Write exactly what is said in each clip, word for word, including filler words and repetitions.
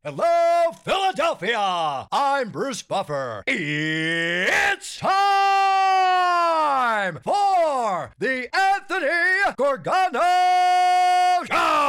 Hello, Philadelphia! I'm Bruce Buffer. It's time for the Anthony Gorgano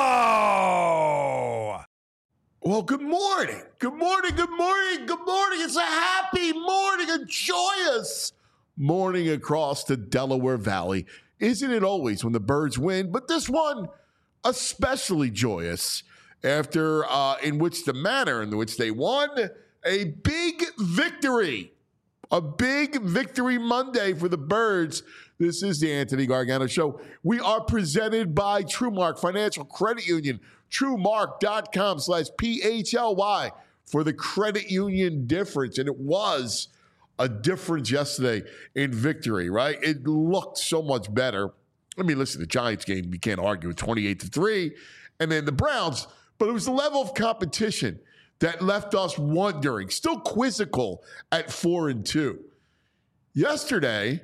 Show! Well, good morning. Good morning, good morning, good morning. It's a happy morning, a joyous morning across the Delaware Valley. Isn't it always when the Birds win? But this one, especially joyous. After, uh, in which the manner in which they won, a big victory. A big victory Monday for the Birds. This is the Anthony Gargano Show. We are presented by TrueMark Financial Credit Union. TrueMark.com slash P H L Y for the credit union difference. And it was a difference yesterday in victory, right? It looked so much better. I mean, listen, the Giants game, you can't argue with twenty-eight to three. And then the Browns. But it was the level of competition that left us wondering, still quizzical at four and two. Yesterday,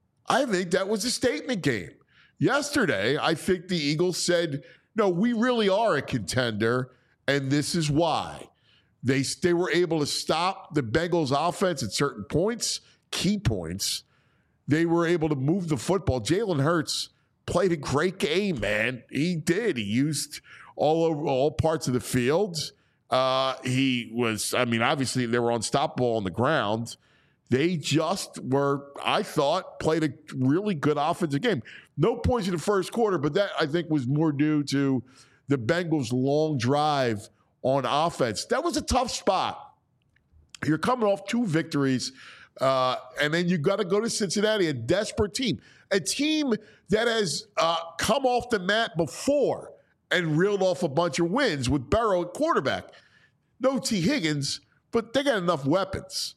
I think that was a statement game. Yesterday, I think the Eagles said, no, we really are a contender, and this is why. They, they were able to stop the Bengals offense at certain points, key points. They were able to move the football. Jalen Hurts played a great game, man. He did. He used all over all parts of the field. Uh, he was, I mean, obviously they were unstoppable on the ground. They just were, I thought, played a really good offensive game. No points in the first quarter, but that I think was more due to the Bengals' long drive on offense. That was a tough spot. You're coming off two victories, uh, and then you got to go to Cincinnati, a desperate team, a team that has uh, come off the mat before and reeled off a bunch of wins with Burrow at quarterback. No T. Higgins, but they got enough weapons.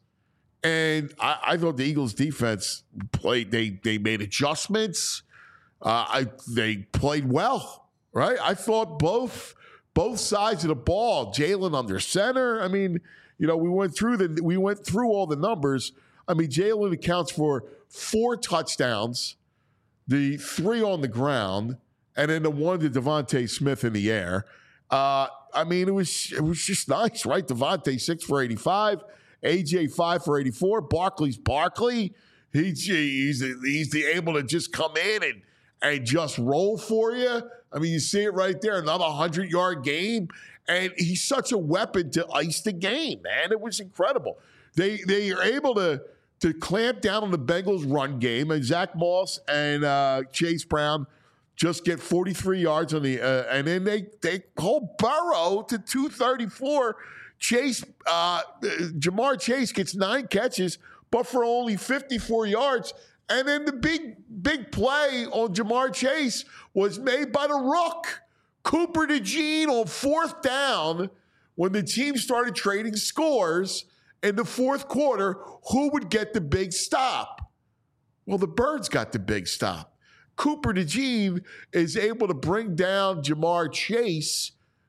And I, I thought the Eagles' defense played. They they made adjustments. Uh, I they played well, right? I thought both both sides of the ball. Jalen under center. I mean, you know, we went through the we went through all the numbers. I mean, Jalen accounts for four touchdowns, the three on the ground, and then the one to Devontae Smith in the air. Uh, I mean, it was it was just nice, right? Devontae six for eighty-five, A J five for eighty-four. Barkley's Barkley. He, he's he's the able to just come in and and just roll for you. I mean, you see it right there. Another hundred-yard game, and he's such a weapon to ice the game, man. It was incredible. They they are able to to clamp down on the Bengals' run game, and Zach Moss and uh, Chase Brown just get forty-three yards on the, uh, and then they they hold Burrow to two thirty-four. Chase, uh, Jamar Chase gets nine catches, but for only fifty-four yards. And then the big big play on Jamar Chase was made by the Rook, Cooper DeJean, on fourth down when the team started trading scores in the fourth quarter. Who would get the big stop? Well, the Birds got the big stop. Cooper DeJean is able to bring down Jamar Chase,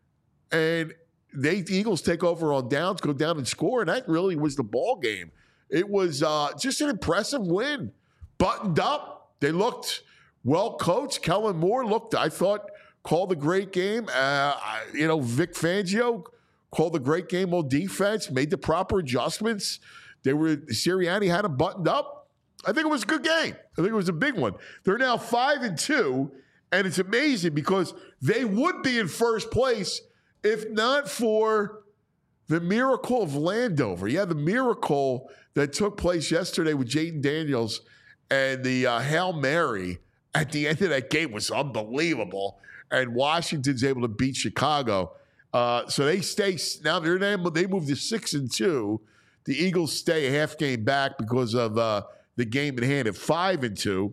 and they, the Eagles take over on downs, go down and score, and that really was the ball game. It was uh, just an impressive win. Buttoned up. They looked well coached. Kellen Moore looked, I thought, called a great game. Uh, you know, Vic Fangio called a great game on defense, made the proper adjustments. They were Sirianni had them buttoned up. I think it was a good game. I think it was a big one. They're now five and two, and it's amazing because they would be in first place if not for the miracle of Landover. Yeah, the miracle that took place yesterday with Jaden Daniels and the uh, Hail Mary at the end of that game was unbelievable. And Washington's able to beat Chicago. Uh, so they stay now. They're able, they move to six and two. The Eagles stay a half game back because of uh, the game in hand at five and two,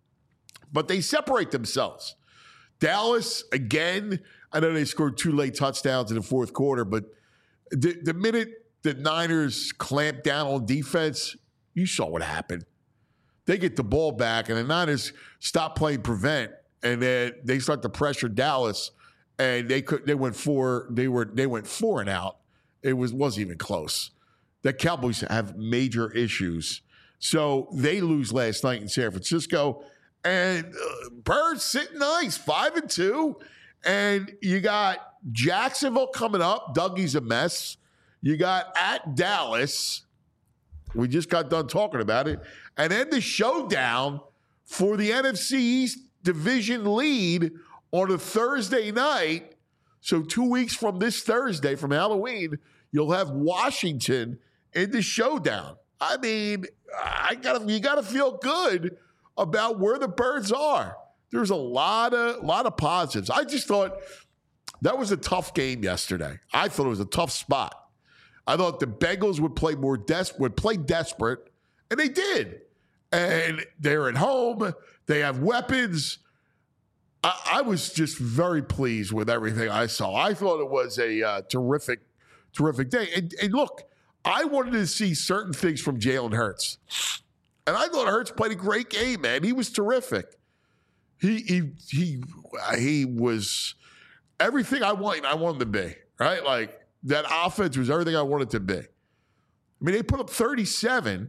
but they separate themselves. Dallas, again, I know they scored two late touchdowns in the fourth quarter, but the, the minute the Niners clamped down on defense, you saw what happened. They get the ball back, and the Niners stop playing prevent, and then they start to pressure Dallas, and they could they went four they were they went four and out. It was wasn't even close. The Cowboys have major issues. So they lose last night in San Francisco, and uh, Birds sitting nice, five and two, and you got Jacksonville coming up. Dougie's a mess. You got at Dallas. We just got done talking about it. And then the showdown for the N F C East division lead on a Thursday night. So two weeks from this Thursday, from Halloween, you'll have Washington in the showdown. I mean, I gotta you gotta feel good about where the Birds are. There's a lot of lot of positives. I just thought that was a tough game yesterday. I thought it was a tough spot. I thought the Bengals would play more des- would play desperate, and they did. And they're at home. They have weapons. I, I was just very pleased with everything I saw. I thought it was a uh, terrific, terrific day. And, and look, I wanted to see certain things from Jalen Hurts. And I thought Hurts played a great game, man. He was terrific. He he he he was everything I wanted. I wanted to be, right? Like that offense was everything I wanted to be. I mean, they put up thirty-seven.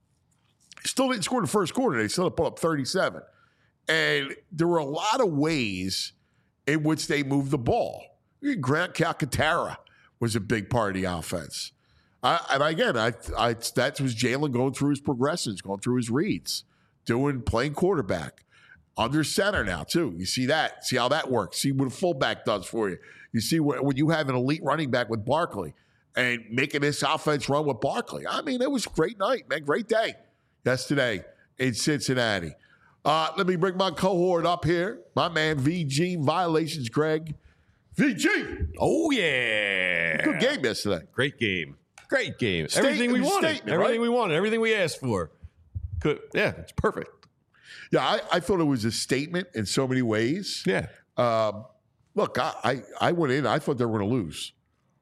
Still didn't score in the first quarter. They still put up thirty-seven. And there were a lot of ways in which they moved the ball. Grant Calcaterra was a big part of the offense. I, and again, I, I that was Jalen going through his progressions, going through his reads, doing playing quarterback. Under center now, too. You see that. See how that works. See what a fullback does for you. You see what, when you have an elite running back with Barkley and making this offense run with Barkley. I mean, it was a great night, man. Great day yesterday in Cincinnati. Uh, let me bring my cohort up here. My man, V G Violations, Greg. V G. Oh, yeah. Good game yesterday. Great game. Great game. State, everything we wanted. Everything right? we wanted. Everything we asked for. Could, yeah, it's perfect. Yeah, I, I thought it was a statement in so many ways. Yeah. Um, look, I, I, I went in. I thought they were going to lose.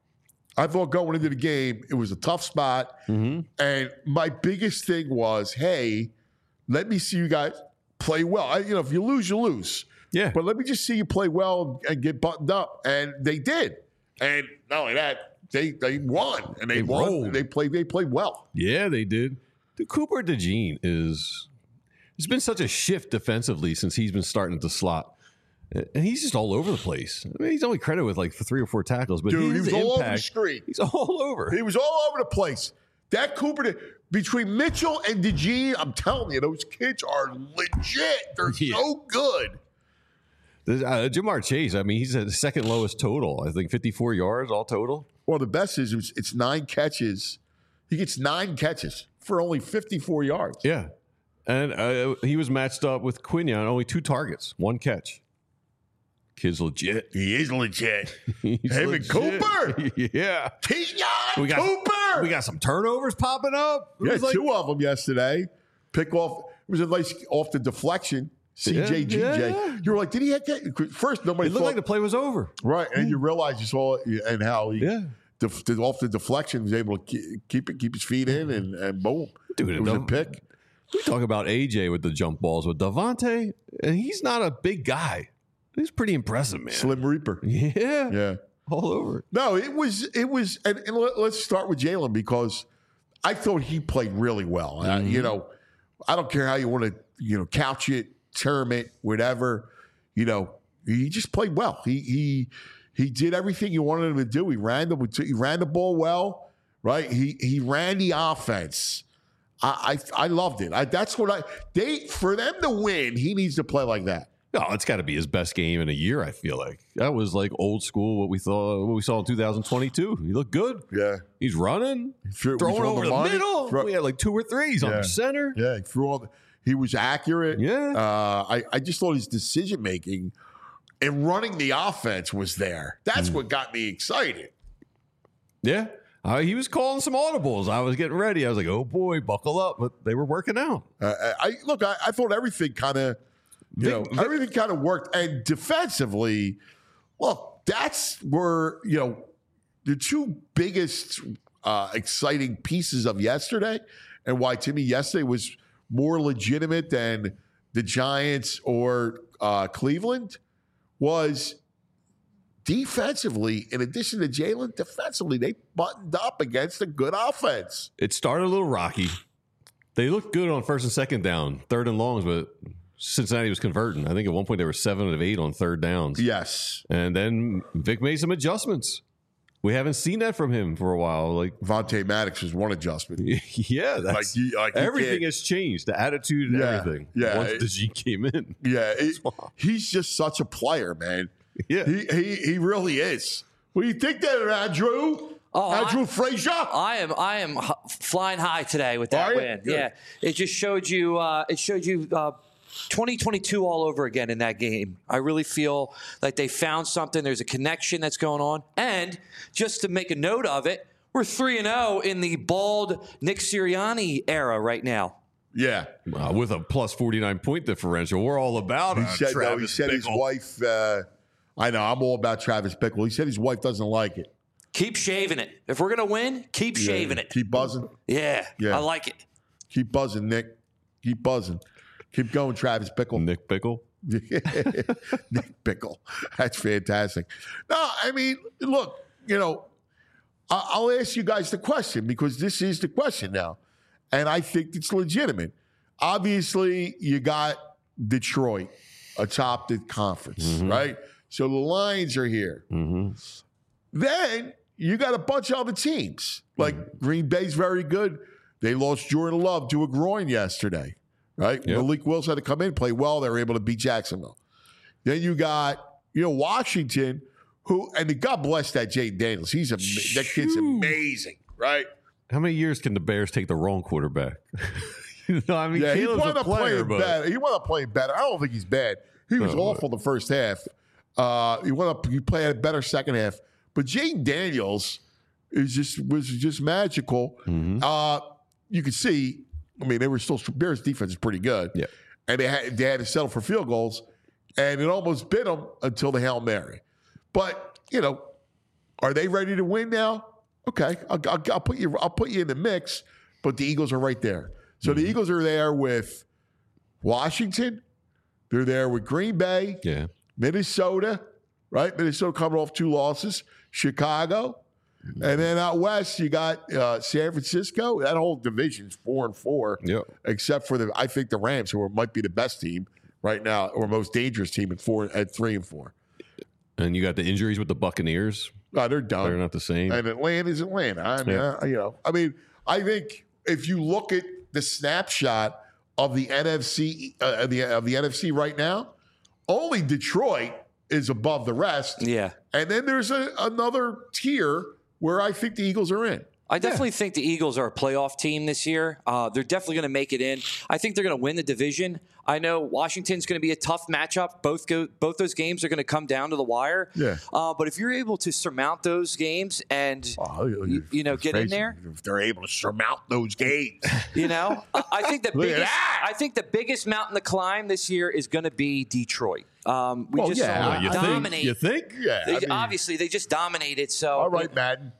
I thought going into the game, it was a tough spot. Mm-hmm. And my biggest thing was, hey, let me see you guys play well. I, you know, if you lose, you lose. Yeah. But let me just see you play well and get buttoned up. And they did. And not only that, they they won. And they, They won. rolled. They played, they played well. Yeah, they did. The Cooper DeJean is – there's been such a shift defensively since he's been starting to slot. And he's just all over the place. I mean, he's only credited with like three or four tackles, but Dude, he was his all impact, over the screen. He's all over. He was all over the place. That Cooper, between Mitchell and DeGene, I'm telling you, those kids are legit. They're Yeah. so good. Uh, Jamar Chase, I mean, he's at the second lowest total. I think fifty-four yards all total. Well, the best is it's, it's nine catches. He gets nine catches for only fifty-four yards. Yeah. And uh, he was matched up with Quinion, only two targets, one catch. Kid's legit. He is legit. He's Him legit. and Cooper. Yeah. Kenyon We got, Cooper. we got some turnovers popping up. It yeah, was like- two of them yesterday. Pick off. It was a nice off the deflection. C J G J. Yeah, yeah. You were like, did he have that? First, nobody It looked thought. like the play was over. Right, and you realize you saw it and how he, Yeah. def, def- off the deflection, was able to keep, keep it, keep his feet in, and, and boom. Dude, it was a don't- pick. We talk about A J with the jump balls with Devontae, and he's not a big guy. He's pretty impressive, man. Slim Reaper. Yeah. Yeah. All over. No, it was, it was, and, and let, let's start with Jalen because I thought he played really well. Uh, you know, I don't care how you want to, you know, couch it, term it, whatever. You know, he just played well. He he he did everything you wanted him to do. He ran the he ran the ball well, right? He he ran the offense. I I, I loved it. I, that's what I they for them to win. He needs to play like that. No, it's got to be his best game in a year. I feel like that was like old school. What we thought, what we saw in two thousand twenty-two. He looked good. Yeah, He's running, threw- throwing threw over the the, money. middle. Throw- we had like two or three. He's Yeah. on the center. yeah. He threw all. The, he was accurate. Yeah. Uh, I I just thought his decision making and running the offense was there. That's what got me excited. Yeah. Uh, he was calling some audibles. I was getting ready. I was like, oh boy, buckle up. But they were working out. Uh, I look. I, I thought everything kind of, you know, Vic- everything kind of worked. And defensively, look, that's where you know the two biggest uh, exciting pieces of yesterday, and why to me yesterday was more legitimate than the Giants or uh, Cleveland was defensively. In addition to Jalen, defensively they buttoned up against a good offense. It started a little rocky. They looked good on first and second down, third and longs, but Cincinnati was converting. I think at one point they were seven of eight on third downs. Yes. And then Vic made some adjustments. We haven't seen that from him for a while. Like Vontae Maddox was one adjustment. Yeah, that's, Like, you, like you everything can't- has changed. The attitude and Yeah, everything. yeah. Once DeJean came in. Yeah, it, he's just such a player, man. Yeah. He he, he really is. What do you think there, Andrew? Oh, Andrew I- Frazier? I am I am h- flying high today with that Are you? win. Good. Yeah, it just showed you. Uh, it showed you uh, twenty twenty-two all over again in that game. I really feel like they found something. There's a connection that's going on, and just to make a note of it, we're three and zero in the bald Nick Sirianni era right now. Yeah. Uh, with a plus forty-nine point differential. We're all about He it. said, no, he said his wife, uh, I know, I'm all about Travis Bickle. He said his wife doesn't like it. Keep shaving it. If we're gonna win, keep shaving it. Keep buzzing. Yeah, Yeah. I like it. Keep buzzing, Nick. Keep buzzing. Keep going, Travis Bickle. Nick Pickle. Nick Bickle. That's fantastic. No, I mean, look, you know, I- I'll ask you guys the question because this is the question now. And I think it's legitimate. Obviously, you got Detroit atop the conference, Mm-hmm. right? So the Lions are here. Mm-hmm. Then you got a bunch of other teams. Like Mm-hmm. Green Bay's very good. They lost Jordan Love to a groin yesterday, right? Yep. Malik Willis had to come in, play well. They were able to beat Jacksonville. Then you got, you know, Washington, who, and God bless that Jaden Daniels. He's a, that kid's amazing, right? How many years can the Bears take the wrong quarterback? you know, I mean, Yeah, he Caleb's wound a up player, playing but better. He wound up playing better. I don't think he's bad. He was No, awful the first half. Uh, he went up. He played a better second half. But Jaden Daniels is just was just magical. Mhm. Uh, you could see. I mean, they were still Bears defense is pretty good. Yeah. and they had they had to settle for field goals, and it almost bit them until the Hail Mary. But you know, are they ready to win now? Okay, I'll, I'll, I'll put you. I'll put you in the mix. But the Eagles are right there. So Mm-hmm. the Eagles are there with Washington. They're there with Green Bay, Yeah. Minnesota, right? Minnesota coming off two losses. Chicago. And then out west, you got uh, San Francisco. That whole division's four and four, Yep. except for the I think the Rams, who are, might be the best team right now, or most dangerous team at four at three and four. And you got the injuries with the Buccaneers. No, they're done. They're not the same. And Atlanta's Atlanta. I mean, Yeah. I, you know, I mean, I think if you look at the snapshot of the N F C uh, the of the N F C right now, only Detroit is above the rest. Yeah. And then there's a, another tier where I think the Eagles are in. I definitely think the Eagles are a playoff team this year. Uh, they're definitely going to make it in. I think they're going to win the division. I know Washington's going to be a tough matchup. Both go, both those games are going to come down to the wire. Yeah. Uh, but if you're able to surmount those games and Oh, you, you know get in there, If they're able to surmount those games. you know, I I think the Look at biggest that. I think the biggest mountain to climb this year is going to be Detroit. Um, we Well, just yeah, saw I- them you dominate. think? You think? Yeah. They, I mean, obviously, they just dominated. So all right, Madden.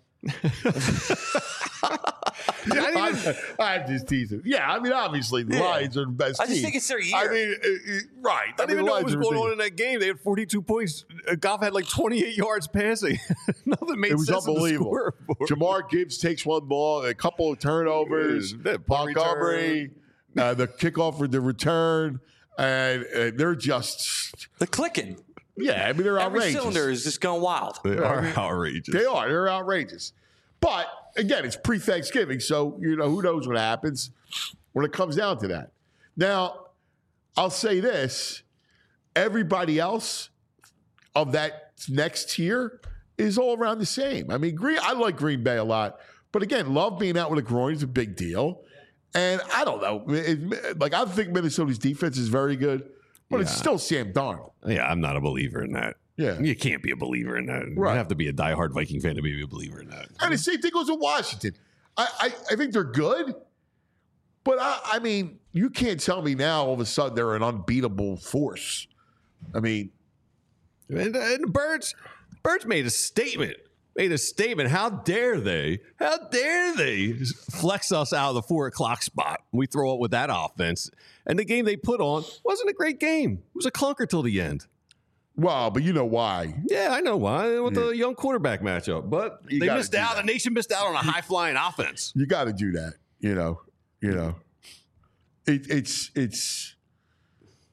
I'm, I'm just teasing. Yeah, I mean, obviously, the Yeah. Lions are the best I just team. think it's their year. I mean, uh, uh, right. I don't even know what was going on in that game. They had forty-two points. Uh, Goff had like twenty-eight yards passing. Nothing made It was sense in the unbelievable. scoreboard. Jamar Gibbs takes one ball, a couple of turnovers, Yeah, that punt Montgomery, uh, the kickoff for the return, and uh, they're just, they're clicking. yeah, I mean, they're Every outrageous. cylinder is just going wild. They are outrageous. They are. They're outrageous. But again, it's pre-Thanksgiving, so you know who knows what happens when it comes down to that. Now, I'll say this: everybody else of that next tier is all around the same. I mean, Green. I like Green Bay a lot, but again, Love being out with a groin is a big deal. And I don't know, it, like I think Minnesota's defense is very good, but it's Yeah. still Sam Darnold. Yeah, I'm not a believer in that. Yeah. You can't be a believer in that. Right. You have to be a diehard Viking fan to be a believer in that. And the same thing goes with Washington. I, I, I think they're good, but I, I mean, you can't tell me now all of a sudden they're an unbeatable force. I mean, And, and the Birds, Birds made a statement. Made a statement. How dare they? How dare they flex us out of the four o'clock spot? We throw up with that offense. And the game they put on wasn't a great game. It was a clunker till the end. well, but you know why. Yeah, I know why. With the young quarterback matchup. But You they gotta missed do out. that. The nation missed out on a high flying offense. You got to do that. You know, you know, it, it's it's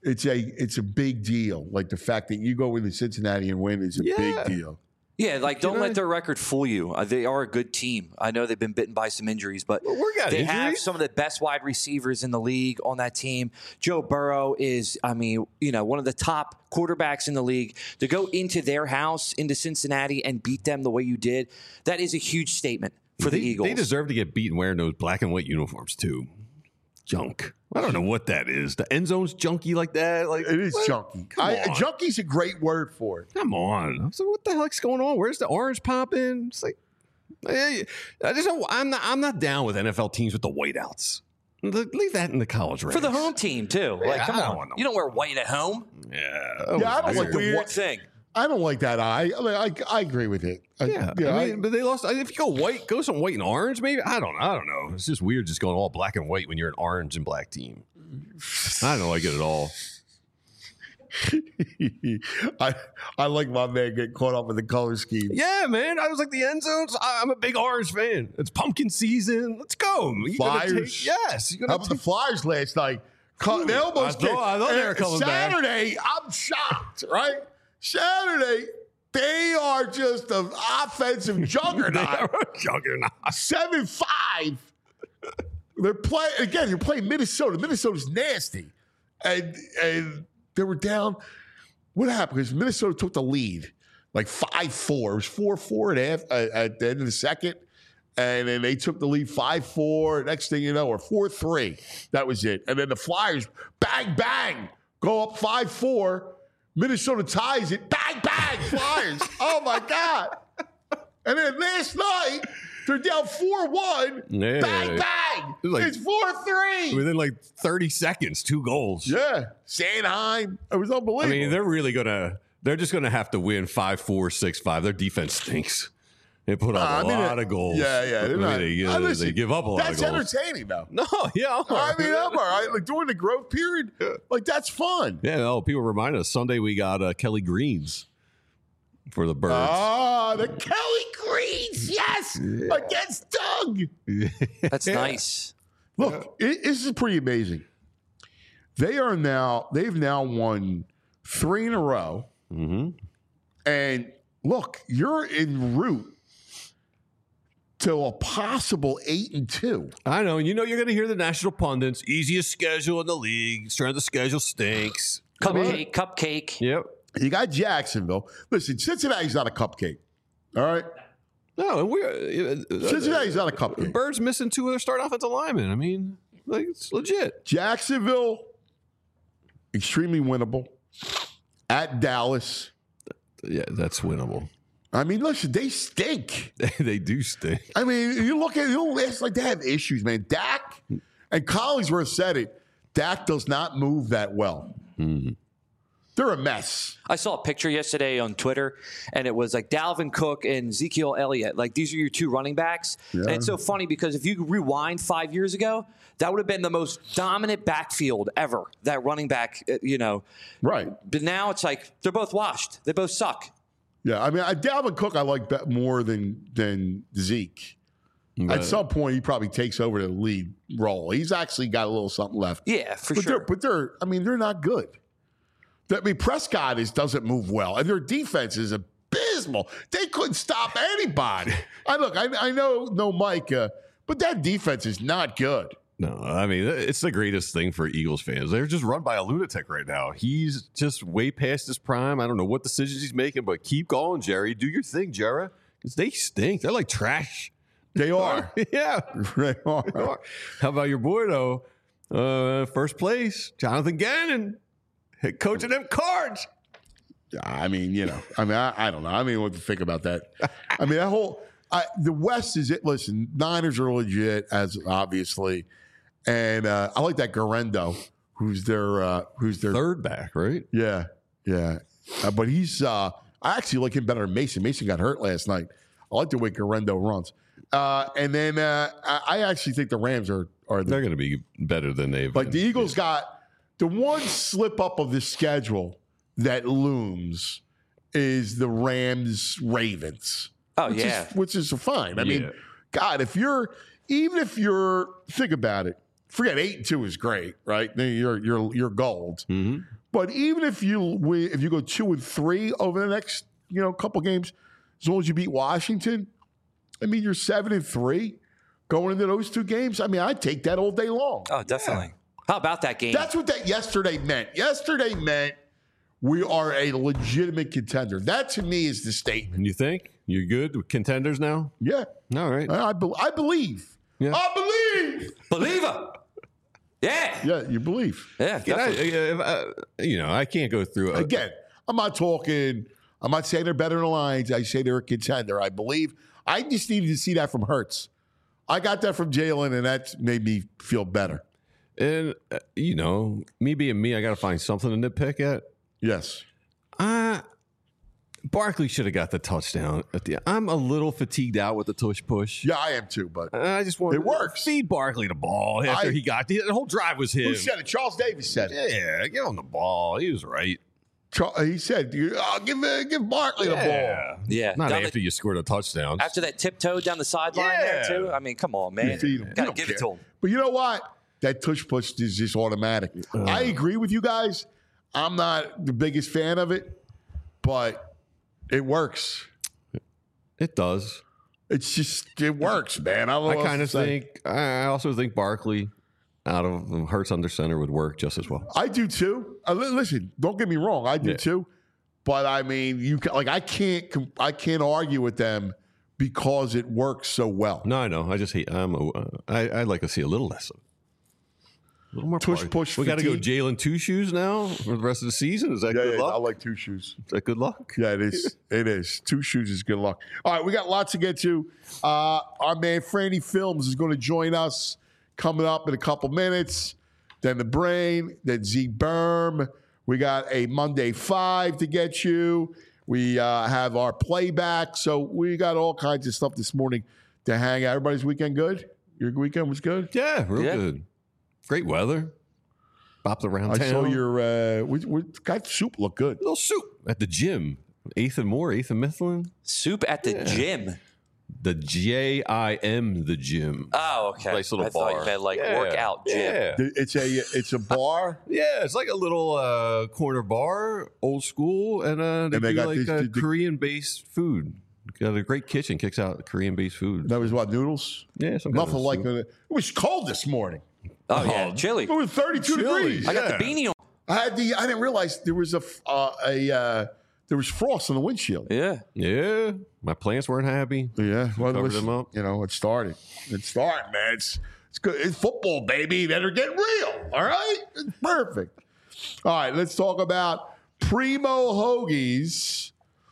it's a it's a big deal. Like the fact that you go into Cincinnati and win is a Yeah. big deal. Yeah, like don't Can I- let their record fool you. Uh, they are a good team. I know they've been bitten by some injuries, but Well, we got they have injuries. some of the best wide receivers in the league on that team. Joe Burrow is, I mean, you know, one of the top quarterbacks in the league. To go into their house, into Cincinnati, and beat them the way you did, that is a huge statement for they, the Eagles. They deserve to get beaten wearing those black and white uniforms too. Junk. I don't know what that is. The end zone's junky like that. Like It is what? junky. Come I, on. junky's a great word for it. Come on. I was like, what the heck's going on? Where's the orange popping? It's like, I I just don't, I'm not. I'm not down with N F L teams with the whiteouts. Leave that in the college ranks. for the home team too. Like, Yeah, come I don't on, want no- you don't wear white at home. Yeah. Yeah, I don't That's like like the the weird- one thing. I don't like that. I I, mean, I, I agree with it. I, Yeah, yeah, I I- mean, but they lost. If you go white, go some white and orange. Maybe I don't. I don't know. It's just weird, just going all black and white when you're an orange and black team. I don't like it at all. I I like my man getting caught up in the color scheme. Yeah, man. I was like the end zones. I- I'm a big orange fan. It's pumpkin season. Let's go. You gotta Flyers. take- yes. You How gotta about the take- Flyers last night? Co- They almost I thought- I thought they were and coming back. Saturday, I'm shocked, right? Saturday, they are just an offensive They juggernaut. are a juggernaut. seven five. They're playing again. You're playing Minnesota. Minnesota's nasty, and and they were down. What happened? Because Minnesota took the lead, like five four. It was four four at half, uh, at the end of the second, and then they took the lead five four. Next thing you know, or four three. That was it. And then the Flyers, bang bang, go up five four. Minnesota ties it. Bang bang, Flyers. Oh my god! And then last night. They're down four one. Yeah. Bang, bang. It was like- it's four three. Within like thirty seconds, two goals. Yeah. Sanheim. It was unbelievable. I mean, they're really gonna. They're just gonna have to win five four six five. Their defense stinks. They put up Uh, I a mean, lot uh, of goals. Yeah, yeah. I They're mean, not, they, uh, uh, listen, they give up a lot That's of goals. entertaining, though. No, yeah. I'm all I right. mean, I'm all right. Like during the growth period, like that's fun. Yeah, no, people remind us Sunday we got uh, Kelly Greens for the Birds. Ah, the Kelly Greens, yes, against Doug. That's nice. Look, it, this is pretty amazing. They are now, they've now won three in a row. Mm-hmm. And look, you're en route to a possible eight and two. I know. You know you're going to hear the national pundits. Easiest schedule in the league. Strength of the schedule stinks. Cupcake, cupcake. Yep. You got Jacksonville. Listen, Cincinnati's not a cupcake. All right? No, we're uh, Cincinnati's not a uh, cupcake. Birds missing two of their starting offensive linemen. I mean, like it's legit. Jacksonville, extremely winnable. At Dallas. Yeah, that's winnable. I mean, listen, they stink. They do stink. I mean, you look at you it's like they have issues, man. Dak and Collinsworth said it. Dak does not move that well. Mm. They're a mess. I saw a picture yesterday on Twitter, and it was like Dalvin Cook and Ezekiel Elliott. Like, these are your two running backs. Yeah. And it's so funny because if you rewind five years ago, that would have been the most dominant backfield ever, that running back, uh, you know. Right. But now it's like they're both washed. They both suck. Yeah, I mean, I, Dalvin Cook I like bet more than than Zeke. But- At some point, he probably takes over the lead role. He's actually got a little something left. Yeah, for but sure. They're, but they're, I mean, they're not good. I mean, Prescott is doesn't move well, and their defense is abysmal. They couldn't stop anybody. I look, I, I know, no Micah, but that defense is not good. No, I mean, it's the greatest thing for Eagles fans. They're just run by a lunatic right now. He's just way past his prime. I don't know what decisions he's making, but keep going, Jerry. Do your thing, Jerry. Because they stink. They're like trash. They are. Yeah. They are. How about your boy, though? Uh, first place, Jonathan Gannon, head coach of them Cards. I mean, you know, I mean, I, I don't know. I mean, what to think about that. I mean, that whole I, the West is it. Listen, Niners are legit, as obviously, and uh, I like that Garendo, who's their uh, who's their Third back, right? yeah, yeah. Uh, but he's uh, I actually like him better than Mason. Mason got hurt last night. I like the way Garendo runs. Uh, and then uh, I, I actually think the Rams are are the, They're going to be better than they've like been. the Eagles got the one slip up of the schedule that looms is the Rams Ravens. Oh, which yeah. is, which is fine. I Yeah. mean, God, if you're even if you're think about it, forget eight and two is great, right? Then You're you're you're gold. Mhm. But even if you win, if you go two and three over the next, you know, couple games, as long as you beat Washington, I mean, you're seven and three going into those two games. I mean, I'd take that all day long. Oh, definitely. Yeah. How about that game? That's what that yesterday meant. Yesterday meant we are a legitimate contender. That to me is the statement. And you think you're good with contenders now? Yeah. All right. I, I, be, I believe. Yeah. I believe. Believer. Yeah. Yeah, you believe. Yeah. I, uh, you know, I can't go through a, again. I'm not talking. I'm not saying they're better than the Lions. I say they're a contender. I believe. I just needed to see that from Hurts. I got that from Jalen, and that made me feel better. And, uh, you know, me being me, I got to find something to nitpick at. Yes. Uh, Barkley should have got the touchdown. At the, I'm a little fatigued out with the tush push. Yeah, I am too, but I just want it works. Feed Barkley the ball after I, he got the, the whole drive was him. Who said it? Charles Davis said it. Yeah, give him the ball. He was right. He said, oh, give uh, give Barkley yeah. the ball. Yeah. Not down after the, you scored a touchdown. After that tiptoe down the sideline yeah. there, too. I mean, come on, man. You Got to give care. it to him. But you know what? That tush push is just automatic. Uh, I agree with you guys. I'm not the biggest fan of it, but it works. It does. It's just, it works, man. I, I kind of think, I also think Barkley out of Hurts under center would work just as well. I do too. Uh, listen, don't get me wrong. I do yeah. too. But I mean, you can, like I can't I can't argue with them because it works so well. No, I know. I just hate. I'm. A, uh, I I'd like to see a little less of. A little more push, party. push. We got to go Jalen two shoes now for the rest of the season. Is that yeah, good yeah, luck? I like two shoes. Is that good luck? Yeah, it is. It is. Two shoes is good luck. All right, we got lots to get to. Uh, our man Franny Films is going to join us coming up in a couple minutes. Then the Brain, then Z Berm. We got a Monday Five to get you. We uh, have our playback. So we got all kinds of stuff this morning to hang out. Everybody's weekend good? Your weekend was good? Yeah, real yeah. good. Great weather. Bopped around I town. saw your, uh, we, we got soup look good. Little soup at the gym. Eighth and More, Eighth and Mifflin. Soup at the yeah. gym. The J I M, the gym. Oh, okay. Nice little I bar. thought you meant like yeah. workout gym. Yeah. It's a it's a bar. Yeah, it's like a little uh, corner bar, old school, and uh, they, And they do got like these- uh, the- the- Korean-based food. Got a great kitchen, kicks out Korean-based food. That was what, noodles? Yeah, some kind Nothing of like soup. that. It was cold this morning. Oh, yeah. Oh, Chili. It was thirty-two Chili. degrees. I got yeah. the beanie on. I had the. I didn't realize there was a uh, a uh, there was frost on the windshield. Yeah. Yeah, my plants weren't happy. Yeah, well, Covered listen, them up. You know, it started. It started, man. It's it's good. It's football, baby. Better get real. All right, it's perfect. All right, let's talk about Primo Hoagies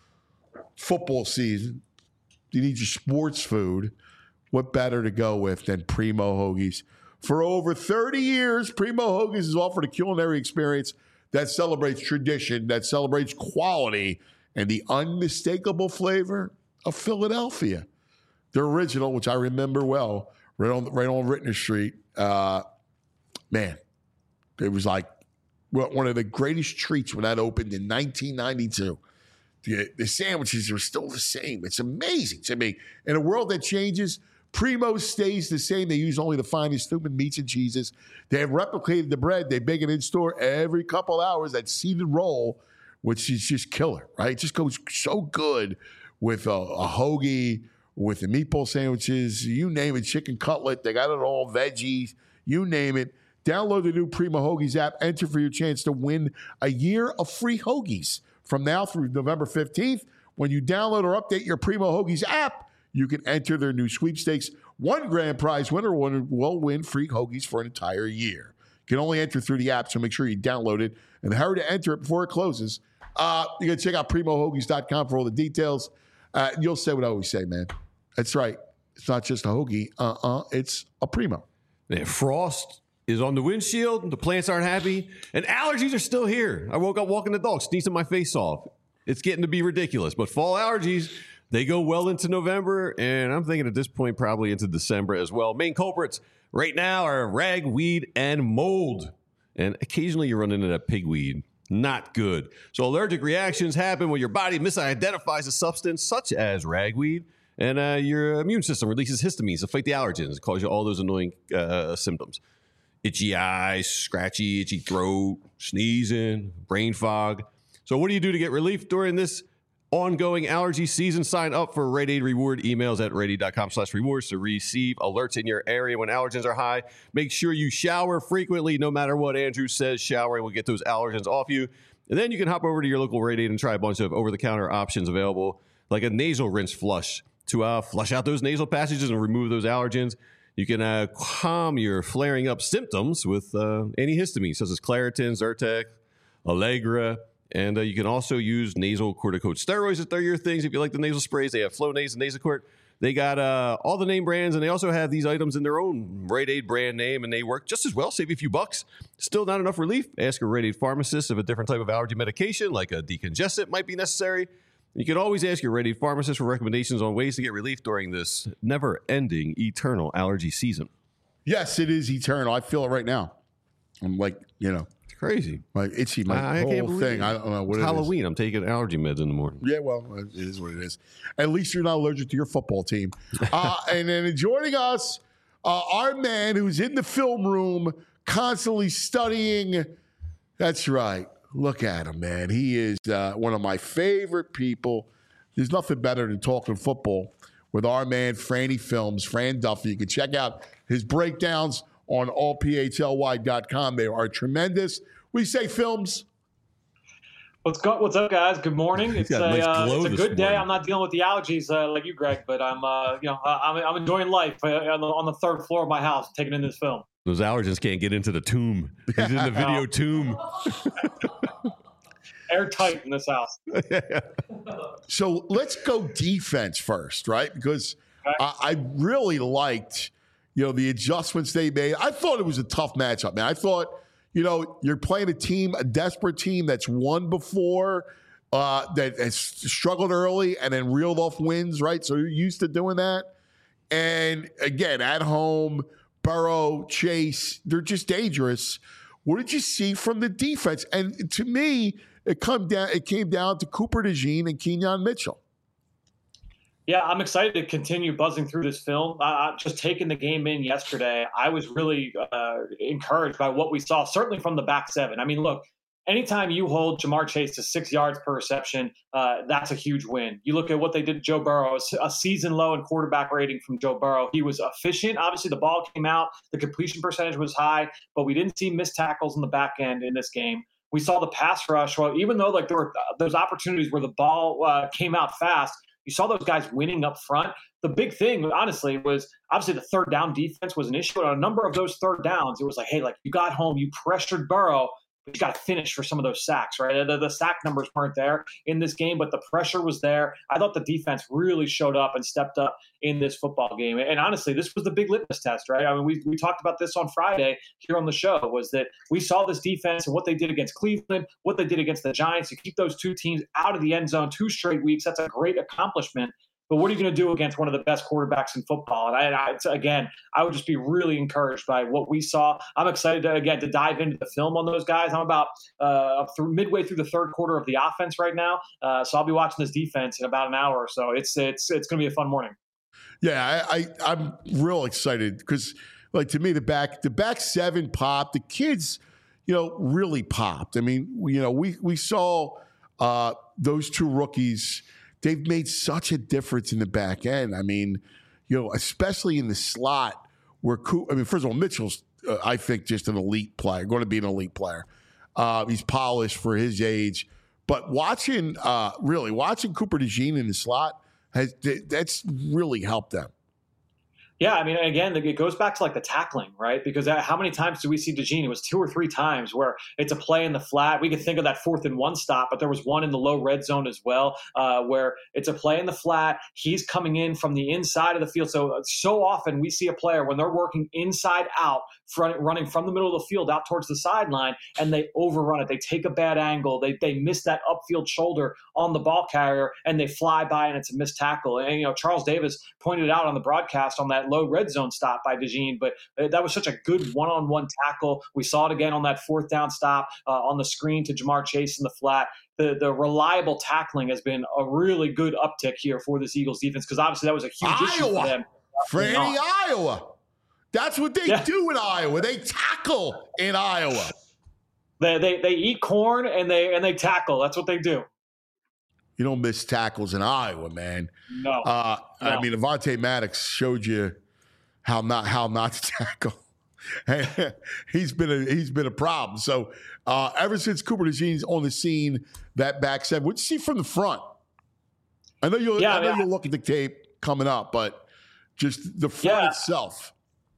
football season. You need your sports food. What better to go with than Primo Hoagies? For over thirty years, Primo Hoagies has offered a culinary experience that celebrates tradition, that celebrates quality, and the unmistakable flavor of Philadelphia. Their original, which I remember well, right on right on Rittner Street. Uh, man, it was like one of the greatest treats when that opened in nineteen ninety-two. The, the sandwiches are still the same. It's amazing to me. In a world that changes, Primo stays the same. They use only the finest human meats and cheeses. They have replicated the bread. They bake it in store every couple hours. That seeded roll, which is just killer, right? It just goes so good with a, a hoagie, with the meatball sandwiches, you name it, chicken cutlet. They got it all, veggies, you name it. Download the new Primo Hoagies app. Enter for your chance to win a year of free hoagies. From now through November fifteenth, when you download or update your Primo Hoagies app, you can enter their new sweepstakes. One grand prize winner will win free hoagies for an entire year. You can only enter through the app, so make sure you download it and hurry to enter it before it closes. Uh, you can check out primo hoagies dot com for all the details. Uh, you'll say what I always say, man. That's right. It's not just a hoagie. Uh-uh. It's a Primo. Man, frost is on the windshield. The plants aren't happy. And allergies are still here. I woke up walking the dog, sneezing my face off. It's getting to be ridiculous. But fall allergies, they go well into November. And I'm thinking at this point, probably into December as well. Main culprits right now are ragweed and mold. And occasionally you run into that pigweed. Not good. So allergic reactions happen when your body misidentifies a substance such as ragweed. And uh, your immune system releases histamines to fight the allergens, cause you all those annoying uh, symptoms. itchy eyes, scratchy, itchy throat, sneezing, brain fog. So what do you do to get relief during this ongoing allergy season? Sign up for Rite Aid Reward emails at riteaid.com slash rewards to receive alerts in your area when allergens are high. Make sure you shower frequently, no matter what Andrew says. Showering will get those allergens off you. And then you can hop over to your local Rite Aid and try a bunch of over-the-counter options available, like a nasal rinse flush to uh, flush out those nasal passages and remove those allergens. You can uh, calm your flaring up symptoms with uh, antihistamines, such as Claritin, Zyrtec, Allegra. And uh, you can also use nasal corticosteroids if they're your things. If you like the nasal sprays, they have Flonase and Nasacort. They got uh, all the name brands, and they also have these items in their own Rite Aid brand name, and they work just as well. Save you a few bucks. Still not enough relief? Ask a Rite Aid pharmacist if a different type of allergy medication, like a decongestant, might be necessary. You can always ask your Rite Aid pharmacist for recommendations on ways to get relief during this never-ending, eternal allergy season. Yes, it is eternal. I feel it right now. I'm like, you know. It's crazy. My itchy, my I, I whole can't believe thing. it. I don't know what it's it Halloween. is. I'm taking allergy meds in the morning. Yeah, well, it is what it is. At least you're not allergic to your football team. uh, and then joining us, uh, our man who's in the film room constantly studying. That's right. Look at him, man. He is uh, one of my favorite people. There's nothing better than talking football with our man, Franny Films, Fran Duffy. You can check out his breakdowns on all p h l y dot com. They are tremendous. We say Films. What's go, What's up, guys? Good morning. It's a, nice uh, it's a this good day. morning. I'm not dealing with the allergies uh, like you, Greg, but I'm, uh, you know, I'm, I'm enjoying life uh, on, the, on the third floor of my house, taking in this film. Those allergens can't get into the tomb. He's in the video tomb. Airtight in this house. So let's go defense first, right? Because Okay. I, I really liked, you know, the adjustments they made. I thought it was a tough matchup, man. I thought, you know, you're playing a team, a desperate team that's won before, uh, that has struggled early and then reeled off wins, right? So you're used to doing that. And again, at home, Burrow, Chase, they're just dangerous. What did you see from the defense? And to me, it come down. It came down to Cooper DeJean and Kenyon Mitchell. Yeah, I'm excited to continue buzzing through this film. Uh, just taking the game in yesterday, I was really uh, encouraged by what we saw, certainly from the back seven. I mean, look, anytime you hold Jamar Chase to six yards per reception, uh, that's a huge win. You look at what they did to Joe Burrow, a season low in quarterback rating from Joe Burrow. He was efficient. Obviously, the ball came out. The completion percentage was high, but we didn't see missed tackles in the back end in this game. We saw the pass rush. Well, even though like there were uh, those opportunities where the ball uh, came out fast, you saw those guys winning up front. The big thing, honestly, was obviously the third down defense was an issue. And on a number of those third downs, it was like, hey, like you got home, you pressured Burrow, but you got to finish for some of those sacks, right? The, the sack numbers weren't there in this game, but the pressure was there. I thought the defense really showed up and stepped up in this football game. And honestly, this was the big litmus test, right? I mean, we we talked about this on Friday here on the show, was that we saw this defense and what they did against Cleveland, what they did against the Giants to keep those two teams out of the end zone two straight weeks. That's a great accomplishment. But what are you going to do against one of the best quarterbacks in football? And I, I, again, I would just be really encouraged by what we saw. I'm excited to, again, to dive into the film on those guys. I'm about uh, through midway through the third quarter of the offense right now, uh, so I'll be watching this defense in about an hour or so. It's it's it's going to be a fun morning. Yeah, I, I I'm real excited because, like, to me, the back the back seven popped. The kids, you know, really popped. I mean, you know, we we saw uh, those two rookies. They've made such a difference in the back end. I mean, you know, especially in the slot where, I mean, first of all, Mitchell's, uh, I think, just an elite player, going to be an elite player. Uh, he's polished for his age. But watching, uh, really, watching Cooper DeJean in the slot, has that's really helped them. Yeah, I mean, again, it goes back to like the tackling, right? Because how many times do we see DeJean? It was two or three times where it's a play in the flat. We could think of that fourth and one stop, but there was one in the low red zone as well, uh, where it's a play in the flat. He's coming in from the inside of the field. So, so often we see a player when they're working inside out, front, running from the middle of the field out towards the sideline, and they overrun it. They take a bad angle. They they miss that upfield shoulder on the ball carrier, and they fly by, and it's a missed tackle. And, you know, Charles Davis pointed out on the broadcast on that low red zone stop by DeJean, but that was such a good one-on-one tackle. We saw it again on that fourth down stop uh, on the screen to Jamar Chase in the flat. The the reliable tackling has been a really good uptick here for this Eagles defense because obviously that was a huge Iowa. issue for them. Franny, Iowa. That's what they Yeah. do in Iowa. They tackle in Iowa. They, they they eat corn and they and they tackle. That's what they do. You don't miss tackles in Iowa, man. No. Uh, No. I mean, Avonte Maddox showed you how not how not to tackle. he's been a he's been a problem. So uh, ever since Cooper DeJean's on the scene, that back seven, what'd you see from the front? I know you'll Yeah, I know yeah. you'll look at the tape coming up, but just the front Yeah. itself.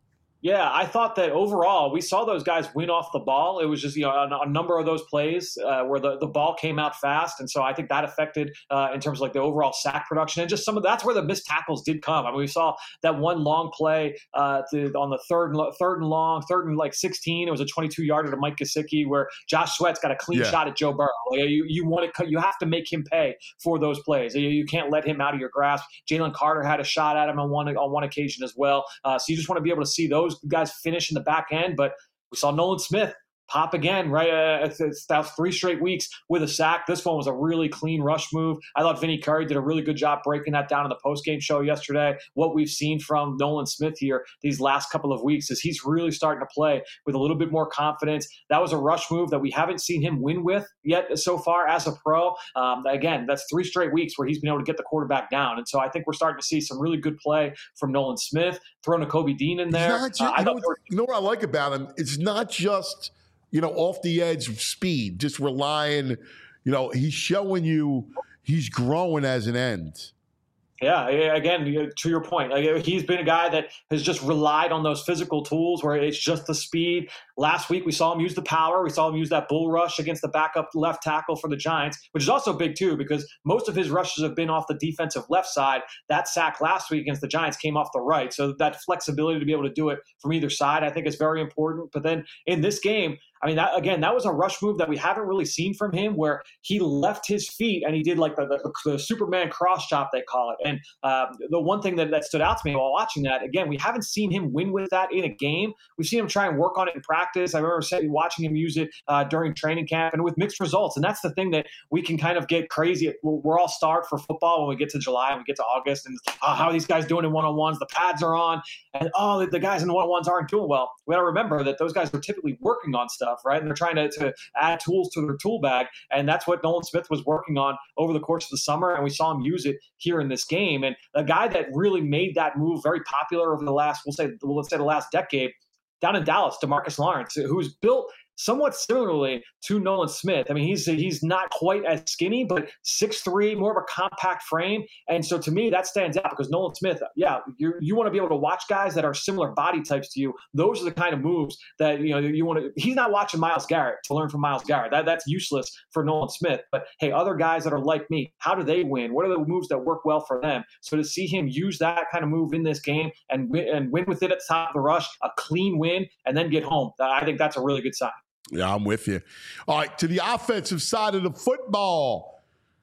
Yeah, I thought that overall we saw those guys win off the ball. It was just, you know, a, a number of those plays uh, where the, the ball came out fast. And so I think that affected uh, in terms of like the overall sack production and just some of that's where the missed tackles did come. I mean, we saw that one long play uh, to, on the third and, third and long, third and like sixteen. It was a twenty-two yarder to Mike Gesicki where Josh Sweat's got a clean Yeah. shot at Joe Burrow. Like, you you want to you have to make him pay for those plays. You, you can't let him out of your grasp. Jalen Carter had a shot at him on one on one occasion as well. Uh, so you just want to be able to see those guys finish in the back end, but we saw Nolan Smith pop again, right? Uh, it's, it's, that was three straight weeks with a sack. This one was a really clean rush move. I thought Vinny Curry did a really good job breaking that down in the postgame show yesterday. What we've seen from Nolan Smith here these last couple of weeks is he's really starting to play with a little bit more confidence. That was a rush move that we haven't seen him win with yet so far as a pro. Um, again, that's three straight weeks where he's been able to get the quarterback down. And so I think we're starting to see some really good play from Nolan Smith. Throw Nakobe Dean in there. It's not ju- Uh, I you, know thought what, they were- you know what I like about him? It's not just, you know, off the edge of speed, just relying, you know, he's showing you he's growing as an end. Yeah, again, to your point, like he's been a guy that has just relied on those physical tools where it's just the speed. Last week, we saw him use the power. We saw him use that bull rush against the backup left tackle for the Giants, which is also big, too, because most of his rushes have been off the defensive left side. That sack last week against the Giants came off the right. So that flexibility to be able to do it from either side, I think, is very important. But then in this game, I mean, that, again, that was a rush move that we haven't really seen from him where he left his feet and he did like the, the, the Superman cross chop, they call it. And uh, the one thing that, that stood out to me while watching that, again, we haven't seen him win with that in a game. We've seen him try and work on it in practice. I remember watching him use it uh, during training camp and with mixed results. And that's the thing that we can kind of get crazy. We're all starved for football when we get to July and we get to August. And oh, how are these guys doing in one-on-ones? The pads are on. And oh, the, the guys in the one-on-ones aren't doing well. We got to remember that those guys are typically working on stuff, right? And they're trying to, to add tools to their tool bag. And that's what Nolan Smith was working on over the course of the summer. And we saw him use it here in this game. And a guy that really made that move very popular over the last, we'll say, well, let's say the last decade, down in Dallas, DeMarcus Lawrence, who's built somewhat similarly to Nolan Smith. I mean, he's he's not quite as skinny, but six three, more of a compact frame. And so to me, that stands out because Nolan Smith, yeah, you you want to be able to watch guys that are similar body types to you. Those are the kind of moves that, you know, you want to – he's not watching Myles Garrett to learn from Myles Garrett. That, that's useless for Nolan Smith. But, hey, other guys that are like me, how do they win? What are the moves that work well for them? So to see him use that kind of move in this game and win, and win with it at the top of the rush, a clean win, and then get home, I think that's a really good sign. Yeah, I'm with you. All right, to the offensive side of the football,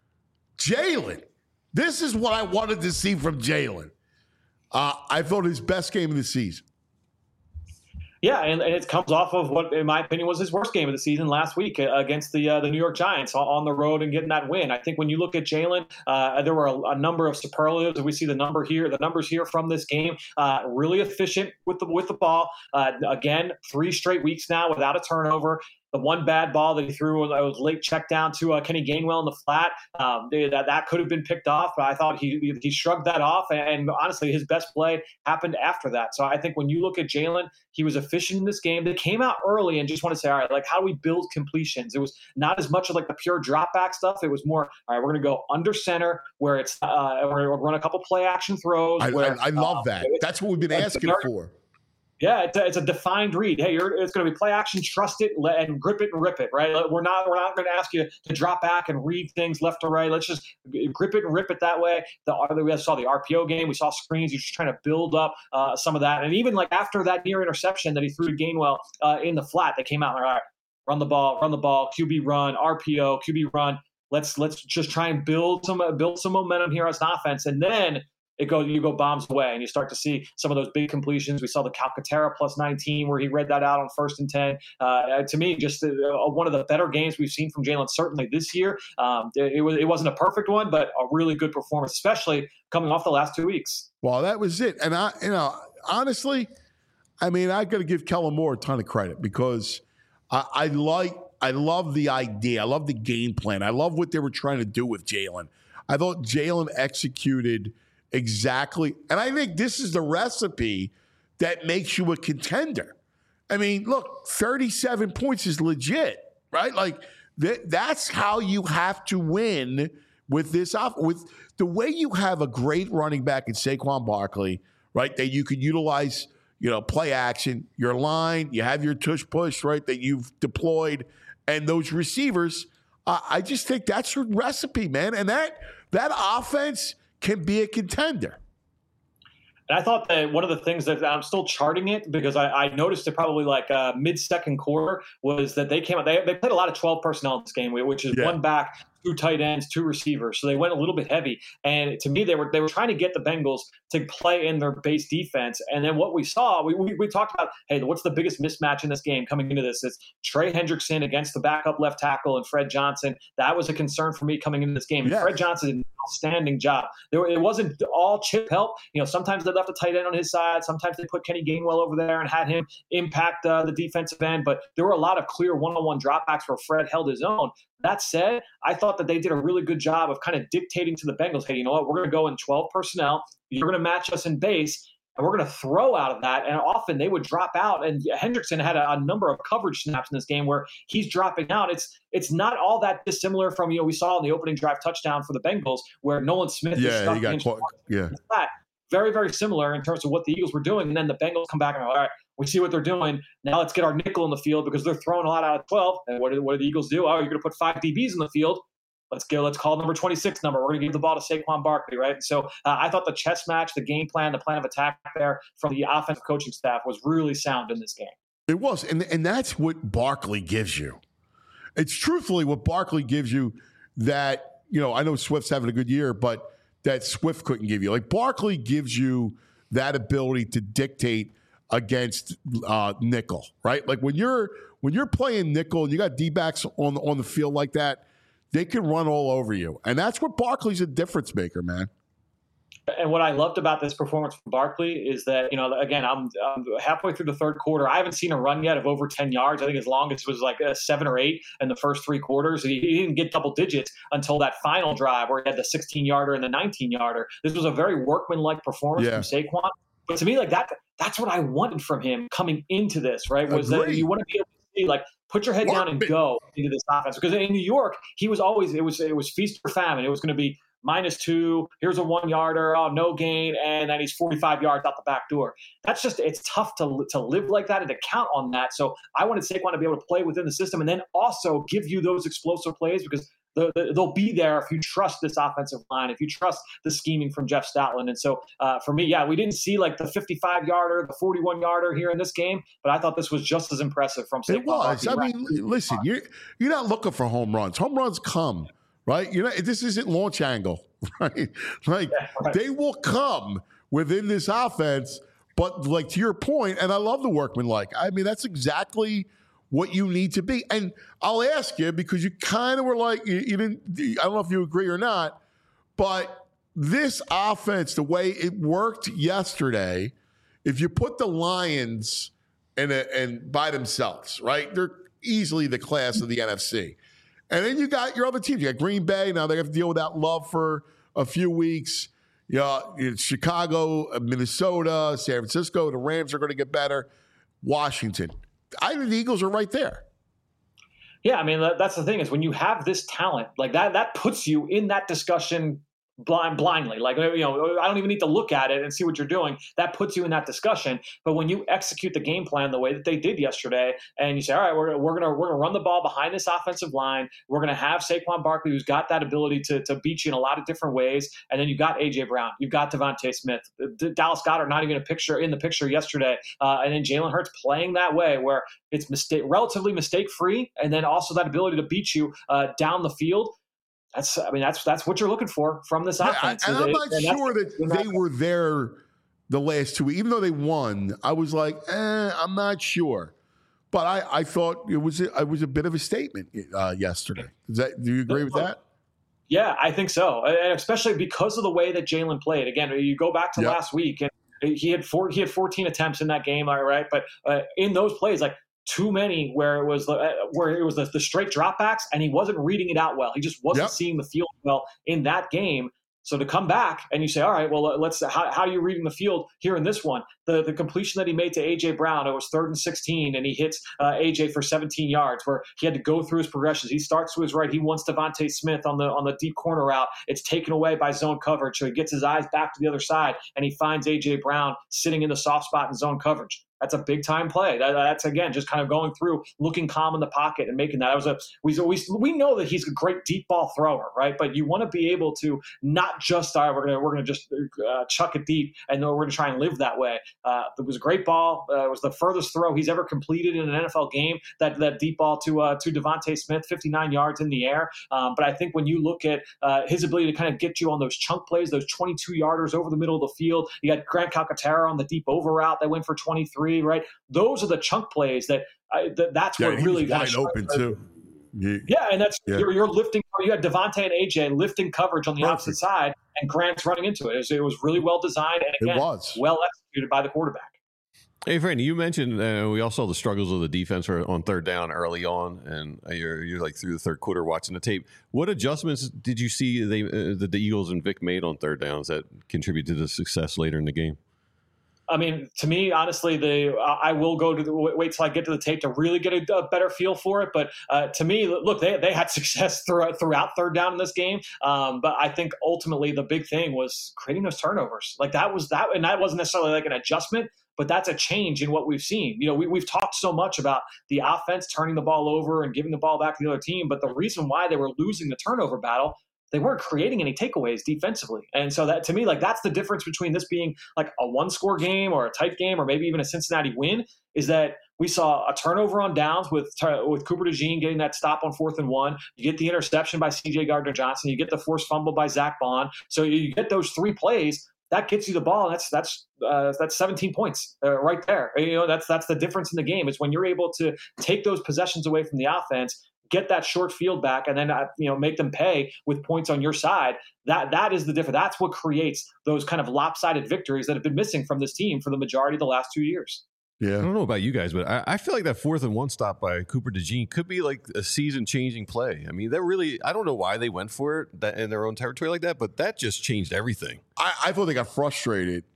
Jalen. This is what I wanted to see from Jalen. Uh, I thought his best game of the season. Yeah, and, and it comes off of what, in my opinion, was his worst game of the season last week against the uh, the New York Giants on the road and getting that win. I think when you look at Jalen, uh, there were a, a number of superlatives. We see the number here, the numbers here from this game. Uh, really efficient with the with the ball. Uh, again, three straight weeks now without a turnover. The one bad ball that he threw was a late check down to uh, Kenny Gainwell in the flat. Um, that that could have been picked off, but I thought he he shrugged that off. And, and honestly, his best play happened after that. So I think when you look at Jalen, he was efficient in this game. They came out early and just want to say, all right, like how do we build completions? It was not as much of like the pure drop back stuff. It was more, all right, we're going to go under center where it's uh, we're going to run a couple play action throws. I, where, I, I love uh, that. That's what we've been asking very, for. Yeah, it's a, it's a defined read. Hey, you're, it's going to be play action, trust it, let, and grip it and rip it. Right? We're not we're not going to ask you to drop back and read things left to right. Let's just grip it and rip it that way. The we saw the R P O game. We saw screens. You're just trying to build up uh, some of that. And even like after that near interception that he threw to Gainwell uh, in the flat, they came out and all right, run the ball, run the ball, Q B run, R P O, Q B run. Let's let's just try and build some build some momentum here as an offense, and then. It goes, you go bombs away, and you start to see some of those big completions. We saw the Calcaterra plus nineteen, where he read that out on first and ten. Uh, to me, just uh, one of the better games we've seen from Jalen certainly this year. Um, it, it was it wasn't a perfect one, but a really good performance, especially coming off the last two weeks. Well, that was it, and I, you know, honestly, I mean, I got to give Kellen Moore a ton of credit because I, I like, I love the idea. I love the game plan. I love what they were trying to do with Jalen. I thought Jalen executed exactly, and I think this is the recipe that makes you a contender. I mean, look, thirty-seven points is legit, right? Like th- that's how you have to win with this off with the way you have a great running back in Saquon Barkley, right? That you could utilize, you know, play action, your line, you have your tush push, right? That you've deployed, and those receivers. Uh, I just think that's a recipe, man, and that that offense can be a contender. And I thought that one of the things that I'm still charting it because I, I noticed it probably like uh, mid-second quarter was that they came out. They, they played a lot of twelve personnel in this game, which is yeah. one back, two tight ends, two receivers. So they went a little bit heavy. And to me, they were they were trying to get the Bengals to play in their base defense. And then what we saw, we, we, we talked about, hey, what's the biggest mismatch in this game coming into this? It's Trey Hendrickson against the backup left tackle and Fred Johnson. That was a concern for me coming into this game. Yeah. Fred Johnson did an outstanding job. There were, it wasn't all chip help. You know, sometimes they left a tight end on his side. Sometimes they put Kenny Gainwell over there and had him impact uh, the defensive end. But there were a lot of clear one-on-one dropbacks where Fred held his own. That said, I thought that they did a really good job of kind of dictating to the Bengals, hey, you know what, we're going to go in twelve personnel. You're going to match us in base, and we're going to throw out of that. And often they would drop out. And Hendrickson had a, a number of coverage snaps in this game where he's dropping out. It's it's not all that dissimilar from, you know, we saw in the opening drive touchdown for the Bengals where Nolan Smith is Yeah, stuck he got against caught. Yeah. that. Very, very similar in terms of what the Eagles were doing. And then the Bengals come back and go, all right, we see what they're doing. Now let's get our nickel in the field because they're throwing a lot out of twelve. And what do, what do the Eagles do? Oh, you're going to put five D Bs in the field. Let's go. Let's call number twenty-six number. We're going to give the ball to Saquon Barkley, right? So uh, I thought the chess match, the game plan, the plan of attack there from the offensive coaching staff was really sound in this game. It was, and and that's what Barkley gives you. It's truthfully what Barkley gives you that, you know, I know Swift's having a good year, but that Swift couldn't give you. Like Barkley gives you that ability to dictate against uh, nickel, right? Like when you're when you're playing nickel and you got D-backs on on the field like that, they can run all over you. And that's what Barkley's a difference maker, man. And what I loved about this performance from Barkley is that, you know, again, I'm, I'm halfway through the third quarter. I haven't seen a run yet of over ten yards. I think his longest was like a seven or eight in the first three quarters. He, he didn't get double digits until that final drive where he had the sixteen-yarder and the nineteen-yarder. This was a very workmanlike performance yeah. from Saquon. But to me, like that, that's what I wanted from him coming into this, right? Was Agreed. that you want to be able to see, like, put your head down and go into this offense. Because in New York, he was always, it was it was feast or famine. It was going to be minus two, here's a one-yarder, oh, no gain, and then he's forty-five yards out the back door. That's just, it's tough to, to live like that and to count on that. So I wanted Saquon to be able to play within the system and then also give you those explosive plays because the, the, they'll be there if you trust this offensive line, if you trust the scheming from Jeff Stoutland. And so uh, for me, yeah, we didn't see like the fifty-five-yarder, the forty-one-yarder here in this game, but I thought this was just as impressive from Saquon. It was. Barkley. I mean, listen, you're, you're not looking for home runs. Home runs come. Right? You know, this isn't launch angle, right? Like Yeah, right. they will come within this offense, but like to your point, and I love the workmanlike. I mean, that's exactly what you need to be. And I'll ask you because you kind of were like, you, you didn't. I don't know if you agree or not, but this offense, the way it worked yesterday, if you put the Lions in a, and by themselves, right? They're easily the class of the N F C. And then you got your other teams. You got Green Bay. Now they have to deal with that love for a few weeks. You know, it's Chicago, Minnesota, San Francisco. The Rams are going to get better. Washington. I think the Eagles are right there. Yeah, I mean, that, that's the thing is when you have this talent, like that, that puts you in that discussion blind blindly. Like, you know, I don't even need to look at it and see what you're doing. That puts you in that discussion. But when you execute the game plan the way that they did yesterday, and you say, all right, we're, we're gonna we're gonna run the ball behind this offensive line. We're gonna have Saquon Barkley, who's got that ability to to beat you in a lot of different ways. And then you got A J Brown, you've got Devontae Smith, D- Dallas Goedert not even a picture in the picture yesterday, uh, and then Jalen Hurts playing that way where it's mistake relatively mistake free, and then also that ability to beat you uh, down the field. That's, I mean, that's that's what you're looking for from this offense. Yeah, and I'm not and sure that they were there the last two weeks. Even though they won, I was like, eh, I'm not sure. But I, I thought it was a, it was a bit of a statement uh, yesterday. Is that, do you agree with that? Yeah, I think so, and especially because of the way that Jalen played. Again, you go back to yep. last week, and he had four, he had fourteen attempts in that game, all right? But uh, in those plays, like too many where it was uh, where it was the, the straight dropbacks, and he wasn't reading it out well. He just wasn't yep. seeing the field well in that game. So to come back and you say, all right, well, let's how, how are you reading the field here in this one? The the completion that he made to A J Brown, it was third and sixteen, and he hits uh, A J for seventeen yards, where he had to go through his progressions. He starts to his right. He wants Devontae Smith on the on the deep corner route. It's taken away by zone coverage, so he gets his eyes back to the other side, and he finds A J Brown sitting in the soft spot in zone coverage. That's a big time play. That, that's again just kind of going through, looking calm in the pocket and making that. That was a we always we know that he's a great deep ball thrower, right? But you want to be able to not just all right, we're gonna we're gonna just uh, chuck it deep, and then we're gonna try and live that way. Uh, it was a great ball. Uh, it was the furthest throw he's ever completed in an N F L game. That that deep ball to uh, to Devontae Smith, fifty-nine yards in the air. Um, but I think when you look at uh, his ability to kind of get you on those chunk plays, those twenty-two yarders over the middle of the field, you got Grant Calcaterra on the deep over route that went for twenty-three, right? Those are the chunk plays that I, th- that's yeah, what he really was wide open too. Yeah. yeah, and that's yeah. you're, you're lifting. You had Devontae and A J lifting coverage on the Perfect. opposite side, and Grant's running into it. It was, it was really well designed and again, it was. well executed by the quarterback. Hey, Franny, you mentioned uh, we all saw the struggles of the defense on third down early on, and you're you're like through the third quarter watching the tape. What adjustments did you see they uh, that the Eagles and Vic made on third downs that contribute to the success later in the game? I mean, to me, honestly, the I will go to the wait till I get to the tape to really get a, a better feel for it. But uh, to me, look, they they had success throughout throughout third down in this game. Um, but I think ultimately the big thing was creating those turnovers. Like that was that, and that wasn't necessarily like an adjustment, but that's a change in what we've seen. You know, we we've talked so much about the offense turning the ball over and giving the ball back to the other team, but the reason why they were losing the turnover battle, they weren't creating any takeaways defensively. And so that to me, like that's the difference between this being like a one score game or a tight game or maybe even a Cincinnati win, is that we saw a turnover on downs with with Cooper DeJean getting that stop on fourth and one. You get the interception by C J Gardner-Johnson. You get the forced fumble by Zach Bond. So you get those three plays. That gets you the ball, and that's that's uh, that's seventeen points uh, right there. You know, that's that's the difference in the game. Is when you're able to take those possessions away from the offense, get that short field back, and then uh, you know make them pay with points on your side. That that is the difference. That's what creates those kind of lopsided victories that have been missing from this team for the majority of the last two years. Yeah, I don't know about you guys, but I, I feel like that fourth and one stop by Cooper DeJean could be like a season-changing play. I mean, that really, I don't know why they went for it that, in their own territory like that, but that just changed everything. I, I thought they got frustrated.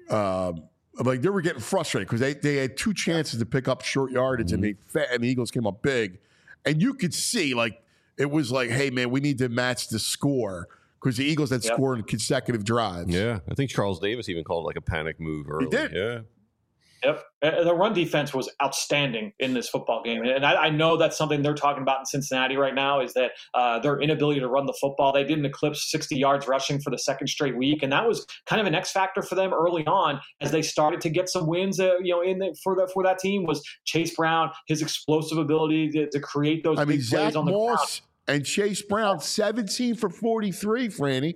Um, like they were getting frustrated because they, they had two chances to pick up short yardage, mm-hmm. and they fat, and the Eagles came up big, and you could see like it was like, hey man, we need to match the score because the Eagles had yep. scored in consecutive drives. Yeah, I think Charles Davis even called it like a panic move early. He did. Yeah. Yep. The run defense was outstanding in this football game. And I, I know that's something they're talking about in Cincinnati right now is that uh, their inability to run the football. They didn't eclipse sixty yards rushing for the second straight week. And that was kind of an X factor for them early on as they started to get some wins, uh, you know, in the, for, the, for that team was Chase Brown, his explosive ability to, to create those I mean, big Zach plays on the Moss ground. And Chase Brown, seventeen for forty-three, Franny.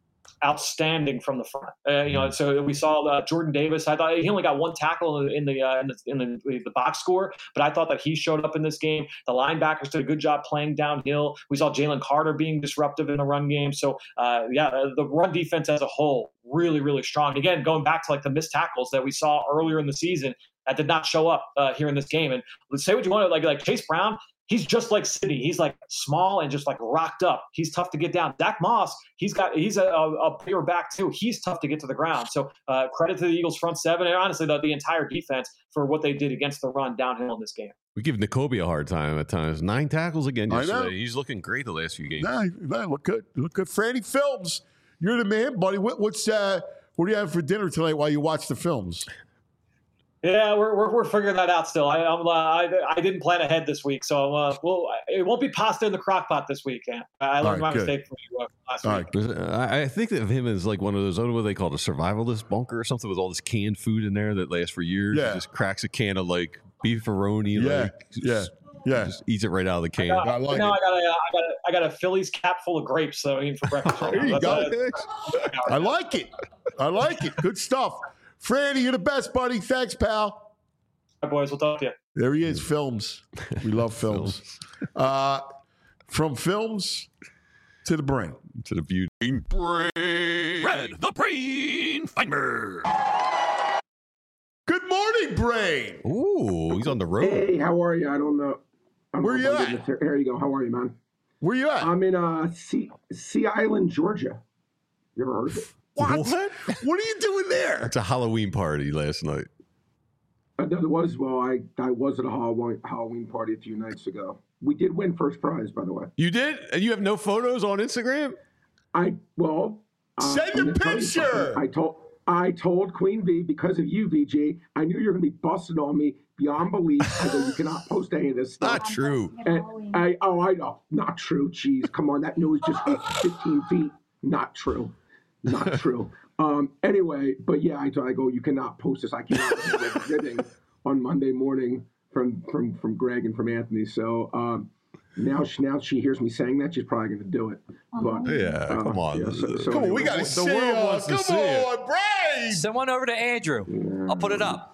Outstanding from the front. Uh, you know, so we saw uh, Jordan Davis. I thought he only got one tackle in the in the, uh, in, the in the the box score, but I thought that he showed up in this game. The linebackers did a good job playing downhill. We saw Jalen Carter being disruptive in the run game. So uh, yeah, the run defense as a whole really really strong. Again, going back to like the missed tackles that we saw earlier in the season, that did not show up uh, here in this game. And let's say what you want to like like Chase Brown. He's just like Sidney. He's like small and just like rocked up. He's tough to get down. Dak Moss, he's got he's a, a bigger back too. He's tough to get to the ground. So uh, credit to the Eagles front seven and honestly the, the entire defense for what they did against the run downhill in this game. We give N'Kobe a hard time at times. Nine tackles again yesterday. I know. He's looking great the last few games. Nah, nah, look good. Look good. Franny Films, you're the man, buddy. What, what's uh, what do you have for dinner tonight while you watch the films? Yeah, we're, we're we're figuring that out still. I I'm, uh, I I didn't plan ahead this week, so uh, well, it won't be pasta in the crock pot this week. Yeah. I learned right, my good. mistake from you uh, last all week. Right. I think of him as like one of those, I don't know what they call it, a survivalist bunker or something with all this canned food in there that lasts for years. Yeah. He just cracks a can of like beefaroni. Yeah, like, yeah, yeah. Just eats it right out of the can. I got, I like now it. I got a I got a, I got a Phillies cap full of grapes that I'm eating for breakfast. Right there you now. go. A, I like it. I like it. Good stuff. Franny, you're the best, buddy. Thanks, pal. All right, boys, we'll talk to you. There he is, films. We love films. uh, from films to the brain. To the beauty. Brain. Red, the brain finder. Big Brain. Ooh, he's on the road. Hey, how are you? I don't know. I'm Where you at? Here, here you go. How are you, man? Where you at? I'm in uh, Sea, sea Island, Georgia. You ever heard of it? What? What? What are you doing there? It's a Halloween party last night. Uh, there was, well, I, I was at a Halloween, Halloween party a few nights ago. We did win first prize, by the way. You did? And you have no photos on Instagram? I, well. Uh, Send I'm a gonna tell you picture. something. I told, I told Queen Bee, because of you, V G, I knew you were going to be busting on me beyond belief. I go, you cannot post any of this stuff. Not true. And I, oh, I know. Not true. Jeez, come on. That nose just went fifteen feet. Not true. Not true. Um, anyway, but yeah, I, I go, you cannot post this. I cannot be ribbing on Monday morning from, from, from Greg and from Anthony. So um, now, she, now she hears me saying that, she's probably going to do it. But Yeah, uh, come on. yeah, so, so Come on, we anyway. got to The see world it. wants to Come see it. on, Brain. Send one over to Andrew. I'll put it up.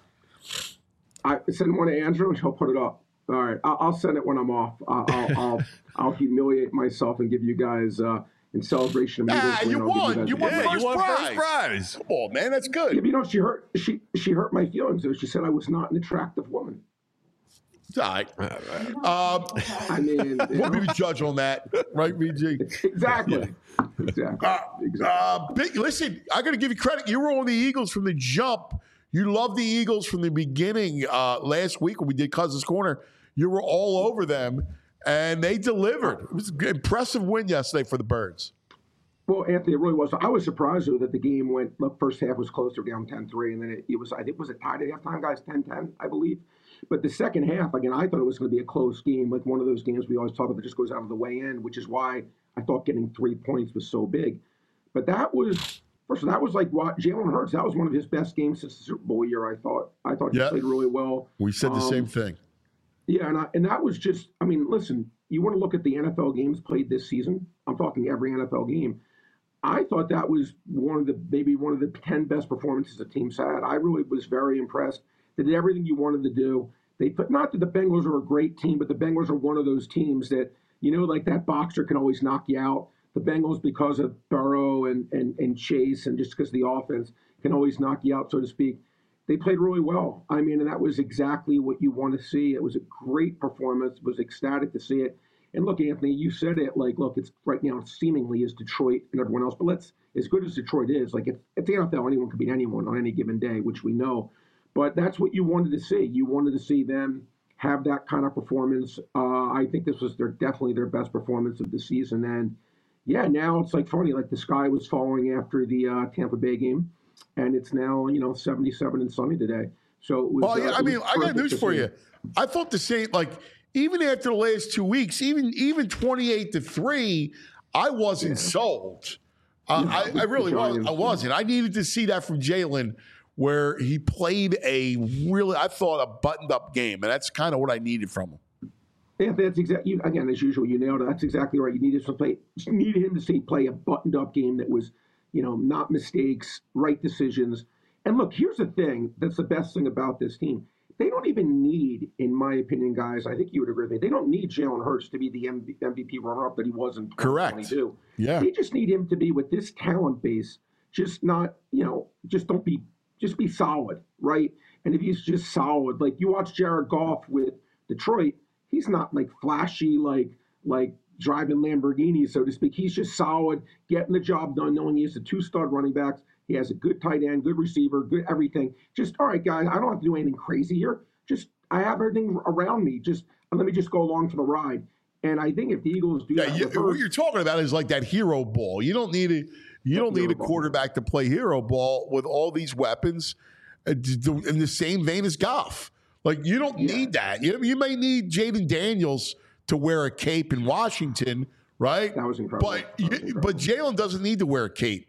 I send one to Andrew and he'll put it up. All right, I'll, I'll send it when I'm off. I'll, I'll, I'll, I'll humiliate myself and give you guys uh, in celebration of Eagles Ah, win, you I'll give won. guys You a- won Yeah, first you won prize. first prize. Come on, man. That's Yeah, good. but you know, she hurt. She she hurt my feelings. Though. She said I was not an attractive woman. It's all right. Um, I mean, you we'll be know, the judge on that, right, V G? exactly, exactly, exactly. Uh, big, listen, I got to give you credit. You were on the Eagles from the jump. You loved the Eagles from the beginning. Uh, last week when we did Cousins Corner, you were all over them, and they delivered. It was an impressive win yesterday for the Birds. Well, Anthony, it really was. I was surprised though that the game went. The first half was close. They were down ten three, and then it, it was. I think was it tied at halftime, guys, ten ten, I believe. But the second half, again, I thought it was going to be a close game, like one of those games we always talk about that just goes out of the way in, which is why I thought getting three points was so big. But that was first of all, that was like what Jalen Hurts. That was one of his best games since the Super Bowl year. I thought. I thought he Yeah. played really well. We said the Um, same thing. Yeah, and I, and that was just. I mean, listen, you want to look at the N F L games played this season. I'm talking every N F L game. I thought that was one of the maybe one of the ten best performances the team's had. I really was very impressed. They did everything you wanted to do. They put not that the Bengals are a great team, but the Bengals are one of those teams that you know, like that boxer can always knock you out. The Bengals, because of Burrow and and, and Chase, and just because of the offense, can always knock you out, so to speak. They played really well. I mean, and that was exactly what you want to see. It was a great performance. Was ecstatic to see it. And look, Anthony, you said it. Like, look, it's right now seemingly is Detroit and everyone else. But let's, as good as Detroit is, like it's, it's the N F L. Anyone can beat anyone on any given day, which we know. But that's what you wanted to see. You wanted to see them have that kind of performance. Uh, I think this was their definitely their best performance of the season. And yeah, now it's like funny. Like the sky was falling after the uh, Tampa Bay game, and it's now you know seventy-seven and sunny today. So it was. Well, yeah, uh, I it mean, was I got perfect news to for see. you. I thought the same. Like even after the last two weeks, even even twenty-eight to three, I wasn't sold. Uh, No, I, I really the was. Giants, I wasn't. I needed to see that from Jalen, where he played a really, I thought, a buttoned-up game, and that's kind of what I needed from him. Yeah, that's exactly. Again, as usual, you nailed it. That's exactly right. You needed to play. You needed him to see play a buttoned-up game that was, you know, not mistakes, right decisions. And look, here's the thing. That's the best thing about this team. They don't even need, in my opinion, guys. I think you would agree with me. They don't need Jalen Hurts to be the M V P runner-up that he was in Correct. twenty twenty-two. Yeah. They just need him to be with this talent base. Just not, you know, just don't be, just be solid, right? And if he's just solid, like you watch Jared Goff with Detroit. He's not like flashy, like like driving Lamborghini, so to speak. He's just solid, getting the job done, knowing he has the two stud running backs. He has a good tight end, good receiver, good everything. Just all right, guys. I don't have to do anything crazy here. Just I have everything around me. Just let me just go along for the ride. And I think if the Eagles do Yeah, that, you, with what Hurts- you're talking about is like that hero ball. You don't need a you don't need Hero a ball. quarterback to play hero ball with all these weapons uh, d- d- in the same vein as Goff. Like you don't Yeah. need that. You, you may need Jaden Daniels to wear a cape in Washington, right? That was incredible. But That was you, incredible. but Jalen doesn't need to wear a cape.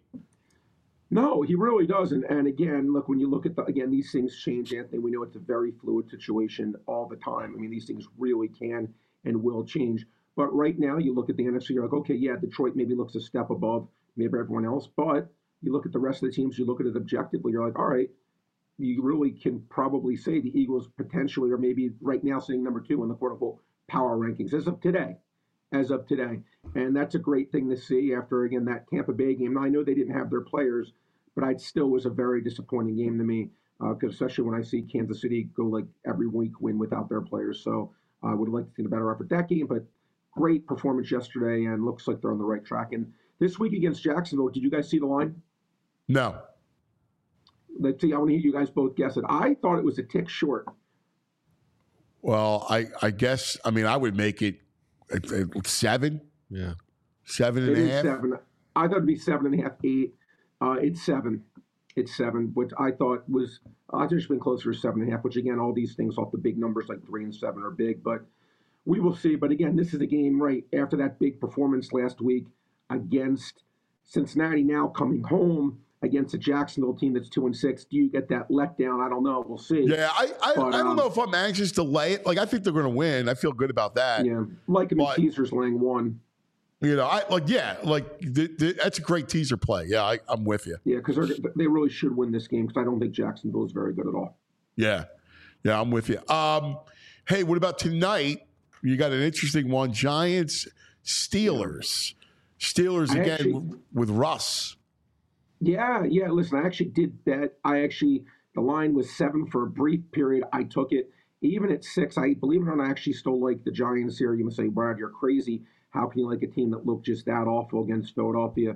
No, he really doesn't. And again, look, when you look at the, again, these things change, Anthony. We know it's a very fluid situation all the time. I mean, these things really can and will change. But right now, you look at the N F C, you're like, okay, yeah, Detroit maybe looks a step above maybe everyone else. But you look at the rest of the teams, you look at it objectively, you're like, all right, you really can probably say the Eagles potentially are maybe right now sitting number two in the quote unquote power rankings as of today. As of today. And that's a great thing to see after, again, that Tampa Bay game. Now, I know they didn't have their players, but it still was a very disappointing game to me. because uh, especially when I see Kansas City go like every week win without their players. So I uh, would like to see a better effort that game, but great performance yesterday and looks like they're on the right track. And this week against Jacksonville, did you guys see the line? No. Let's see. I want to hear you guys both guess it. I thought it was a tick short. Well, I, I guess, I mean, I would make it at, at seven. Yeah. Seven and It a is half. seven. I thought it'd be seven and a half, eight. Uh, it's seven. It's seven, which I thought was, I think it's been closer to seven and a half, which again, all these things off the big numbers like three and seven are big, but we will see. But again, this is a game right after that big performance last week against Cincinnati, now coming home against a Jacksonville team that's two and six. Do you get that letdown? I don't know. We'll see. Yeah, I I, but, I don't um, know if I'm anxious to lay it. Like, I think they're going to win. I feel good about that. Yeah, like him in But- teasers laying one. You know, I like, yeah, like the, the, that's a great teaser play. Yeah, I, I'm with you. Yeah, because they really should win this game because I don't think Jacksonville is very good at all. Yeah, yeah, I'm with you. Um, hey, what about tonight? You got an interesting one: Giants, Steelers. Steelers I again actually- w- with Russ. Yeah, yeah. Listen, I actually did bet. I actually, the line was seven for a brief period. I took it. Even at six, I believe it or not, I actually still like the Giants here. You must say, Brad, you're crazy. How can you like a team that looked just that awful against Philadelphia?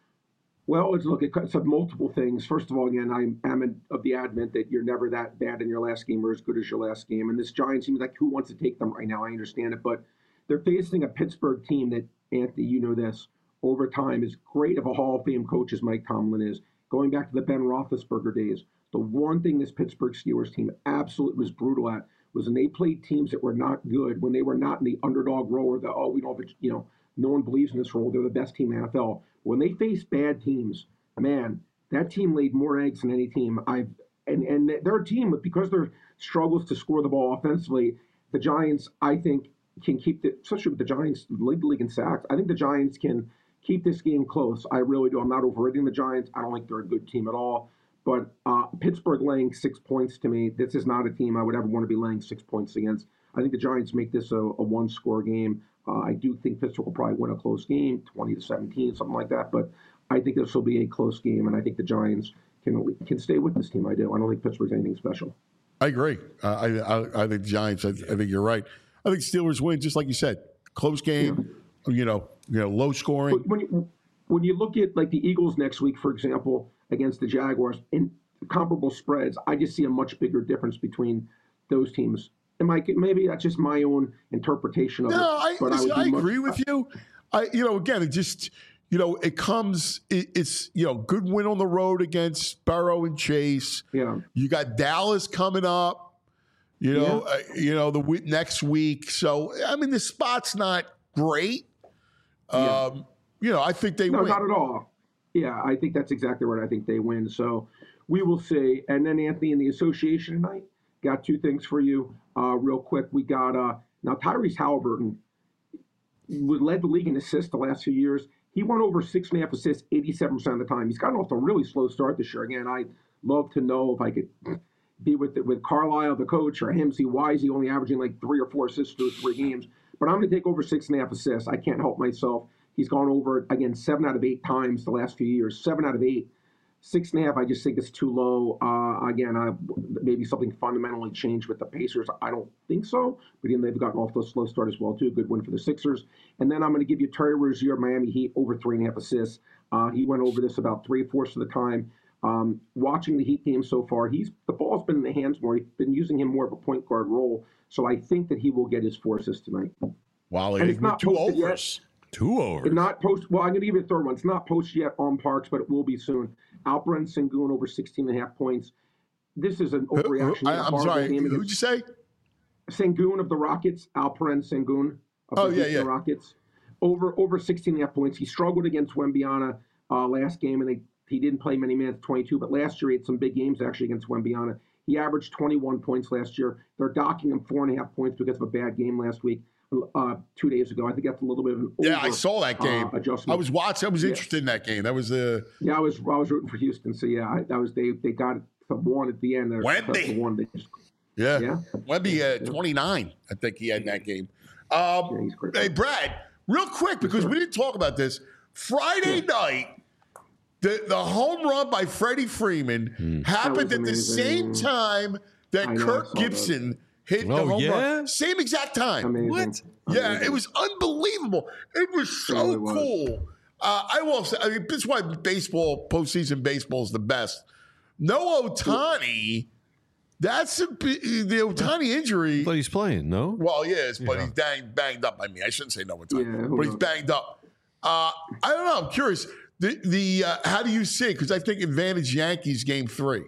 Well, it's look, it's of multiple things. First of all, again, I am of the adamant that you're never that bad in your last game or as good as your last game. And this Giants seems like who wants to take them right now? I understand it, but they're facing a Pittsburgh team that, Anthony, you know this, over time is great of a Hall of Fame coach as Mike Tomlin is. Going back to the Ben Roethlisberger days, the one thing this Pittsburgh Steelers team absolutely was brutal at was when they played teams that were not good, when they were not in the underdog role or the, oh, we don't have, a, you know, no one believes in this role, they're the best team in the N F L. When they faced bad teams, man, that team laid more eggs than any team I've, and, and they're a team, but because their struggles to score the ball offensively, the Giants, I think, can keep the, especially with the Giants lead the league in sacks, I think the Giants can keep this game close. I really do. I'm not overrating the Giants. I don't think they're a good team at all. But uh, Pittsburgh laying six points to me, this is not a team I would ever want to be laying six points against. I think the Giants make this a, a one-score game. Uh, I do think Pittsburgh will probably win a close game, twenty to seventeen, something like that. But I think this will be a close game, and I think the Giants can can stay with this team. I do. I don't think Pittsburgh's anything special. I agree. Uh, I, I I think Giants. I, I think you're right. I think Steelers win, just like you said, close game. Yeah. You know, you know, low scoring. But when you, when you look at like the Eagles next week, for example, against the Jaguars in comparable spreads, I just see a much bigger difference between those teams. And Mike, maybe that's just my own interpretation of no, it. I, but listen, I, I would agree much, with you. I, you know, again, it just, you know, it comes. It, it's you know, good win on the road against Burrow and Chase. Yeah, you got Dallas coming up. You know, yeah. uh, you know the w- next week. So I mean, the spot's not great. Um, yeah. You know, I think they no, win. not at all. Yeah, I think that's exactly right. I think they win. So we will see. And then Anthony, in the association tonight, got two things for you uh, real quick. We got uh, now Tyrese Halliburton led the league in assists the last few years. He won over six and a half assists eighty-seven percent of the time. He's gotten off to a really slow start this year. Again, I'd love to know if I could be with with Carlisle, the coach, or him, see why is he only averaging like three or four assists through three games. But I'm going to take over six and a half assists. I can't help myself. He's gone over, again, seven out of eight times the last few years. Seven out of eight. Six and a half, I just think it's too low. Uh, again, I, maybe something fundamentally changed with the Pacers. I don't think so. But again, they've gotten off to a slow start as well, too. Good win for the Sixers. And then I'm going to give you Terry Rozier, Miami Heat, over three and a half assists. Uh, he went over this about three-fourths of the time. Um, watching the Heat game so far, he's the ball's been in the hands more. He's been using him more of a point guard role. So I think that he will get his four assists tonight. Wow, and it's not two posted overs. Yet. Two overs. It's not post. Well, I'm going to give you a third one. It's not posted yet on Parks, but it will be soon. Alperen Sengun over sixteen and a half points. This is an overreaction. I, I'm sorry. Who'd you say? Sengun of the Rockets. Alperen Sengun of oh, the yeah, yeah. Rockets. Over over sixteen and a half points. He struggled against Wembyana uh, last game, and they, he didn't play many minutes, twenty-two. But last year he had some big games actually against Wembyana. He averaged twenty-one points last year. They're docking him four and a half points because of a bad game last week. Uh, two days ago, I think that's a little bit of an over, yeah. I saw that game. Uh, adjustment. I was watching. I was yeah. interested in that game. That was the. Uh... Yeah, I was. I was rooting for Houston. So yeah, I, that was they. They got the one at the end. Wemby. One. They just, yeah. Yeah. Wemby, uh, twenty-nine. I think he had in that game. Um, yeah, he's great. Hey, Brad, real quick because we didn't talk about this. Friday yeah. night, The, the home run by Freddie Freeman Hmm. happened at the amazing. same time that I know, I Kirk saw that. Gibson hit the Oh, home yeah? run. Same exact time. Amazing. What? Yeah, Amazing. it was unbelievable. It was so really was. cool. Uh, I will say, I mean, this is why baseball, postseason baseball is the best. No Ohtani, that's a, bi- the Ohtani injury. But he's playing, no? Well, yes, but Yeah. he's bang, banged up. I mean, I shouldn't say no Ohtani, Yeah, who but he's knows? banged up. Uh, I don't know. I'm curious. The the uh, how do you see it? Because I think advantage Yankees game three.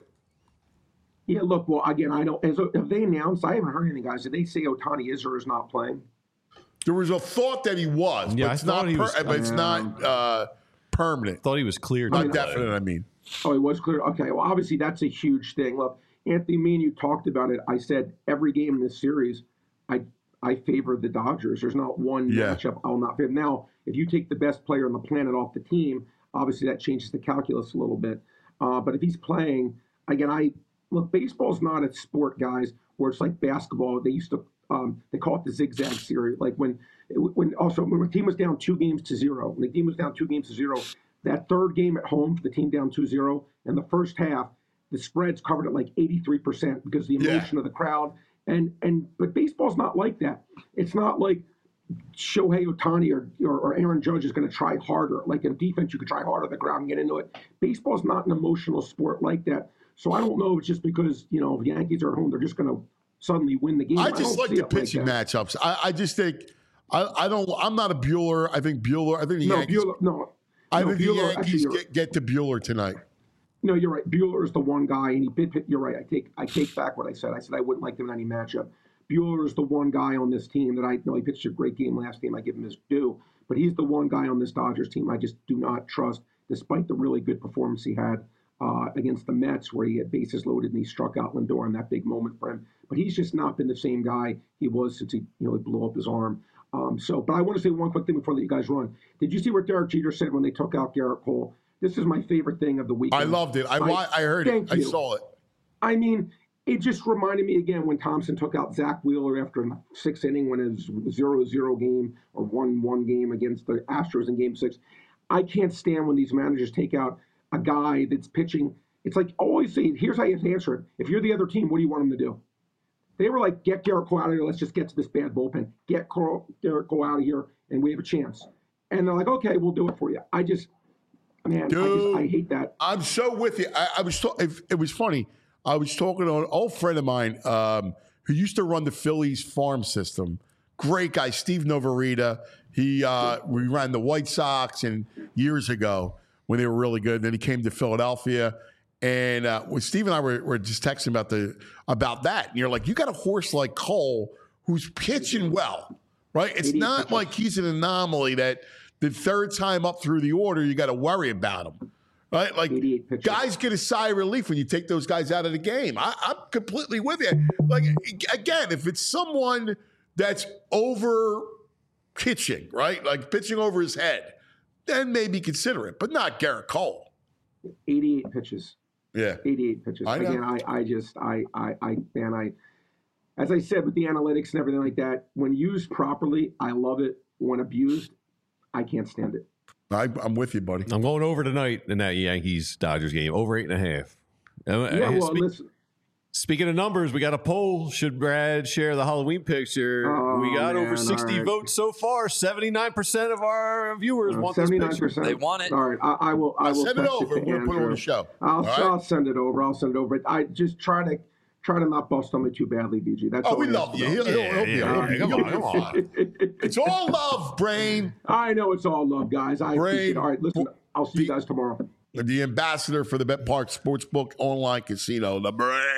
Yeah, look, well, again, I don't. As, have they announced? I haven't heard anything, guys. Did they say Ohtani is or is not playing? There was a thought that he was, Yeah, but I it's thought not. he Per, was- but it's not uh, permanent. Thought he was cleared. Not to play. definite. I mean, Oh, it was clear. Okay, well, obviously that's a huge thing. Look, Anthony, me and you talked about it. I said every game in this series, I I favor the Dodgers. There's not one Yeah. matchup I'll not favor. Now, if you take the best player on the planet off the team, obviously that changes the calculus a little bit. Uh, but if he's playing, again, I look. Baseball's not a sport, guys, where it's like basketball. They used to um, they call it the zigzag series. Like when when also when the team was down two games to zero, when the team was down two games to zero. That third game at home for the team down two zero, in the first half, the spreads covered at like eighty-three percent because the Yeah. emotion of the crowd. And and but baseball's not like that. It's not like Shohei Ohtani or, or, or Aaron Judge is going to try harder. Like in defense, you could try harder on the ground and get into it. Baseball's not an emotional sport like that. So I don't know if it's just because, you know, if Yankees are at home, they're just going to suddenly win the game. I just don't like see the it like pitching that. matchups. I, I just think I, I don't. I'm not a Bueller. I think Bueller. I think the No, Yankees. Bueller, no. I no, think the Bueller- actually, Yankees you're- get, get to Bueller tonight. No, you're right. Bueller is the one guy, and he did. You're right. I take I take back what I said. I said I wouldn't like him in any matchup. Bueller is the one guy on this team that I know he pitched a great game last game. I give him his due, but he's the one guy on this Dodgers team I just do not trust, despite the really good performance he had uh, against the Mets, where he had bases loaded and he struck out Lindor in that big moment for him. But he's just not been the same guy he was since he you know he blew up his arm. Um, so, but I want to say one quick thing before that you guys run. Did you see what Derek Jeter said when they took out Garrett Cole? This is my favorite thing of the weekend. I loved it. I wa- I heard it. Thank I you. saw it. I mean, it just reminded me again when Thompson took out Zach Wheeler after a sixth inning when it was zero zero game or one one game against the Astros in game six. I can't stand when these managers take out a guy that's pitching. It's like always say, here's how you have to answer it. If you're the other team, what do you want them to do? They were like, get Garrett Cole out of here. Let's just get to this bad bullpen. Get Carl, Garrett Cole out of here, and we have a chance. And they're like, okay, we'll do it for you. I just, man, I, just, Dude. I hate that. I'm so with you. I, I was. Ta- it, it was funny. I was talking to an old friend of mine um, who used to run the Phillies farm system. Great guy, Steve Novarita. He uh, we ran the White Sox and years ago when they were really good. Then he came to Philadelphia, and uh, when Steve and I were, were just texting about the about that. And you're like, you got a horse like Cole who's pitching well, right? It's not like he's an anomaly that the third time up through the order you got to worry about him. Right, like eighty-eight pitches. guys get a sigh of relief when you take those guys out of the game. I, I'm completely with you. Like again, if it's someone that's over pitching, right, like pitching over his head, then maybe consider it, but not Garrett Cole. eighty-eight pitches. Yeah, eighty-eight pitches. I know. Again, I, I just, I, I, I, man, I, as I said with the analytics and everything like that, when used properly, I love it. When abused, I can't stand it. I, I'm with you, buddy. I'm going over tonight in that Yankees Dodgers game, over eight and a half. Uh, Yeah, uh, well, spe- listen. Speaking of numbers, we got a poll. Should Brad share the Halloween picture? Oh, we got man, over sixty all right. votes so far. seventy-nine percent of our viewers want this Seventy-nine picture. percent. They want it. All right, I, I will. I I'll will send it text over. to We'll put it on Andrew. the show. I'll, All right? I'll send it over. I'll send it over. I just try to try to not bust on me too badly, B G. That's Oh, all we I love ask you. about. He'll, he'll, he'll be Yeah, all yeah, right. come He'll on, be come fine. on. It's all love, Brain. I know it's all love, guys. I Brain. appreciate it. All right, listen. I'll see you guys tomorrow. The ambassador for the Bet Park Sportsbook Online Casino, the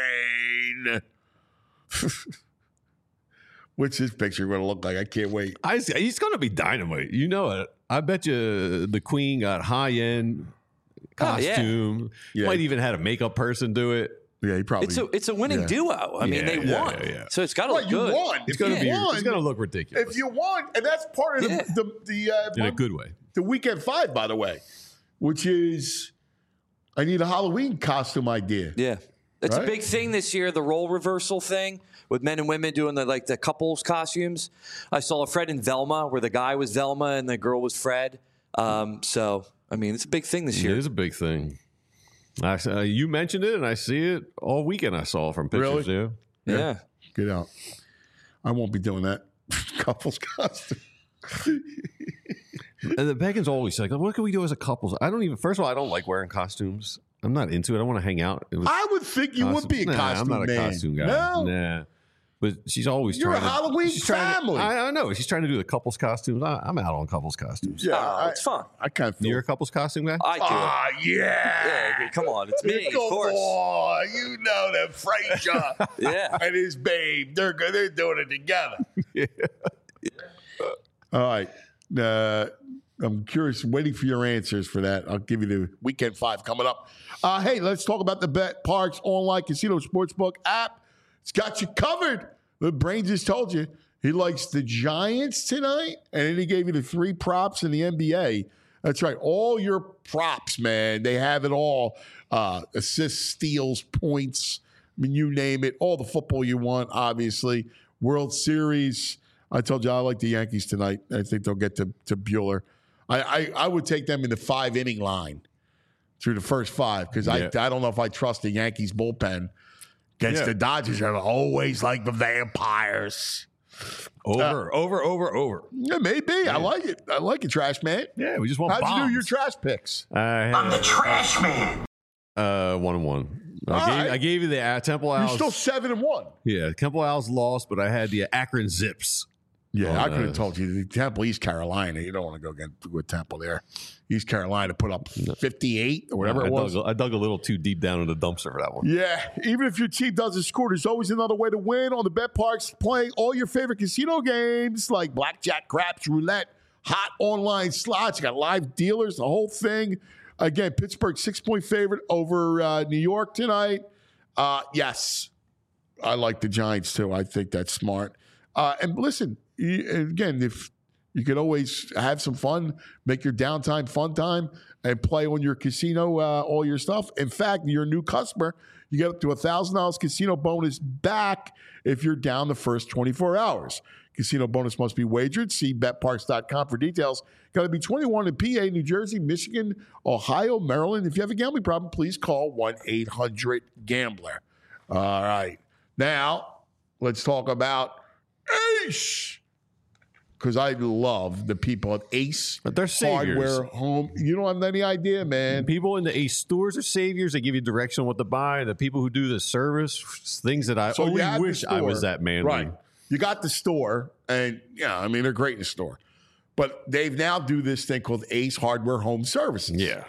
Brain. What's his picture going to look like? I can't wait. I, he's going to be dynamite. You know it. I bet you the Queen got high end Oh, yeah. costume. Yeah. Might even had a makeup person do it. Yeah, he probably. It's a it's a winning yeah. duo. I mean, Yeah, they yeah, won, yeah, yeah. so it's got to Well, look you good. won. It's If going you to be. won, It's going to look ridiculous. If you won, and that's part of Yeah. the the, the uh, in a good way. the weekend five, by the way, which is I need a Halloween costume idea. Yeah, it's Right? a big thing this year. The role reversal thing with men and women doing the like the couples costumes. I saw a Fred and Velma where the guy was Velma and the girl was Fred. Um, so I mean, it's a big thing this It year. is a big thing. I, uh, you mentioned it, and I see it all weekend. I saw from pictures. Really? Yeah. Yeah. Get out. I won't be doing that. Couples costume. And the Beckons always like, what can we do as a couple? I don't even. First of all, I don't like wearing costumes. I'm not into it. I don't want to hang out. It was I would think you would be a nah, costume I'm not man. a costume guy. No? Nah. But she's always You're a trying to, Halloween she's trying to- family. I, I know. She's trying to do the couples costumes. I, I'm out on couples costumes. Yeah, Oh, I, it's fun. I kind of feel. You're a couples costume guy? I do. Ah, yeah. Yeah, come on. It's me, of Come course. on, you know that Frazier Yeah. and his babe, they're good. They're doing it together. Yeah. All right. Uh, I'm curious, waiting for your answers for that. I'll give you the weekend five coming up. Uh, hey, let's talk about the Bet Parks online casino sportsbook app. It's got you covered. The brain just told you he likes the Giants tonight, and then he gave you the three props in the N B A. That's right. All your props, man, they have it all. Uh, assists, steals, points. I mean, you name it. All the football you want, obviously. World Series. I told you I like the Yankees tonight. I think they'll get to, to Bueller. I, I, I would take them in the five-inning line through the first five because Yeah. I, I don't know if I trust the Yankees bullpen against Yeah. the Dodgers. Are always like the vampires. Over, over, over, over. Yeah, maybe. I like it. I like it, Trash Man. Yeah, we just want How'd bombs. you do your trash picks? I'm the trash man. Uh, one and one. I, All gave, right. I gave you the uh, Temple You're Owls. still seven and one. yeah, Temple Owls lost, but I had the Akron Zips. Yeah, Oh, I could have no. told you the Temple, East Carolina. You don't want to go get with Temple there. East Carolina put up fifty-eight or whatever I it was. Dug, I dug a little too deep down in the dumpster for that one. Yeah, even if your team doesn't score, there's always another way to win on the Bet Parks. Playing all your favorite casino games like blackjack, craps, roulette, hot online slots. You got live dealers, the whole thing. Again, Pittsburgh six-point favorite over uh, New York tonight. Uh, yes, I like the Giants too. I think that's smart. Uh, and listen, you, again, if you could always have some fun, make your downtime fun time, and play on your casino, uh, all your stuff. In fact, you're a new customer, you get up to one thousand dollars casino bonus back if you're down the first twenty-four hours. Casino bonus must be wagered. See bet parks dot com for details. Got to be twenty-one in P A, New Jersey, Michigan, Ohio, Maryland. If you have a gambling problem, please call one eight hundred gambler. All right. Now, let's talk about Ace. Because I love the people at Ace But they're saviors. Hardware Home. You don't have any idea, man. People in the Ace stores are saviors. They give you direction on what to buy. The people who do the service, things that I So you only have the wish I was store. that man. Right. You got the store, and yeah, I mean, they're great in the store. But they've now do this thing called Ace Hardware Home Services. Yeah.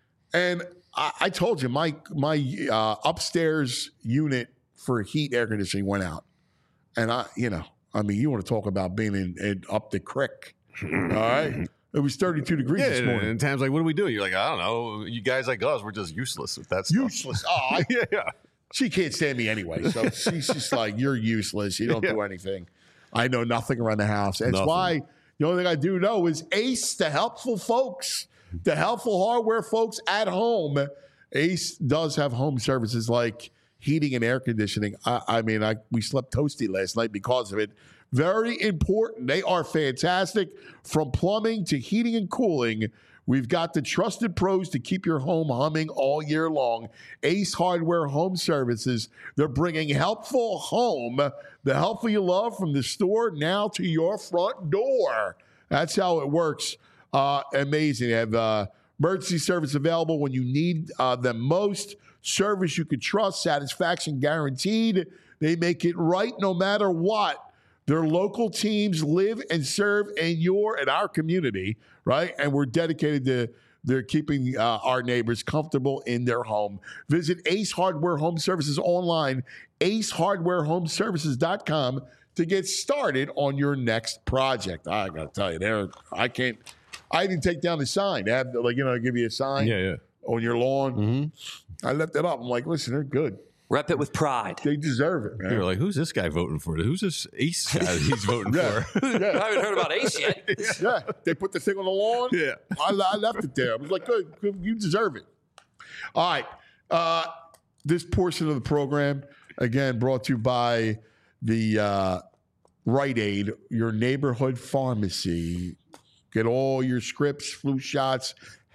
And I, I told you, my my uh, upstairs unit for heat air conditioning went out. And I, you know, I mean, you want to talk about being in, in up the creek. All right. It was thirty-two degrees Yeah, this and, morning. and times like, what do we do? You're like, I don't know. You guys like us, we're just useless with that stuff. Useless. Oh, I, yeah, yeah. she can't stand me anyway. So she's just like, you're useless. You don't do Yeah. anything. I know nothing around the house. That's Nothing. why the only thing I do know is Ace, the helpful folks, the helpful hardware folks at home. Ace does have home services like heating and air conditioning. I, I mean, I we slept toasty last night because of it. Very important. They are fantastic. From plumbing to heating and cooling, we've got the trusted pros to keep your home humming all year long. Ace Hardware Home Services. They're bringing helpful home, the helpful you love, from the store now to your front door. That's how it works. Uh, amazing. They have uh, emergency service available when you need uh, them most. Service you can trust, satisfaction guaranteed. They make it right no matter what. Their local teams live and serve in your and our community, right? And we're dedicated to they're keeping uh, our neighbors comfortable in their home. Visit Ace Hardware Home Services online, ace hardware home services dot com to get started on your next project. I got to tell you, there I can't. I didn't take down the sign. They have, like, you know, give you a sign Yeah, yeah. on your lawn. Mm-hmm. I left it up. I'm like, listen, they're good. Rep it with pride. They deserve it, man. You're like, who's this guy voting for? Who's this Ace guy that he's voting Yeah. for? I haven't heard about Ace yet. Yeah, they put the thing on the lawn. Yeah. I, I left it there. I was like, good, good, you deserve it. All right. Uh, this portion of the program, again, brought to you by the uh, Rite Aid, your neighborhood pharmacy. Get all your scripts, flu shots,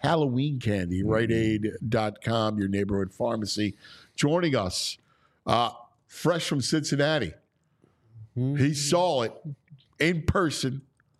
Halloween candy. Rite Aid dot com, your neighborhood pharmacy. Joining us, uh, fresh from Cincinnati. He saw it in person.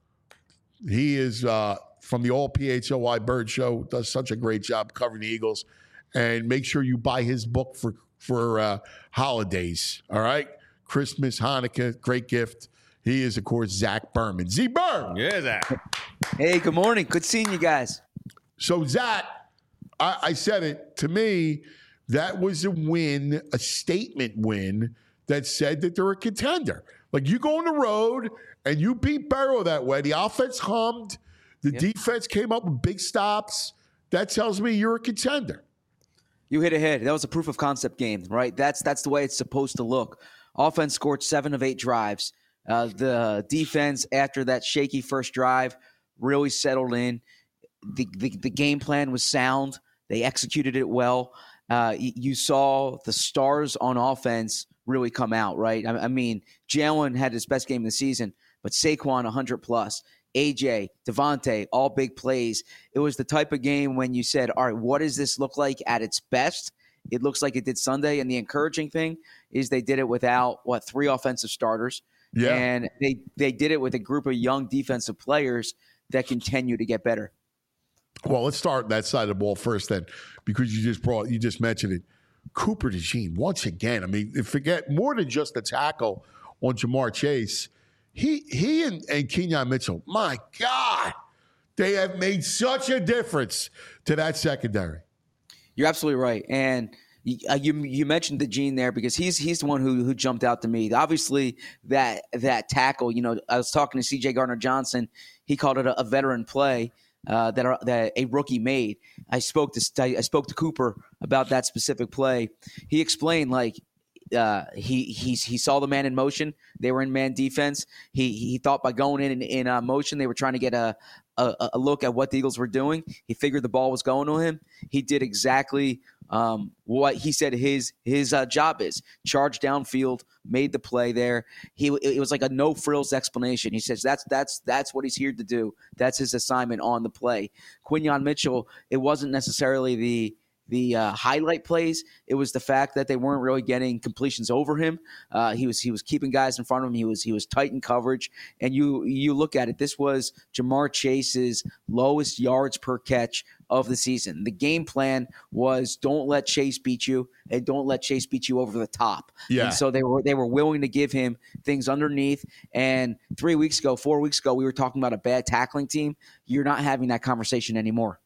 He is uh, from the All P H L Y Bird Show, does such a great job covering the Eagles. And make sure you buy his book for, for uh, holidays, all right? Christmas, Hanukkah, great gift. He is, of course, Zach Berman. Z Berm. Yeah, Zach. Hey, good morning. Good seeing you guys. So, Zach, I, I said it. To me, that was a win, a statement win that said that they're a contender. Like, you go on the road and you beat Burrow that way. The offense hummed. The Yep. defense came up with big stops. That tells me you're a contender. You hit ahead. That was a proof of concept game, right? That's that's the way it's supposed to look. Offense scored seven of eight drives. Uh, the defense, after that shaky first drive, really settled in. The, the, the game plan was sound. They executed it well. Uh, y- you saw the stars on offense really come out, right? I, I mean, Jalen had his best game of the season, but Saquon one hundred plus. A J, Devontae, all big plays. It was the type of game when you said, all right, what does this look like at its best? It looks like it did Sunday. And the encouraging thing is they did it without, what, three offensive starters. Yeah. And they, they did it with a group of young defensive players that continue to get better. Well, let's start that side of the ball first then, because you just brought, you just mentioned it. Cooper DeJean, once again, I mean, forget more than just the tackle on Jamar Chase. He he and, and Kenyon Mitchell, my God, they have made such a difference to that secondary. You're absolutely right. And you, uh, you you mentioned DeJean there because he's he's the one who who jumped out to me. Obviously, that that tackle, you know, I was talking to C J Gardner-Johnson. He called it a, a veteran play uh, that are, that a rookie made. I spoke to I spoke to Cooper about that specific play. He explained, like, Uh, he he's, he saw the man in motion. They were in man defense. He he thought by going in in, in uh, motion, they were trying to get a, a a look at what the Eagles were doing. He figured the ball was going to him. He did exactly um, what he said his his uh, job is: charge downfield, made the play there. He it was like a no frills explanation. He says that's that's that's what he's here to do. That's his assignment on the play. Quinyon Mitchell, it wasn't necessarily the the uh, highlight plays. It was the fact that they weren't really getting completions over him. Uh, he was he was keeping guys in front of him. He was he was tight in coverage. And you you look at it, this was Jamar Chase's lowest yards per catch of the season. The game plan was don't let Chase beat you and don't let Chase beat you over the top. Yeah. And so they were they were willing to give him things underneath. And three weeks ago, four weeks ago, we were talking about a bad tackling team. You're not having that conversation anymore.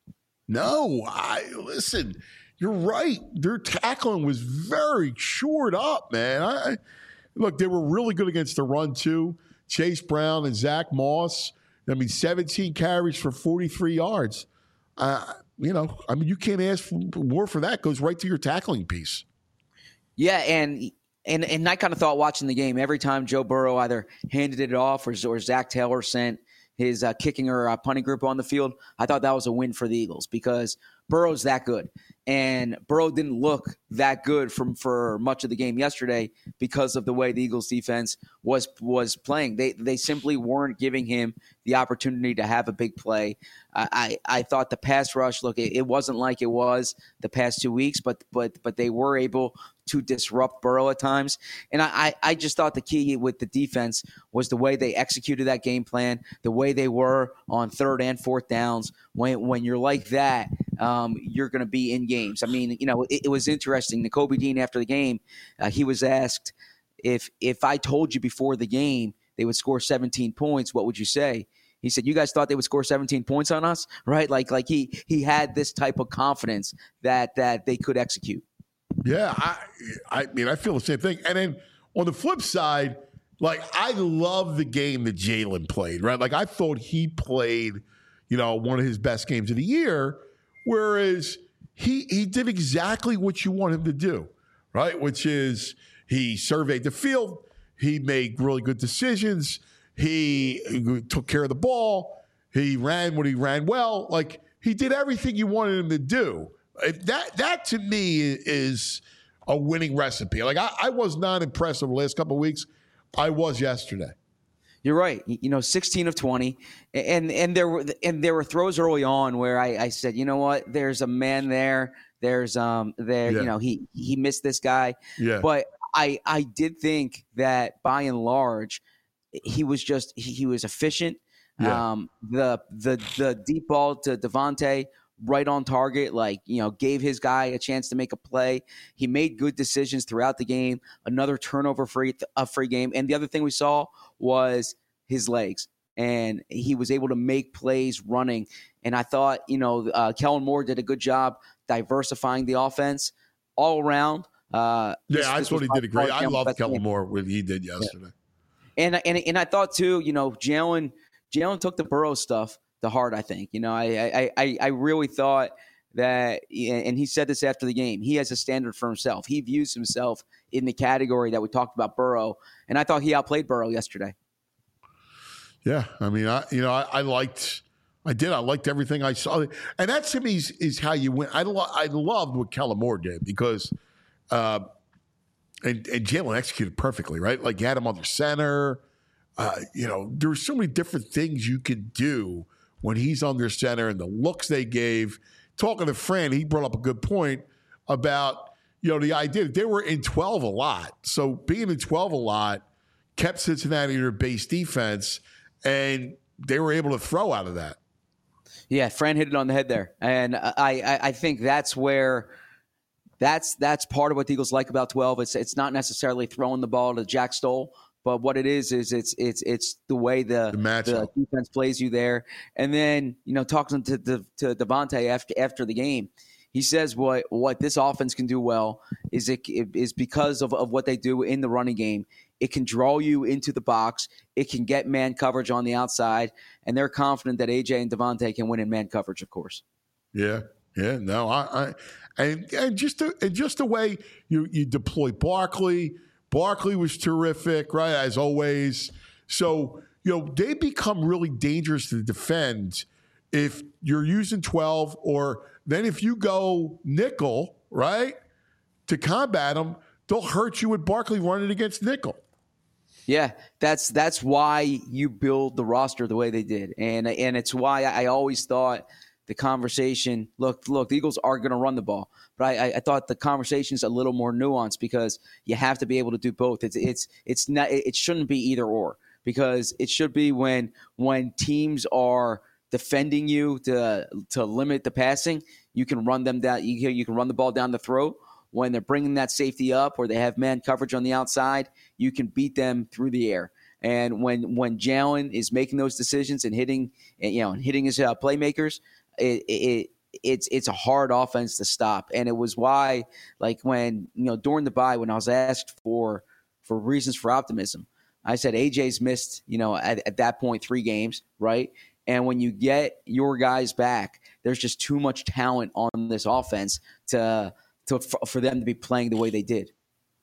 No, I listen. You're right. Their tackling was very shored up, man. I, I look, they were really good against the run too. Chase Brown and Zach Moss. I mean, seventeen carries for forty-three yards. Uh, you know, I mean, you can't ask for more for that. Goes right to your tackling piece. Yeah, and and and I kind of thought watching the game every time Joe Burrow either handed it off or, or Zach Taylor sent his uh, kicking or uh, punting group on the field, I thought that was a win for the Eagles because Burrow's that good. And Burrow didn't look that good from for much of the game yesterday because of the way the Eagles defense was was playing. They they simply weren't giving him the opportunity to have a big play. I I, I thought the pass rush, look, it, it wasn't like it was the past two weeks, but but but they were able to disrupt Burrow at times. And I, I just thought the key with the defense was the way they executed that game plan, the way they were on third and fourth downs. When when you're like that, um, you're going to be in games. I mean, you know, it, it was interesting. Nakobe Dean, after the game, uh, he was asked, if if I told you before the game they would score seventeen points, what would you say? He said, you guys thought they would score seventeen points on us, right? Like like he he had this type of confidence that that they could execute. Yeah, I, I mean, I feel the same thing. And then on the flip side, like, I love the game that Jalen played, right? Like, I thought he played, you know, one of his best games of the year, whereas he he did exactly what you want him to do, right? Which is he surveyed the field, he made really good decisions, he took care of the ball, he ran when he ran well. Like, he did everything you wanted him to do. If that that to me is a winning recipe. Like, I, I was not impressed over the last couple of weeks. I was yesterday. You're right. You know, sixteen of twenty, and and there were and there were throws early on where I, I said, you know what, there's a man there. There's um there, Yeah. you know, he he missed this guy. Yeah. But I I did think that by and large, he was just he, he was efficient. Yeah. Um, the the the deep ball to Devontae, right on target, like, you know, gave his guy a chance to make a play. He made good decisions throughout the game. Another turnover free a free game. And the other thing we saw was his legs, and he was able to make plays running. And I thought, you know, uh, Kellen Moore did a good job diversifying the offense all around. Uh, this- Yeah, I this thought was he by did a great. far I Jalen's love best Kellen game. Moore what he did yesterday. And and and I thought too, you know, Jalen Jalen took the Burrow stuff to heart. I think, you know, I I I, I really thought that, and he said this after the game, he has a standard for himself. He views himself in the category that we talked about Burrow, and I thought he outplayed Burrow yesterday. Yeah, I mean, I you know, I, I liked, I did, I liked everything I saw, and that to me is, is how you win. I lo- I loved what Kellen Moore did because, uh, and and Jalen executed perfectly, right? Like you had him under center. Uh, you know, there were so many different things you could do when he's under center, and the looks they gave. Talking to Fran, he brought up a good point about, you know, the idea that they were in twelve a lot. So being in twelve a lot kept Cincinnati in their base defense, and they were able to throw out of that. Yeah, Fran hit it on the head there, and I I, I think that's where that's that's part of what the Eagles like about twelve. It's it's not necessarily throwing the ball to Jack Stoll, but what it is is it's it's it's the way the, The matchup. the defense plays you there. And then, you know, talking to to, to Devontae after after the game, he says what what this offense can do well is it is because of, of what they do in the running game. It can draw you into the box. It can get man coverage on the outside, and they're confident that A J and Devontae can win in man coverage, of course. Yeah, yeah, no, I, I and and just the, and just the way you you deploy Barkley. Barkley was terrific, right, as always. So, you know, they become really dangerous to defend if you're using twelve, or then if you go nickel, right, to combat them, they'll hurt you with Barkley running against nickel. Yeah, that's that's why you build the roster the way they did, and and it's why I always thought the conversation. Look, look, the Eagles are going to run the ball, but I, I thought the conversation is a little more nuanced because you have to be able to do both. It's it's it's not. It shouldn't be either or, because it should be when when teams are defending you to to limit the passing, you can run them down. You you can run the ball down the throat. When they're bringing that safety up or they have man coverage on the outside, you can beat them through the air. And when when Jalen is making those decisions and hitting, you know, and hitting his uh, playmakers, it, it it's it's a hard offense to stop. And it was why, like when you know during the bye, when I was asked for for reasons for optimism, I said A J's missed, you know, at, at that point three games, right? And when you get your guys back, there's just too much talent on this offense to. To, for them to be playing the way they did.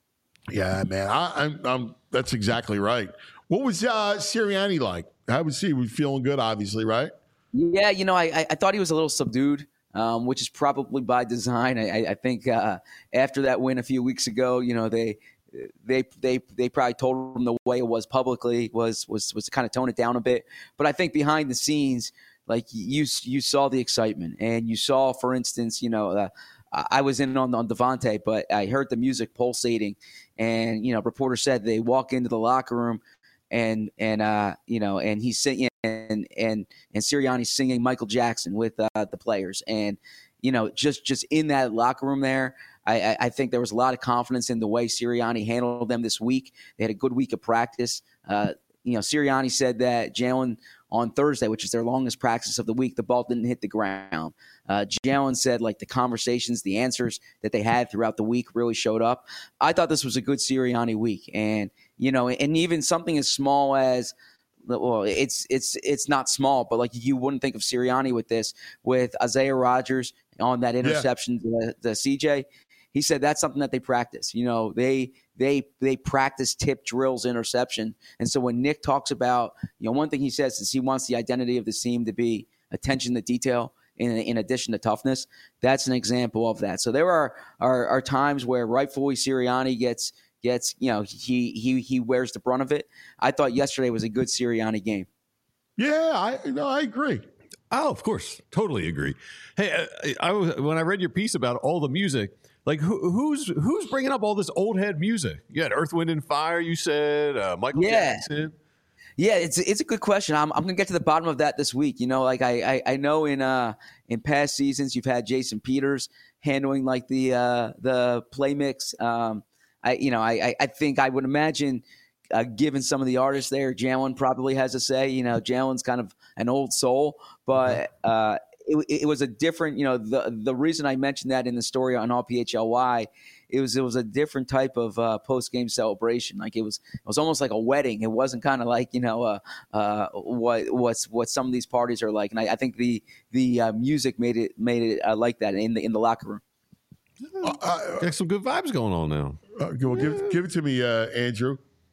Yeah, man, I, I'm, I'm. That's exactly right. What was uh, Sirianni like? How was he? Was feeling good, obviously, right? Yeah, you know, I, I thought he was a little subdued, um, which is probably by design. I, I think uh, after that win a few weeks ago, you know, they they they they probably told him the way it was publicly was was was to kind of tone it down a bit. But I think behind the scenes, like you you saw the excitement, and you saw, for instance, you know. Uh, I was in on, on Devontae, but I heard the music pulsating, and you know, reporters said they walk into the locker room, and and uh, you know, and he's singing, and and and Sirianni's singing Michael Jackson with uh, the players, and you know, just just in that locker room there, I, I think there was a lot of confidence in the way Sirianni handled them this week. They had a good week of practice. Uh, you know, Sirianni said that Jalen on Thursday, which is their longest practice of the week, the ball didn't hit the ground. Uh, Jalen said, like, the conversations, the answers that they had throughout the week really showed up. I thought this was a good Sirianni week. And, you know, and even something as small as, well, it's it's it's not small, but, like, you wouldn't think of Sirianni with this, with Isaiah Rodgers on that interception yeah. to, to C J. He said that's something that they practice. You know, they they they practice tip drills, interception. And so when Nick talks about, you know, one thing he says is he wants the identity of the team to be attention to detail in, in addition to toughness. That's an example of that. So there are, are are times where rightfully Sirianni gets gets, you know, he he he wears the brunt of it. I thought yesterday was a good Sirianni game. Yeah, I no, I agree. Oh, of course, totally agree. Hey, I, I was when I read your piece about all the music. Like who, who's who's bringing up all this old head music? You had Earth, Wind, and Fire. You said uh, Michael Yeah. Jackson. Yeah, it's it's a good question. I'm I'm gonna get to the bottom of that this week. You know, like I I, I know in uh in past seasons you've had Jason Peters handling like the uh, the play mix. Um, I you know I I think I would imagine uh, given some of the artists there, Jalen probably has a say. You know, Jalen's kind of an old soul, but uh, it, it was a different. You know, the the reason I mentioned that in the story on All P H L Y. It was it was a different type of uh, post game celebration. Like it was it was almost like a wedding. It wasn't kind of like you know uh, uh, what what's what some of these parties are like. And I, I think the the uh, music made it made it uh, like that in the in the locker room. Uh, uh, Got some good vibes going on now. Uh, well, give give it to me, uh, Andrew.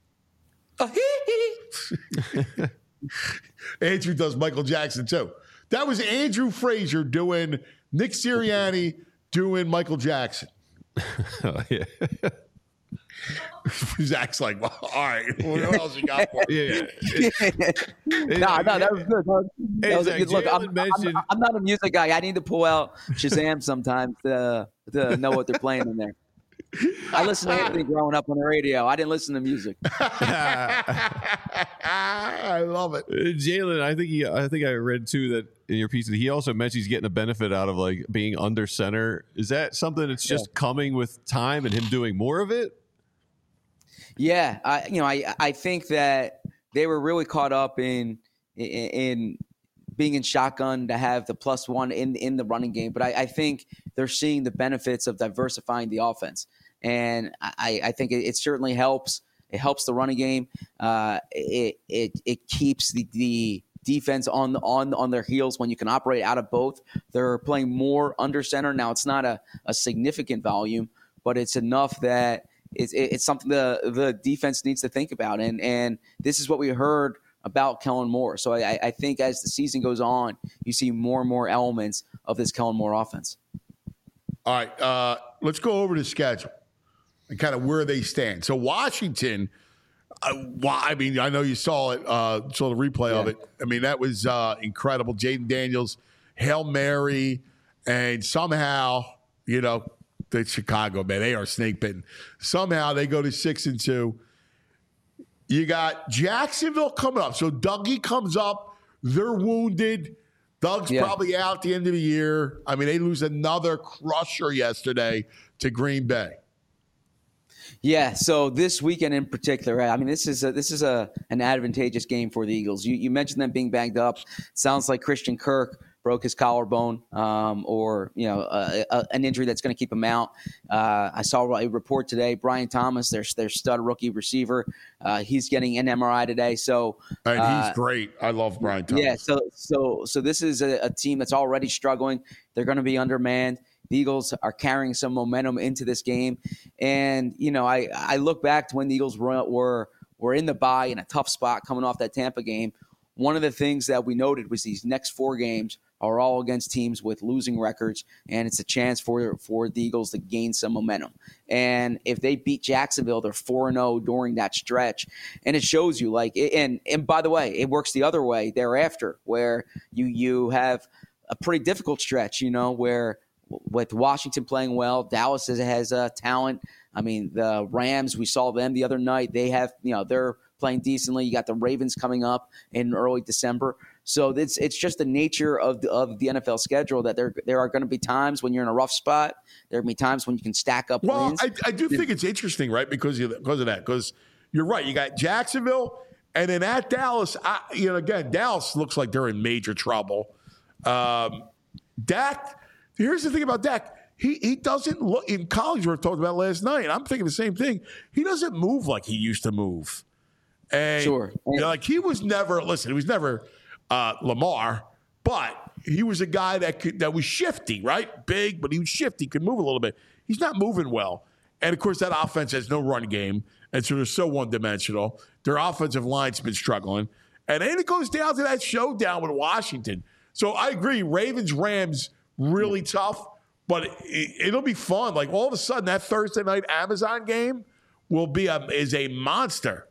Andrew does Michael Jackson too. That was Andrew Frazier doing Nick Sirianni doing Michael Jackson. Oh, yeah. Zach's like, well, all right, what else you got for me? Yeah. no, no, that was good. That was, that Hey, was a Zach, good look. I'm, Jalen mentioned- I'm, I'm not a music guy. I need to pull out Shazam sometimes to, to know what they're playing in there. I listened to Anthony growing up on the radio. I didn't listen to music. I love it. Uh, Jalen, I think he, I think I read too that in your piece that he also mentioned he's getting a benefit out of like being under center. Is that something that's just yeah. coming with time and him doing more of it? Yeah, I, you know, I I think that they were really caught up in in, in being in shotgun to have the plus one in in the running game, but I, I think they're seeing the benefits of diversifying the offense, and I, I think it, it certainly helps. It helps the running game. Uh, it it it keeps the, the defense on on on their heels when you can operate out of both. They're playing more under center now. It's not a, a significant volume, but it's enough that it's it's something the the defense needs to think about. And and this is what we heard about Kellen Moore. So I, I think as the season goes on, you see more and more elements of this Kellen Moore offense. All right, uh, let's go over the schedule and kind of where they stand. So Washington, uh, I mean, I know you saw it, uh, saw the replay yeah. of it. I mean, that was uh, incredible. Jaden Daniels, Hail Mary, and somehow, you know, the Chicago, man, they are snake bitten. Somehow they go to six and two. You got Jacksonville coming up. So Dougie comes up. They're wounded. Doug's yeah. probably out at the end of the year. I mean, they lose another crusher yesterday to Green Bay. Yeah, so this weekend in particular, I mean, this is a, this is a an advantageous game for the Eagles. You, you mentioned them being banged up. Sounds like Christian Kirk broke his collarbone, um, or you know, uh, a, an injury that's going to keep him out. Uh, I saw a report today. Brian Thomas, their their stud rookie receiver, uh, he's getting an M R I today. So and uh, he's great. I love Brian Thomas. Yeah, so so so this is a, a team that's already struggling. They're going to be undermanned. The Eagles are carrying some momentum into this game, and you know, I I look back to when the Eagles were were, were in the bye in a tough spot coming off that Tampa game. One of the things that we noted was these next four games are all against teams with losing records, and it's a chance for for the Eagles to gain some momentum. And if they beat Jacksonville, they're four and zero during that stretch, and it shows you like. And and by the way, it works the other way thereafter, where you you have a pretty difficult stretch, you know, where with Washington playing well, Dallas has, has uh, talent. I mean, the Rams, we saw them the other night. They have, you know, they're playing decently. You got the Ravens coming up in early December. So it's it's just the nature of the, of the N F L schedule that there there are going to be times when you're in a rough spot. There are going to be times when you can stack up well, wins. I, I do think it's interesting, right, because of, because of that. Because you're right. You got Jacksonville, and then at Dallas, I, you know, again, Dallas looks like they're in major trouble. Um, Dak, here's the thing about Dak. He he doesn't look – in college, we were talking about last night, and I'm thinking the same thing. He doesn't move like he used to move. And, sure. You know, like he was never – listen, he was never – Uh, Lamar, but he was a guy that could, that was shifty, right? Big, but he was shifty, could move a little bit. He's not moving well. And, of course, that offense has no run game, and so they're so one-dimensional. Their offensive line's been struggling. And then it goes down to that showdown with Washington. So I agree, Ravens-Rams, really tough, but it, it'll be fun. Like, all of a sudden, that Thursday night Amazon game will be a is a monster.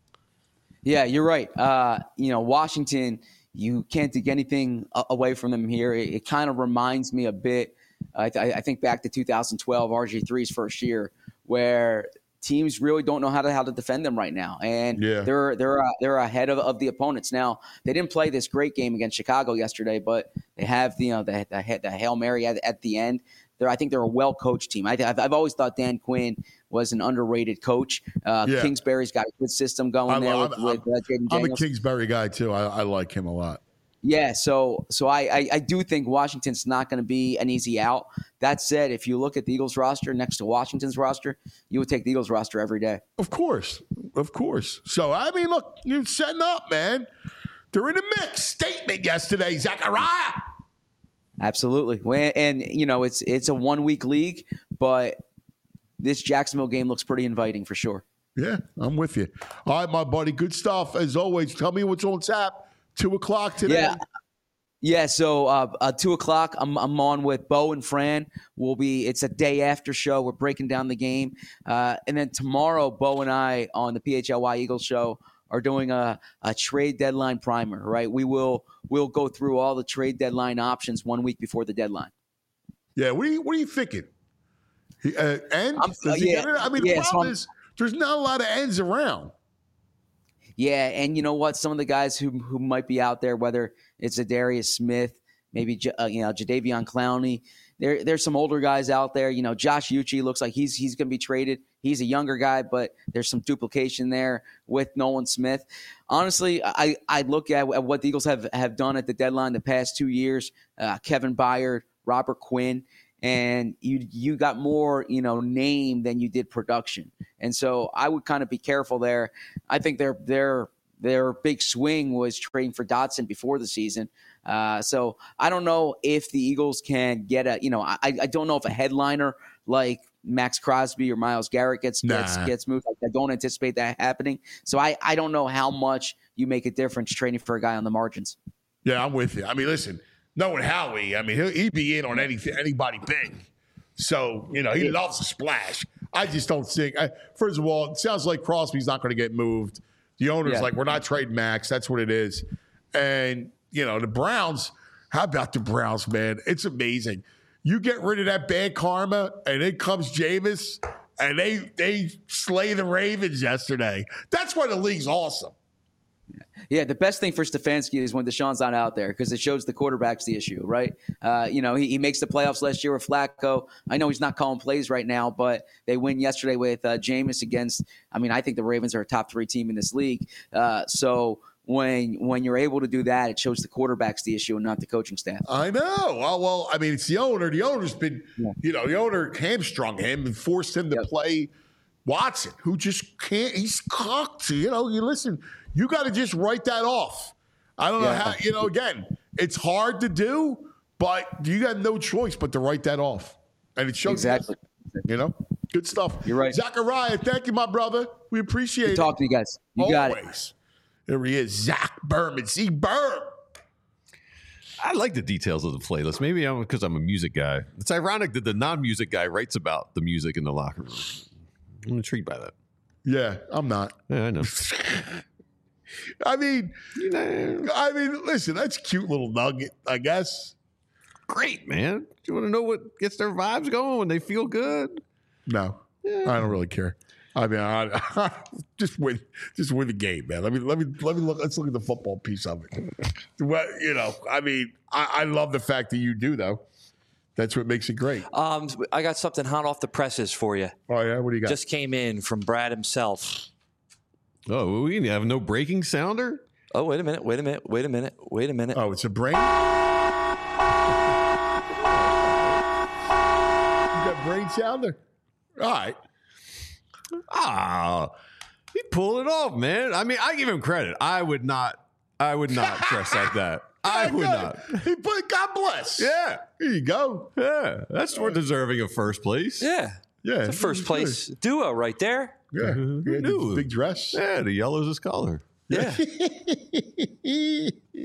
Yeah, you're right. Uh, you know, Washington, you can't take anything a- away from them here. It, it kind of reminds me a bit. I, th- I think back to two thousand twelve, R G three's first year, where teams really don't know how to how to defend them right now, and yeah. they're they're uh, they're ahead of, of the opponents now. They didn't play this great game against Chicago yesterday, but they have the you know the the, the Hail Mary at, at the end. They're, I think they're a well coached team. I, I've, I've always thought Dan Quinn was an underrated coach. Uh, yeah. Kingsbury's got a good system going I'm, there I'm, with, I'm, with uh, Jaden I'm a Daniels. Kingsbury guy too. I, I like him a lot. Yeah, so so I, I, I do think Washington's not going to be an easy out. That said, if you look at the Eagles roster next to Washington's roster, you would take the Eagles roster every day. Of course, of course. So I mean, look, you're setting up, man. They're in the mix. Statement yesterday, Zachariah. Absolutely, and you know it's it's a one week league, but this Jacksonville game looks pretty inviting for sure. Yeah, I'm with you. All right, my buddy. Good stuff as always. Tell me what's on tap. Two o'clock today. Yeah, yeah. So uh, uh, two o'clock. I'm I'm on with Bo and Fran. We'll be. It's a day after show. We're breaking down the game, uh, and then tomorrow, Bo and I on the P H L Y Eagles show are doing a, a trade deadline primer. Right. We will we'll go through all the trade deadline options one week before the deadline. Yeah. What are you What are you thinking? He, uh, end? I'm, Does he yeah, get it? I mean, yeah, the problem so is there's not a lot of ends around. Yeah, and you know what? Some of the guys who who might be out there, whether it's Zadarius Smith, maybe uh, you know Jadeveon Clowney, there there's some older guys out there. You know, Josh Uche looks like he's he's going to be traded. He's a younger guy, but there's some duplication there with Nolan Smith. Honestly, I I look at, at what the Eagles have have done at the deadline the past two years. Uh, Kevin Byard, Robert Quinn. And you you got more, you know, name than you did production. And so I would kind of be careful there. I think their their their big swing was trading for Dotson before the season. Uh, so I don't know if the Eagles can get a, you know, I, I don't know if a headliner like Max Crosby or Myles Garrett gets gets, Nah. gets moved. I don't anticipate that happening. So I, I don't know how much you make a difference trading for a guy on the margins. Yeah, I'm with you. I mean, listen. Knowing Howie, I mean, he'll, he'd be in on anything, anybody big. So, you know, he loves a splash. I just don't think. I, first of all, it sounds like Crosby's not going to get moved. The owner's Yeah. like, we're not trading Max. That's what it is. And, you know, the Browns, how about the Browns, man? It's amazing. You get rid of that bad karma, and in comes Jameis, and they they slay the Ravens yesterday. That's why the league's awesome. Yeah, the best thing for Stefanski is when Deshaun's not out there because it shows the quarterback's the issue, right? Uh, you know, he, he makes the playoffs last year with Flacco. I know he's not calling plays right now, but they win yesterday with uh, Jameis against, I mean, I think the Ravens are a top three team in this league. Uh, so when when you're able to do that, it shows the quarterback's the issue and not the coaching staff. I know. Well, well I mean, it's the owner. The owner's been, Yeah. you know, the owner hamstrung him and forced him to Yep. play Watson, who just can't, he's cocked. You know, you listen, you got to just write that off. I don't know Yeah. how, you know, again, it's hard to do, but you got no choice but to write that off. And it shows, Exactly. you know, good stuff. You're right. Zachariah, thank you, my brother. We appreciate Good it. talk to you guys. You got it. Always. There he is, Zach Berman. See, Berm. I like the details of the playlist. Maybe I'm because I'm a music guy. It's ironic that the non-music guy writes about the music in the locker room. I'm intrigued by that. Yeah, I'm not. Yeah, I know. I mean, I mean, listen, that's a cute little nugget, I guess. Great, man. You want to know what gets their vibes going when they feel good? No, I don't really care. I mean, I, just win, just win the game, man. Let me, let me, let me look. Let's look at the football piece of it. Well, you know, I mean, I, I love the fact that you do, though. That's what makes it great. Um, I got something hot off the presses for you. Oh yeah, what do you got? Just came in from Brad himself. Oh, we have no breaking sounder? Oh, wait a minute, wait a minute, wait a minute, wait a minute. Oh, it's a brain. You got brain sounder. All right. Ah, he pulled it off, man. I mean, I give him credit. I would not, I would not dress like that. I would not. He put. God bless. Yeah. Here you go. Yeah. That's more deserving of first place. Yeah, Yeah. the first place duo right there. Yeah. Yeah, the knew? big dress. Yeah, the yellow's his color. Yeah, Yeah.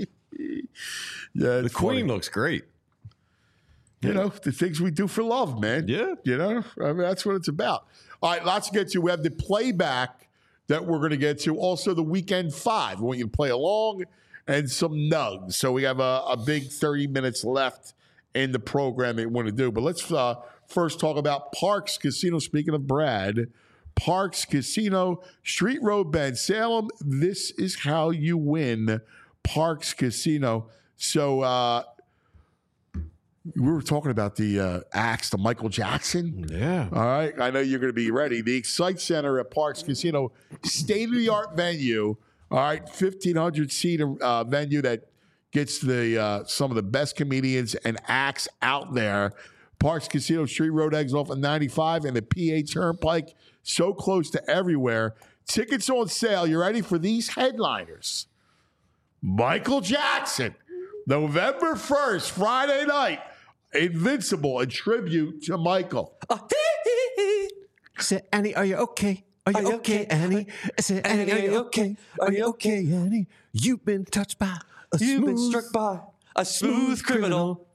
The queen looks great. You know, the things we do for love, man. Yeah. You know, I mean, that's what it's about. All right, lots to get to. We have the playback that we're going to get to. Also, the weekend five. We want you to play along and some nugs. So we have a, a big thirty minutes left in the program that we want to do. But let's uh, first talk about Parks Casino. Speaking of Brad, Parks Casino, Street Road Bend, Salem. This is how you win. Parks Casino. So uh, we were talking about the uh, axe to Michael Jackson. Yeah. All right. I know you're going to be ready. The Excite Center at Parks Casino, state-of-the-art venue. All right, fifteen hundred seat uh, venue that gets the uh, some of the best comedians and acts out there. Parks Casino, Street Road, exit off of ninety-five and the P A Turnpike, so close to everywhere. Tickets on sale. You ready for these headliners? Michael Jackson, November first, Friday night. Invincible, a tribute to Michael. Say, Annie, are you okay? Are you, Are you okay, okay? Annie? I said, Annie, are you okay? Are you okay, Annie? You've been touched by a You've been smooth, struck by a smooth criminal.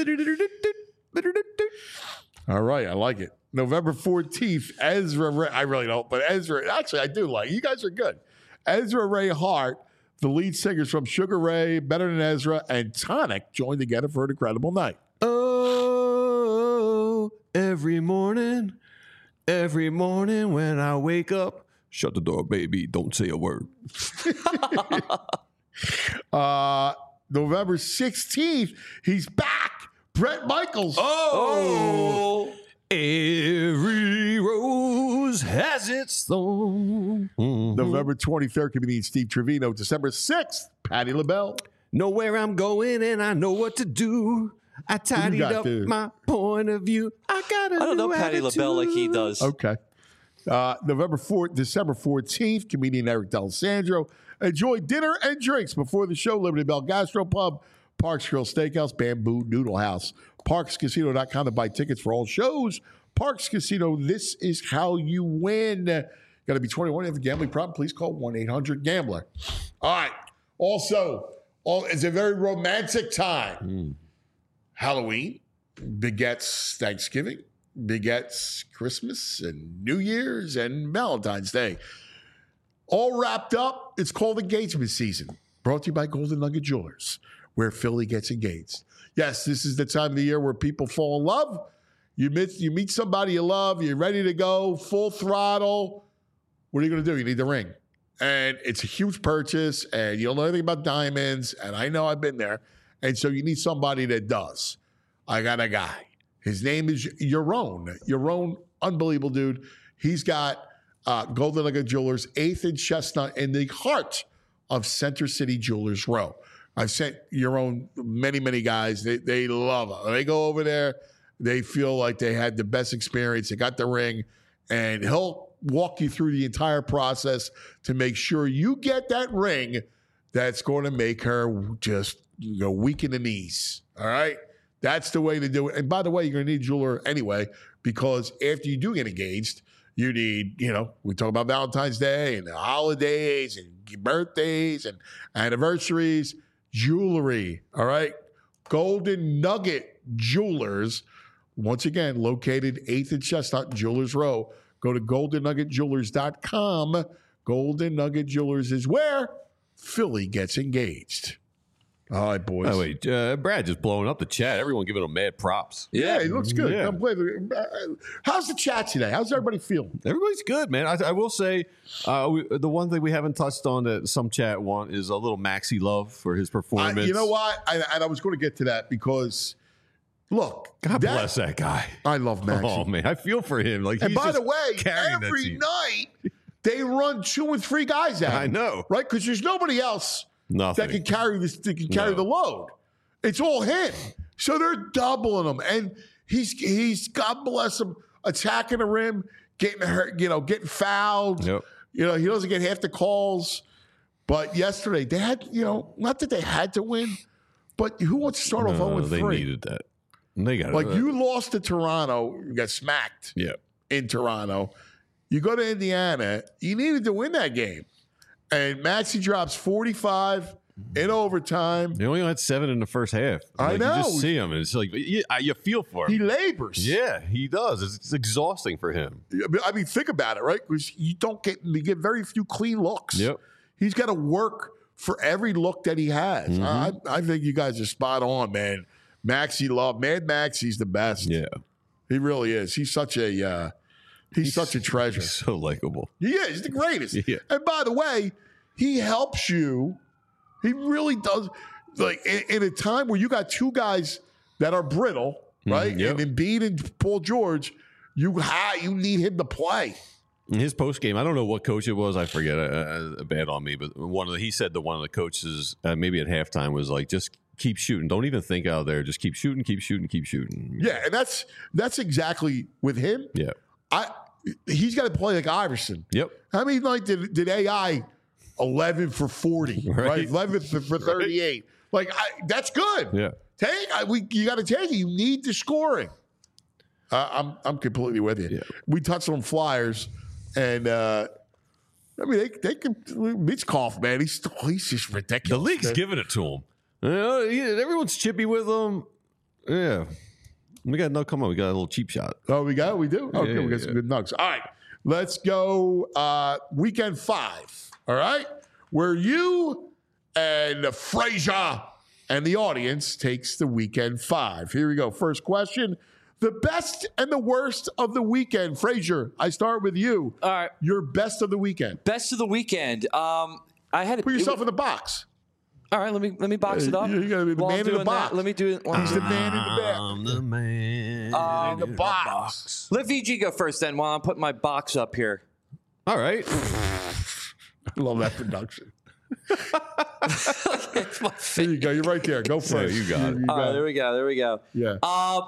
All right, I like it. November fourteenth, Ezra Ray. I really don't, but Ezra, actually, I do like. You guys are good. Ezra Ray Hart, the lead singers from Sugar Ray, Better Than Ezra, and Tonic join together for an incredible night. Oh, every morning, every morning when I wake up, shut the door, baby. Don't say a word. uh, November sixteenth, he's back. Bret Michaels. Oh, every rose has its thorn. Mm-hmm. November twenty-third, comedian Steve Trevino. December sixth, Patti LaBelle. Know where I'm going and I know what to do. I tidied got, up dude? my point of view. I got a I don't new know Patti attitude. LaBelle like he does. Okay. Uh, November fourth, December fourteenth, comedian Eric D'Alessandro. Enjoy dinner and drinks before the show. Liberty Bell Gastropub, Parks Grill Steakhouse, Bamboo Noodle House. Parks Casino dot com to buy tickets for all shows. Parks Casino, this is how you win. Got to be twenty-one. If you have a gambling problem, please call one eight hundred gambler. All right. Also, all, it's a very romantic time. Mm. Halloween begets Thanksgiving, begets Christmas and New Year's and Valentine's Day. All wrapped up. It's called engagement season. Brought to you by Golden Nugget Jewelers, where Philly gets engaged. Yes, this is the time of the year where people fall in love. You meet, you meet somebody you love. You're ready to go, full throttle. What are you going to do? You need the ring. And it's a huge purchase, and you don't know anything about diamonds, and I know I've been there. And so you need somebody that does. I got a guy. His name is Yaron. Yaron, unbelievable dude. He's got uh, Golden Nugget Jewelers, eighth and Chestnut, in the heart of Center City Jewelers Row. I've sent Yaron many, many guys. They, they love it. They go over there. They feel like they had the best experience. They got the ring, and he'll walk you through the entire process to make sure you get that ring that's going to make her just you know, weak in the knees. All right? That's the way to do it. And by the way, you're going to need a jeweler anyway, because after you do get engaged, you need, you know, we talk about Valentine's Day and the holidays and birthdays and anniversaries, jewelry. All right? Golden Nugget Jewelers. Once again, located eighth and Chestnut, Jewelers Row. Go to golden nugget jewelers dot com. Golden Nugget Jewelers is where Philly gets engaged. All right, boys. Oh, wait. Uh, Brad just blowing up the chat. Everyone giving him mad props. Yeah, he looks good. Yeah. Come play. How's the chat today? How's everybody feeling? Everybody's good, man. I, I will say uh, we, the one thing we haven't touched on that some chat want is a little Maxi love for his performance. Uh, you know what? I, and I was going to get to that because, look. God that, bless that guy. I love Maxi. Oh, man. I feel for him. Like, And he's by the just way, carrying that every team. night they run two and three guys out. I know. Right? Because there's nobody else Nothing. that can carry this that can carry No. the load. It's all him. So they're doubling him. And he's he's God bless him, attacking the rim, getting hurt, you know, getting fouled. Yep. You know, he doesn't get half the calls. But yesterday they had, you know, not that they had to win, but who wants to start off No, oh and they three? needed that. They got Like it. you lost to Toronto, you got smacked Yeah. in Toronto. You go to Indiana, you needed to win that game. And Maxey drops forty-five, in overtime. They only had seven in the first half. I Like, know. You just see him, and it's like you, you feel for him. He labors. Yeah, he does. It's, it's exhausting for him. I mean, think about it, right? Because you don't get you get very few clean looks. Yep. He's got to work for every look that he has. Mm-hmm. I, I think you guys are spot on, man. Maxie love, Mad Maxie's the best. Yeah. He really is. He's such a uh, he's, he's such a treasure. He's so likable. He is. He's the greatest. Yeah. And by the way, he helps you. He really does. Like in, in a time where you got two guys that are brittle, right? Mm, yep. And Embiid and Paul George, you ha- you need him to play. In his post game, I don't know what coach it was. I forget. Uh, uh, bad on me, but one of the, he said to one of the coaches, uh, maybe at halftime, was like, "Just keep shooting. Don't even think out there. Just keep shooting, keep shooting, keep shooting." Yeah, and that's that's exactly with him. Yeah. I he's got to play like Iverson. Yep. How many like did did A I eleven for forty, right? Right. eleven for, for thirty-eight. Like I, that's good. Yeah. Take I, we you got to take it. You need the scoring. Uh, I'm I'm completely with you. Yeah. We touched on Flyers, and uh, I mean they they can Mitchkoff, man. He's he's just ridiculous. The league's man. giving it to him. You know, he- everyone's chippy with him. Yeah. We got no. Come on, we got a little cheap shot. Oh, we got it? We do? Okay, Yeah, we got yeah. some good nugs. All right, let's go uh, weekend five, all right? Where you and Frazier and the audience takes the weekend five. Here we go. First question. The best and the worst of the weekend. Frazier, I start with you. All right. Your best of the weekend. Best of the weekend. Um, I had to Put yourself in the box. All right, let me let me box Uh, it up. you- you gotta be the While man I'm in the doing box. that, let me do it. He's the man in the back. I'm the man in the box. Let V G go first then while I'm putting my box up here. All right. I love that production. It's my There you go. You're right there. Go first. you got it. You All right, got there we go. There we go. Yeah. Uh,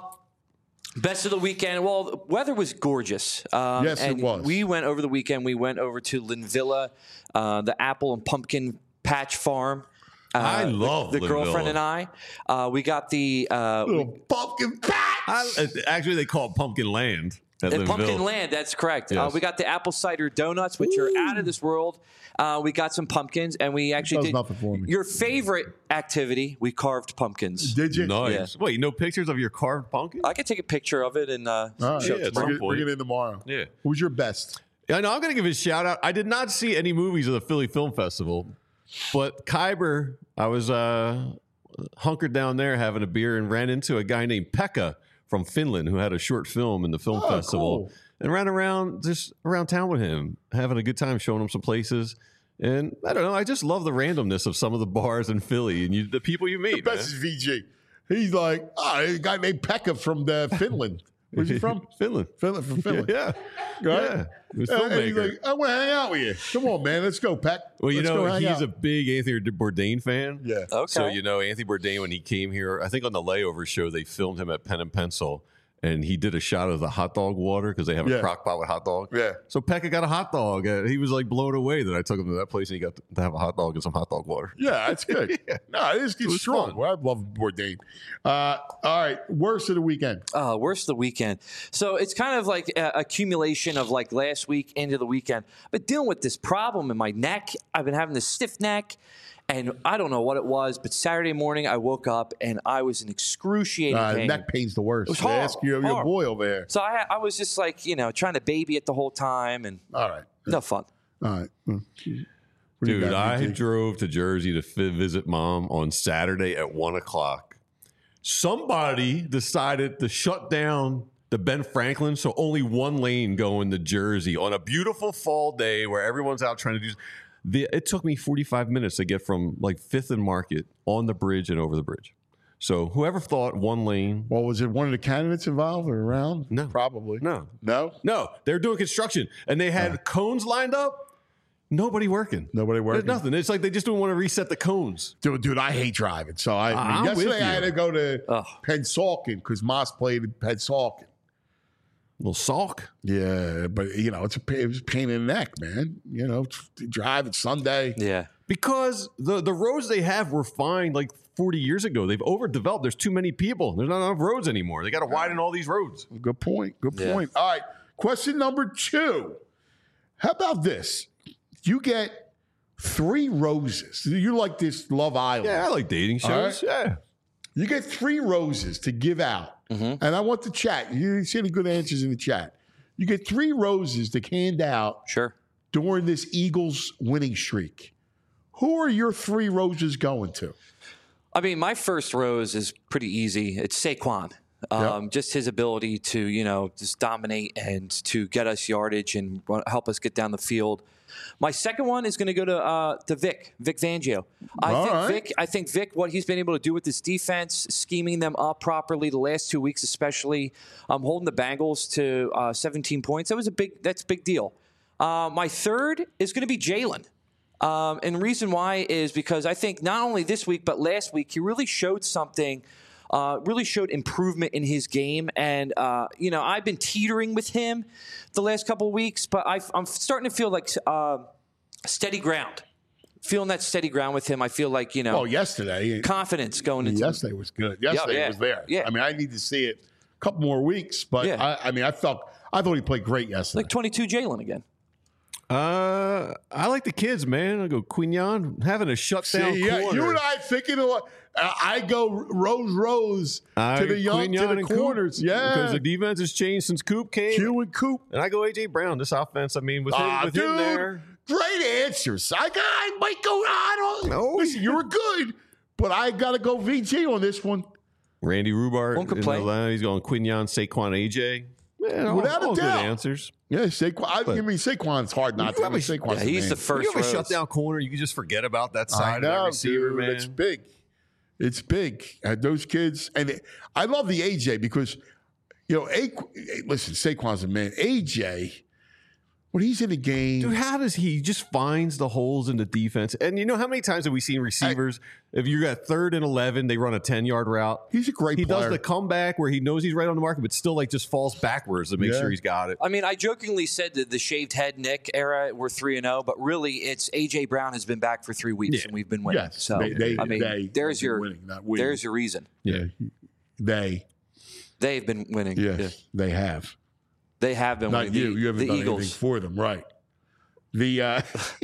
best of the weekend. Well, the weather was gorgeous. Um, Yes, it and was. We went over the weekend. We went over to Linvilla, uh, the apple and pumpkin patch farm. Uh, I love the, the girlfriend Linvilla. and I. Uh, we got the uh, Little pumpkin patch. I, actually, they call it Pumpkin Land. At Uh, Linville. Pumpkin Land, that's correct. Uh, Yes. we got the apple cider donuts, which are out of this world. Uh, we got some pumpkins, and we actually Does did nothing for me. your favorite activity. We carved pumpkins. Did you? Nice. Wait, no pictures of your carved pumpkin? I could take a picture of it and uh, All right. show Yeah, it at tomorrow. Bring it, point. bring it in tomorrow. Yeah. Who's your best? Yeah, no, I'm going to give a shout out. I did not see any movies of the Philly Film Festival, but Khyber, I was uh, hunkered down there having a beer and ran into a guy named Pekka from Finland who had a short film in the film Oh, festival cool. and ran around just around town with him, having a good time, showing him some places. And I don't know, I just love the randomness of some of the bars in Philly and you, the people you meet. The best is V G. He's like, oh, a guy named Pekka from the Finland. Where's he from? Finland. Finland, from Finland. Yeah. Right? Yeah. He was a Uh, and he's filmmaker. like, I want to hang out with you. Come on, man. Let's go, Peck. Well, you Let's know, go hang he's out. a big Anthony Bourdain fan. Yeah. Okay. So, you know, Anthony Bourdain, when he came here, I think on the Layover show, they filmed him at Pen and Pencil, and he did a shot of the hot dog water because they have Yeah. a crock pot with hot dog. Yeah. So Pekka got a hot dog. Uh, he was like blown away that I took him to that place and he got to, to have a hot dog and some hot dog water. Yeah, that's good. No, it is it's was strong. fun. Well, I love Bourdain. Uh, all right. Worst of the weekend. Uh, worst of the weekend. So it's kind of like a accumulation of like last week into the weekend. I've been dealing with this problem in my neck. I've been having this stiff neck, and I don't know what it was, but Saturday morning I woke up and I was in excruciating Uh, pain. neck pain's the worst. It was They Ask horrible, your, your horrible. boy over there. So I, I was just like, you know, trying to baby it the whole time, and All right. no fun. All right. Mm. What do you Dude, got, I V G? drove to Jersey to fi- visit mom on Saturday at one o'clock. Somebody decided to shut down the Ben Franklin, so only one lane going to Jersey on a beautiful fall day where everyone's out trying to do. The, it took me forty-five minutes to get from like Fifth and Market on the bridge and over the bridge. So whoever thought one lane? Well, was it one of the candidates involved or around? No. Probably. No, No? no, they're doing construction and they had cones lined up. Nobody working. Nobody There's working? nothing. It's like they just don't want to reset the cones. Dude, dude, I hate driving. So I, I mean, I'm with yesterday I you. had to go to Ugh. Pennsauken because Moss played in Pennsauken. Little salk. Yeah, but you know, it's a pain, it was a pain in the neck, man. You know, t- drive it's Sunday. Yeah. Because the, the roads they have were fine like forty years ago. They've overdeveloped. There's too many people. There's not enough roads anymore. They got to widen all these roads. Good point. Good Yeah. point. All right. Question number two. How about this? You get three roses. You like this Love Island? Yeah, I like dating shows. All right. Yeah. You get three roses to give out. Mm-hmm. And I want the chat. You see any good answers in the chat. You get three roses to hand out Sure. during this Eagles winning streak. Who are your three roses going to? I mean, my first rose is pretty easy. It's Saquon. Um, Yep. Just his ability to, you know, just dominate and to get us yardage and help us get down the field. My second one is going to go to uh, to Vic, Vic Fangio. I All think right. Vic. I think Vic. What he's been able to do with this defense, scheming them up properly the last two weeks, especially, um, holding the Bengals to uh, seventeen points. That was a big. That's a big deal. Uh, my third is going to be Jalen. Um, and the reason why is because I think not only this week but last week he really showed something. Uh, really showed improvement in his game. And, uh, you know, I've been teetering with him the last couple of weeks, but I've, I'm starting to feel like uh, steady ground. Feeling that steady ground with him, I feel like, you know, Oh, yesterday. confidence going into Yesterday was good. Yesterday yeah, was there. yeah. I mean, I need to see it a couple more weeks, but Yeah. I, I mean, I felt I thought he played great yesterday. like twenty-two Jalen again. Uh, I like the kids, man. I go Quignon having a shutdown See, yeah, corner. you and I thinking of what uh, I go Rose Rose I- to the young Quignon to the and Coop, corners. Yeah, because the defense has changed since Coop came. Q and Coop. And I go A J Brown. This offense, I mean, with him, Ah, with dude, him there. great answers. I, I might go. I don't. No. Listen, you were good, but I got to go V G on this one. Randy Rhubarb. Won't in complain. Atlanta. He's going Quignon, Saquon, A J. Man, all, Without a all good doubt. answers. Yeah, Saquon. I, I mean, Saquon's hard not You to. I mean, have a- Saquon's Yeah, he's man. the first You have a rose. shutdown corner. You can just forget about that I side know, of that receiver, dude. man. It's big. It's big. Uh, those kids, and it, I love the A J because, you know, a, listen, Saquon's a man. A J, when he's in the game, Dude, how does he just finds the holes in the defense? And you know how many times have we seen receivers? If you got third and eleven, they run a ten yard route. he's a great He player. does the comeback where he knows he's right on the market, but still like just falls backwards to make Yeah. sure he's got it. I mean, I jokingly said that the shaved head Nick era we're three and zero, but really it's A J Brown has been back for three weeks Yeah. and we've been winning. Yes, so they- they- I mean, they there's have been your winning, not winning. there's your reason. yeah, they, They've been winning. yes, Yeah. they have. They have been Not winning. you. The, you haven't the done Eagles. anything for them, right? The uh,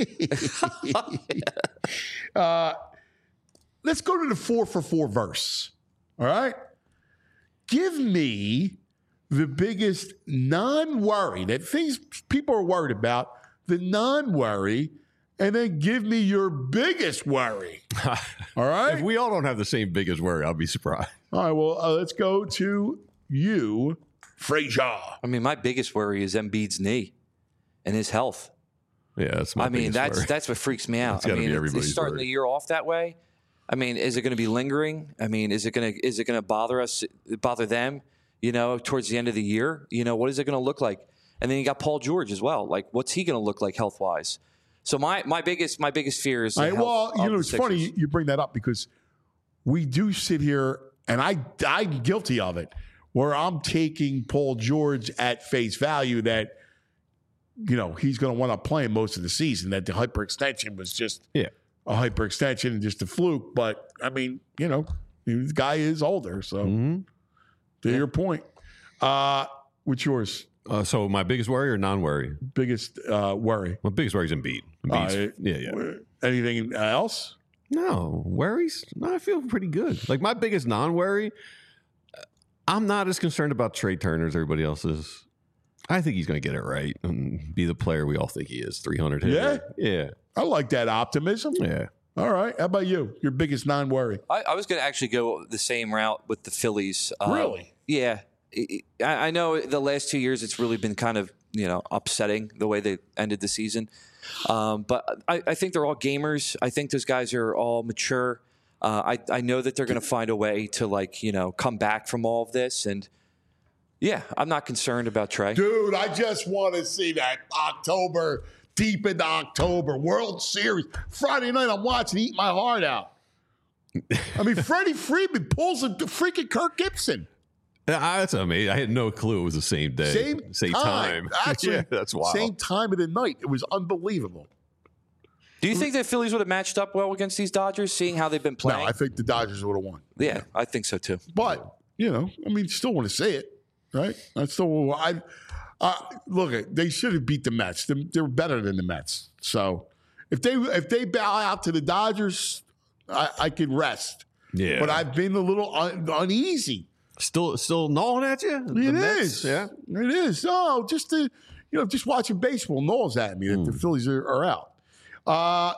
uh, let's go to the four for four verse. All right, give me the biggest non-worry that things people are worried about. The non-worry, and then give me your biggest worry. All right. If we all don't have the same biggest worry, I'll be surprised. All right. Well, uh, let's go to you, Frazier. I mean, my biggest worry is Embiid's knee and his health. Yeah, that's my I mean, biggest that's worry. that's what freaks me out. That's I gotta mean, be it's- everybody's it's starting worry. the year off that way. I mean, is it going to be lingering? I mean, is it going to is it going to bother us, bother them? You know, towards the end of the year, you know, what is it going to look like? And then you got Paul George as well. Like, what's he going to look like health wise? So my my biggest my biggest fear is. The All right, health well, of you know, the it's funny Sixers. you bring that up because we do sit here, and I, I'm guilty of it, where I'm taking Paul George at face value that, you know, he's going to want to play most of the season, that the hyperextension was just Yeah. a hyperextension and just a fluke. But, I mean, you know, the guy is older. So, Mm-hmm. to your point, uh, what's yours? Uh, so my biggest worry or non-worry? Biggest uh, worry? My biggest worry is Embiid. Embiid's- Uh, yeah, yeah. Anything else? No worries. No, I feel pretty good. Like my biggest non-worry, I'm not as concerned about Trey Turner as everybody else is. I think he's going to get it right and be the player we all think he is. three hundred hitter. Yeah, I like that optimism. yeah. All right. How about you? Your biggest non-worry? I, I was going to actually go the same route with the Phillies. Uh, Really? Yeah. I, I know the last two years it's really been kind of, you know, upsetting the way they ended the season. Um, but I, I think they're all gamers. I think those guys are all mature. Uh, I, I know that they're going to find a way to, like, you know, come back from all of this. And, yeah, I'm not concerned about Trey. Dude, I just want to see that October, deep into October, World Series. Friday night, I'm watching, eat my heart out. I mean, Freddie Freeman pulls a freaking Kirk Gibson. Yeah, That's amazing. I had no clue it was the same day. Same, same time. time. Actually, yeah, that's wild. same time of the night. It was unbelievable. Do you think the Phillies would have matched up well against these Dodgers, seeing how they've been playing? No, I think the Dodgers would have won. yeah, I think so, too. But, you know, I mean, still want to say it, right? I still, I, uh, look, they should have beat the Mets. They're, they're better than the Mets. So If they if they bow out to the Dodgers, I, I could rest. Yeah. But I've been a little un, uneasy. Still, still gnawing at you? It The Mets? is. Yeah. It is. Oh, just the, you know, just watching baseball gnaws at me that Hmm. the Phillies are, are out. Uh,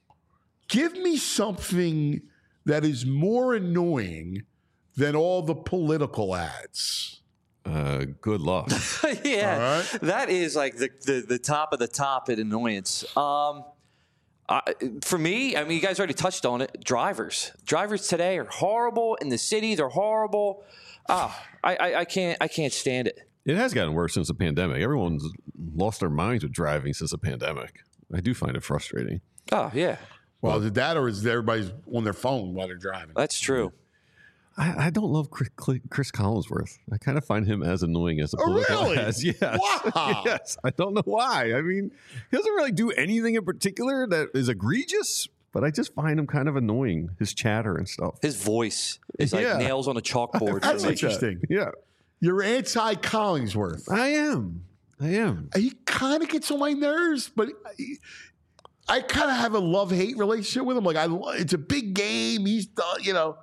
give me something that is more annoying than all the political ads. Uh, good luck. yeah, All right. that is like the, the the top of the top at annoyance. Um, I, for me, I mean, you guys already touched on it. Drivers, drivers today are horrible in the city. They're horrible. Ah, I, I, I can't, I can't stand it. It has gotten worse since the pandemic. Everyone's lost their minds with driving since the pandemic. I do find it frustrating. Oh yeah, Well, is it that or is everybody's on their phone while they're driving? that's true. I, I don't love Chris, Chris Collinsworth. I kind of find him as annoying as the Oh, political really? ads. Yes. Wow. yes. I don't know why. I mean, he doesn't really do anything in particular that is egregious, but I just find him kind of annoying. His chatter and stuff. His voice is like Yeah. nails on a chalkboard. That's for me. interesting. Yeah. You're anti-Collingsworth. I am. I am. He kind of gets on my nerves, but I, I kind of have a love-hate relationship with him. Like, I, it's a big game. He's done, you know,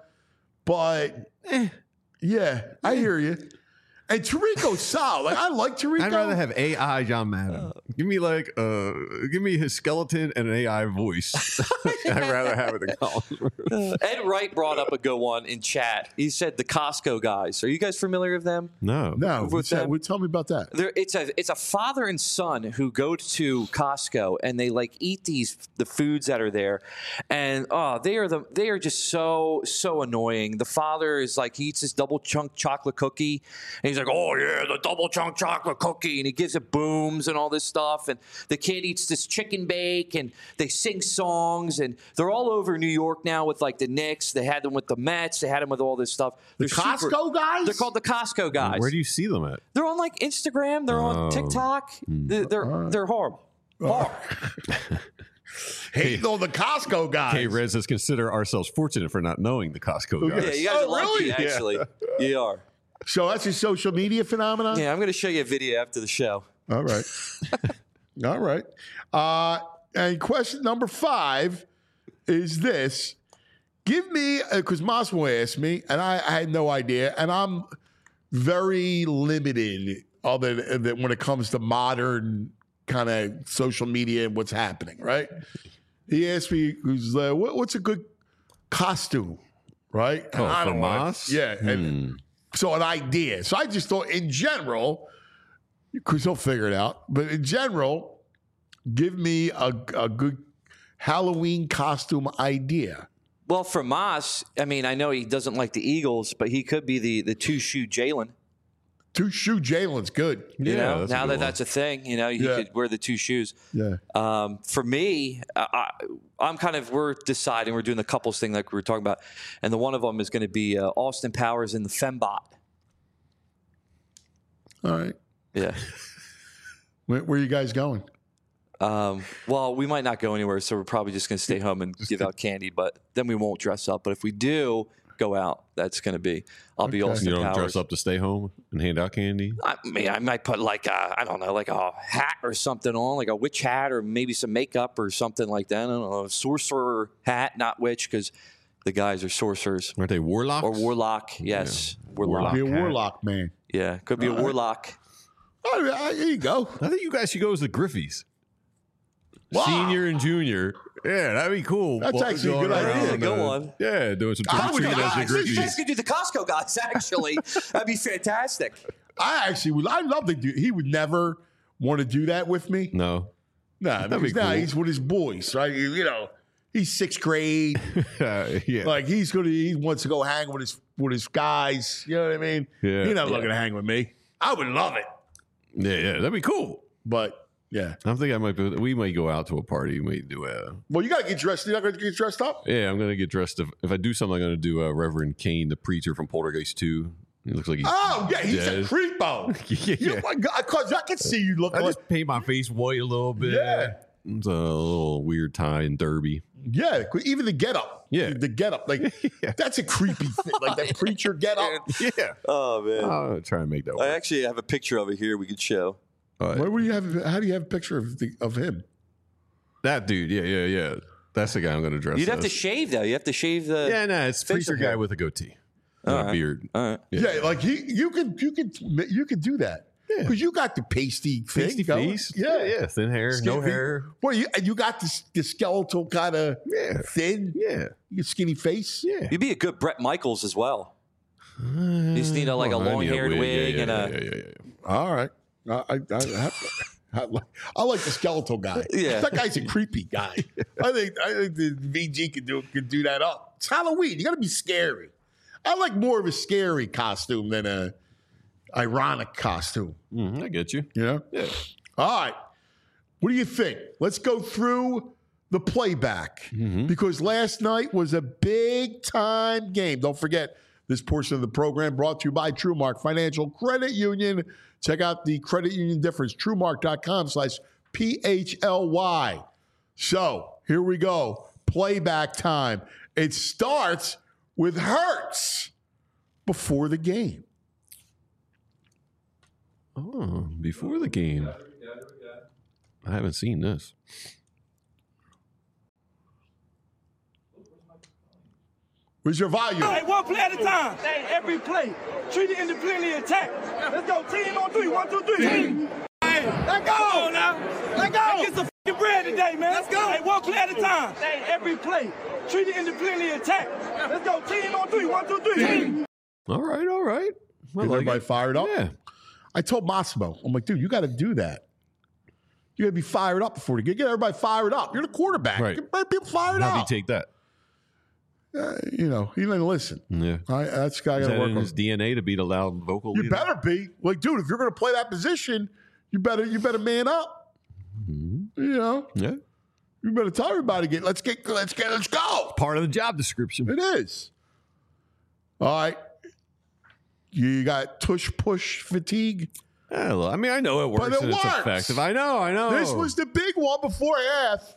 but Eh. yeah, I hear you. And Tariq's solid. Like, I like Tariq. I'd rather have A I John Madden. give me like, uh, give me his skeleton and an A I voice. I'd rather have it than Collinsworth. Ed Wright brought up a good one in chat. He said the Costco guys. Are you guys familiar with them? No. No, with what's that? them. Well, tell me about that. There, it's a it's a father and son who go to Costco and they like eat these the foods that are there, and oh they are the they are just so so annoying. The father is like he eats this double chunk chocolate cookie, and he's like, oh yeah, the double chunk chocolate cookie, and he gives it booms and all this stuff, and the kid eats this chicken bake, and they sing songs, and they're all over New York now with like the Knicks. They had them with the Mets. They had them with all this stuff. The They're super- Costco guys? They're called the Costco guys. Where do you see them at? They're on like Instagram. They're on Oh. TikTok. They're they're, they're horrible. Horrible. Hating on the Costco guys. Hey, Rez, let's consider ourselves fortunate for not knowing the Costco guys. Yeah, you guys Oh, are lucky. really? Actually, you are. So that's a social media phenomenon? Yeah, I'm going to show you a video after the show. All right. All right. Uh, and question number five is this. Give me, because Massimo asked me, and I, I had no idea, and I'm very limited other than than when it comes to modern kind of social media and what's happening, right? He asked me, who's uh, what, what's a good costume, right? And Oh, I for don't wanna- Moss? Yeah. And so an idea. So I just thought in general, because he'll figure it out, but in general, give me a, a good Halloween costume idea. Well, for Moss, I mean, I know he doesn't like the Eagles, but he could be the the two shoe Jalen. Two shoe Jalen's good. You Yeah, know, that's a now good that one. that's a thing, you know, you Yeah. could wear the two shoes. Yeah. Um, for me, I, I, I'm kind of we're deciding we're doing the couples thing like we were talking about, and the one of them is going to be uh, Austin Powers in the Fembot. All right. Yeah. Where, where are you guys going? Um, well, we might not go anywhere, so we're probably just going to stay home and give out candy. But then we won't dress up. But if we do go out, that's going to be I'll be Okay. Austin You don't Powers. dress up to stay home and hand out candy? I mean, I might put like a, I don't know, like a hat or something on, like a witch hat, or maybe some makeup or something like that. I don't know, a sorcerer hat, not witch, because the guys are sorcerers Aren't they warlocks? or warlock. Yes, warlock. Be a hat. warlock man. Yeah, could be a All right. warlock. All right, there you go. I think you guys should go as the Griffies. Wow. Senior and junior. Yeah, that'd be cool. That's Well, actually a going good idea. around, Yeah, go uh, on. Yeah, doing some I trick or would- treating as I- the You guys Griffies. could do the Costco guys. Actually, that'd be fantastic. I actually would. I love to do. He would never want to do that with me. No. Nah, That'd be because now cool. he's with his boys, right? You, you know, he's sixth grade. Uh, yeah. Like he's gonna. He wants to go hang with his with his guys. You know what I mean? Yeah. He's not Yeah. looking to hang with me. I would love it, yeah, yeah, that'd be cool. but yeah. I think I might be, we might go out to a party. We might do a, Well, you gotta get dressed. You're not gonna get dressed up. yeah, I'm going to get dressed. If, if I do something, I'm going to do uh, Reverend Kane, the preacher from Poltergeist two. He looks like he's, Oh yeah, he's dead. a creepo. yeah. You, my God, cause I can see you look I like. just paint my face white a little bit. Yeah. It's a little weird tie and derby. Yeah, even the get up. Yeah. the get up. Like that's a creepy thing. Like that preacher get up. Yeah. Oh man, I'll try and make that I work. actually have a picture of it here. We could show. All right. Where would you have? How do you have a picture of the, of him? That dude. Yeah, yeah, yeah. That's the guy I'm going to dress You'd as. have to shave though. You have to shave the. Yeah, no, it's facial preacher guy hair. with a goatee. All And a right. beard. All right. Yeah, like he, you could, you could, you could do that. Yeah. Because you got the pasty, thing Pasty going. face. Yeah, yeah. Thin hair, Skinny no feet. hair. Well, you and you got the, the skeletal kind of Yeah. thin, Yeah. you skinny face. Yeah. You'd be a good Brett Michaels as well. You just need a, like Oh, a I need long-haired Yeah, wig yeah, and yeah, a. yeah, yeah, yeah. All right, I, I, I, I, like, I like the skeletal guy. Yeah. That guy's a creepy guy. I think I think the V G can do can do that up. It's Halloween. You got to be scary. I like more of a scary costume than a ironic costume. Mhm, I get you. You know? Yeah. All right. What do you think? Let's go through the playback because last night was a big time game. Don't forget, this portion of the program brought to you by TrueMark Financial Credit Union. Check out the credit union difference, truemark.com slash P H L Y. So here we go. Playback time. It starts with Hurts before the game. Oh, before the game. I haven't seen this. Where's your volume? Hey, one play at a time. Hey, every play. Treat it independently attack. Let's go. Team on three. One, two, three. Team. Hey, let go. Come on now. Let go. Let's get some fucking bread today, man. Let's go. Hey, one play at a time. Hey, every play. Treat it independently attack. Let's go. Team on three. One, two, three. Team. All right, all right. I Is like everybody it. fired up? Yeah. I told Massimo, I'm like, dude, you got to do that. You got to be fired up before the game. Get everybody fired up. You're the quarterback. Right. Get people fired How do you up. take that? Uh, you know, he didn't listen. Yeah. I, that's got Is to that work in on. his D N A to be the loud vocal You leader? better be like, dude. If you're going to play that position, you better you better man up. Mm-hmm. You know, Yeah. you better tell everybody get let's get let's get let's go. Part of the job description. It is. All right. You got tush push fatigue. Yeah, well, I mean, I know it works But it and it's works. effective. I know, I know. This was the big one before half.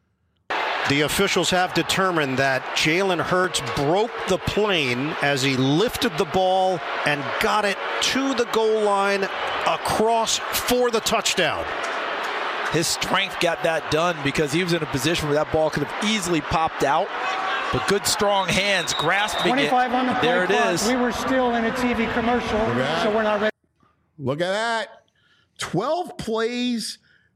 The officials have determined that Jalen Hurts broke the plane as he lifted the ball and got it to the goal line across for the touchdown. His strength got that done because he was in a position where that ball could have easily popped out. But good, strong hands grasping twenty-five it. on the play There it clock. is. We were still in a T V commercial, that. so we're not ready. Look at that. twelve plays,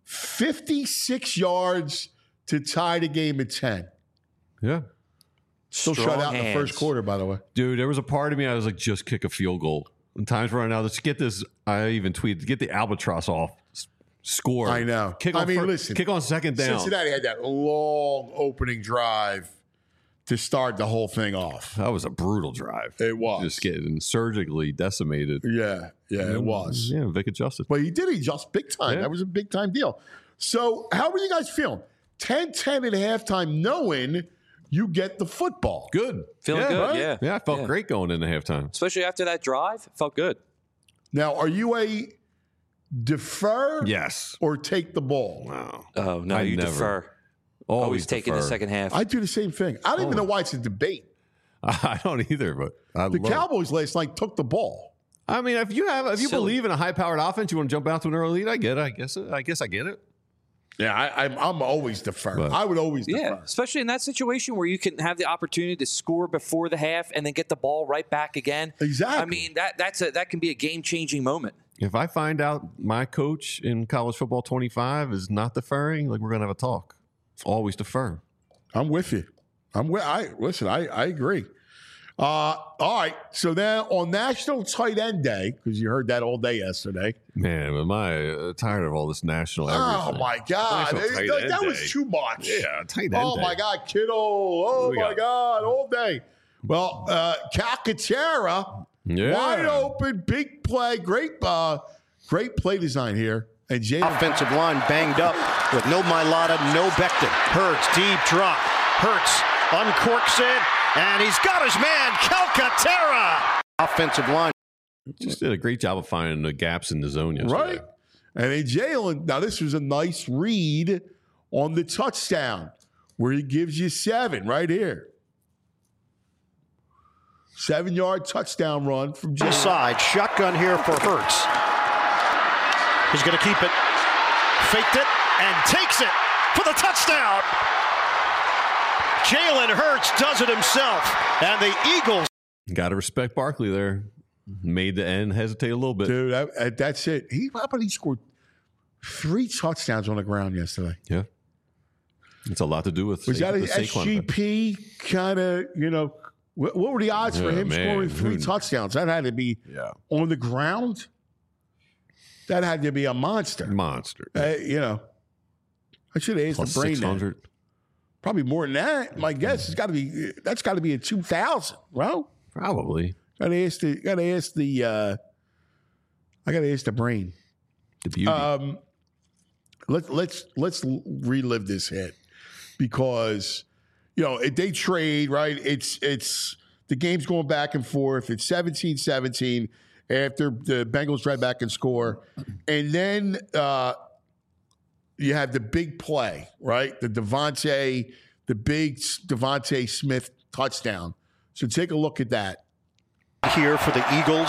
fifty-six yards to tie the game at ten. yeah. Still Strong shut out in the hands. first quarter, by the way. Dude, there was a part of me, I was like, just kick a field goal. When time's running out, let's get this. I even tweeted, get the albatross off. S- Score. I know. Kick I on mean, fir- listen, Kick on second down. Cincinnati had that long opening drive to start the whole thing off. That was a brutal drive. It was. Just getting surgically decimated. Yeah, yeah, it was. Yeah, Vic adjusted. But he did adjust big time. Yeah. That was a big time deal. So, how were you guys feeling? ten ten at halftime, knowing you get the football. Good. Feeling yeah, good, right? yeah. Yeah, I felt Yeah. great going into halftime. Especially after that drive, it felt good. Now, are you a defer Yes. or take the ball? Wow. Oh no, I you never. defer. Always, Always taking the defer. second half. I do the same thing. I don't even know why it's a debate. I don't either, but I The love it. Cowboys last night took the ball. I mean, if you have, if you Silly. believe in a high-powered offense, you want to jump out to an early lead. I get it. I guess. It, I guess I get it. Yeah, I, I'm, I'm always defer. But- I would always Yeah, defer. especially in that situation where you can have the opportunity to score before the half and then get the ball right back again. Exactly. I mean, that that's a that can be a game changing moment. If I find out my coach in college football twenty-five is not deferring, like we're gonna have a talk. Always defer. I'm with you. I'm with. I listen. I I agree. Uh, all right. So then on National Tight End Day, because you heard that all day yesterday. Man, am I uh, tired of all this national Oh everything. my God, National It- Tight that, End that was Day. too much. Yeah, tight end. Oh day. my God, Kittle. Oh We my got- God, all day. Well, uh, Calcaterra, Yeah. wide open, big play, great, uh, great play design here. And Jalen Offensive line banged up with no Mailata, no Becton. Hurts, deep drop. Hurts uncorks it, and he's got his man, Calcaterra. Offensive line. Just did a great job of finding the gaps in the zone yesterday. Right. And then Jalen, now this was a nice read on the touchdown where he gives you seven right here. Seven yard touchdown run from Jalen. Inside, shotgun here for Hurts. He's going to keep it. Faked it and takes it for the touchdown. Jalen Hurts does it himself, and the Eagles. Got to respect Barkley there. Made the end hesitate a little bit. Dude, I, I, that's it. He, how about he scored three touchdowns on the ground yesterday? Yeah. It's a lot to do with Was Sa- that the an S G P kind of, you know, what, what were the odds Yeah, for him man. scoring three Who- touchdowns? That had to be Yeah. on the ground. That had to be a monster. Monster. Uh, you know, I should have asked Plus the brain six that. hundred. Probably more than that. My guess has got to be that's got to be a two thousand, bro. Probably. Got to ask the. Got to ask the. Uh, I got to ask the brain. The beauty. Um, let let's let's relive this hit because you know it, they trade right. It's it's the game's going back and forth. It's seventeen seventeen after the Bengals drive back and score, and then. Uh, You have the big play, right? The Devontae, the big Devontae Smith touchdown. So take a look at that. Here for the Eagles.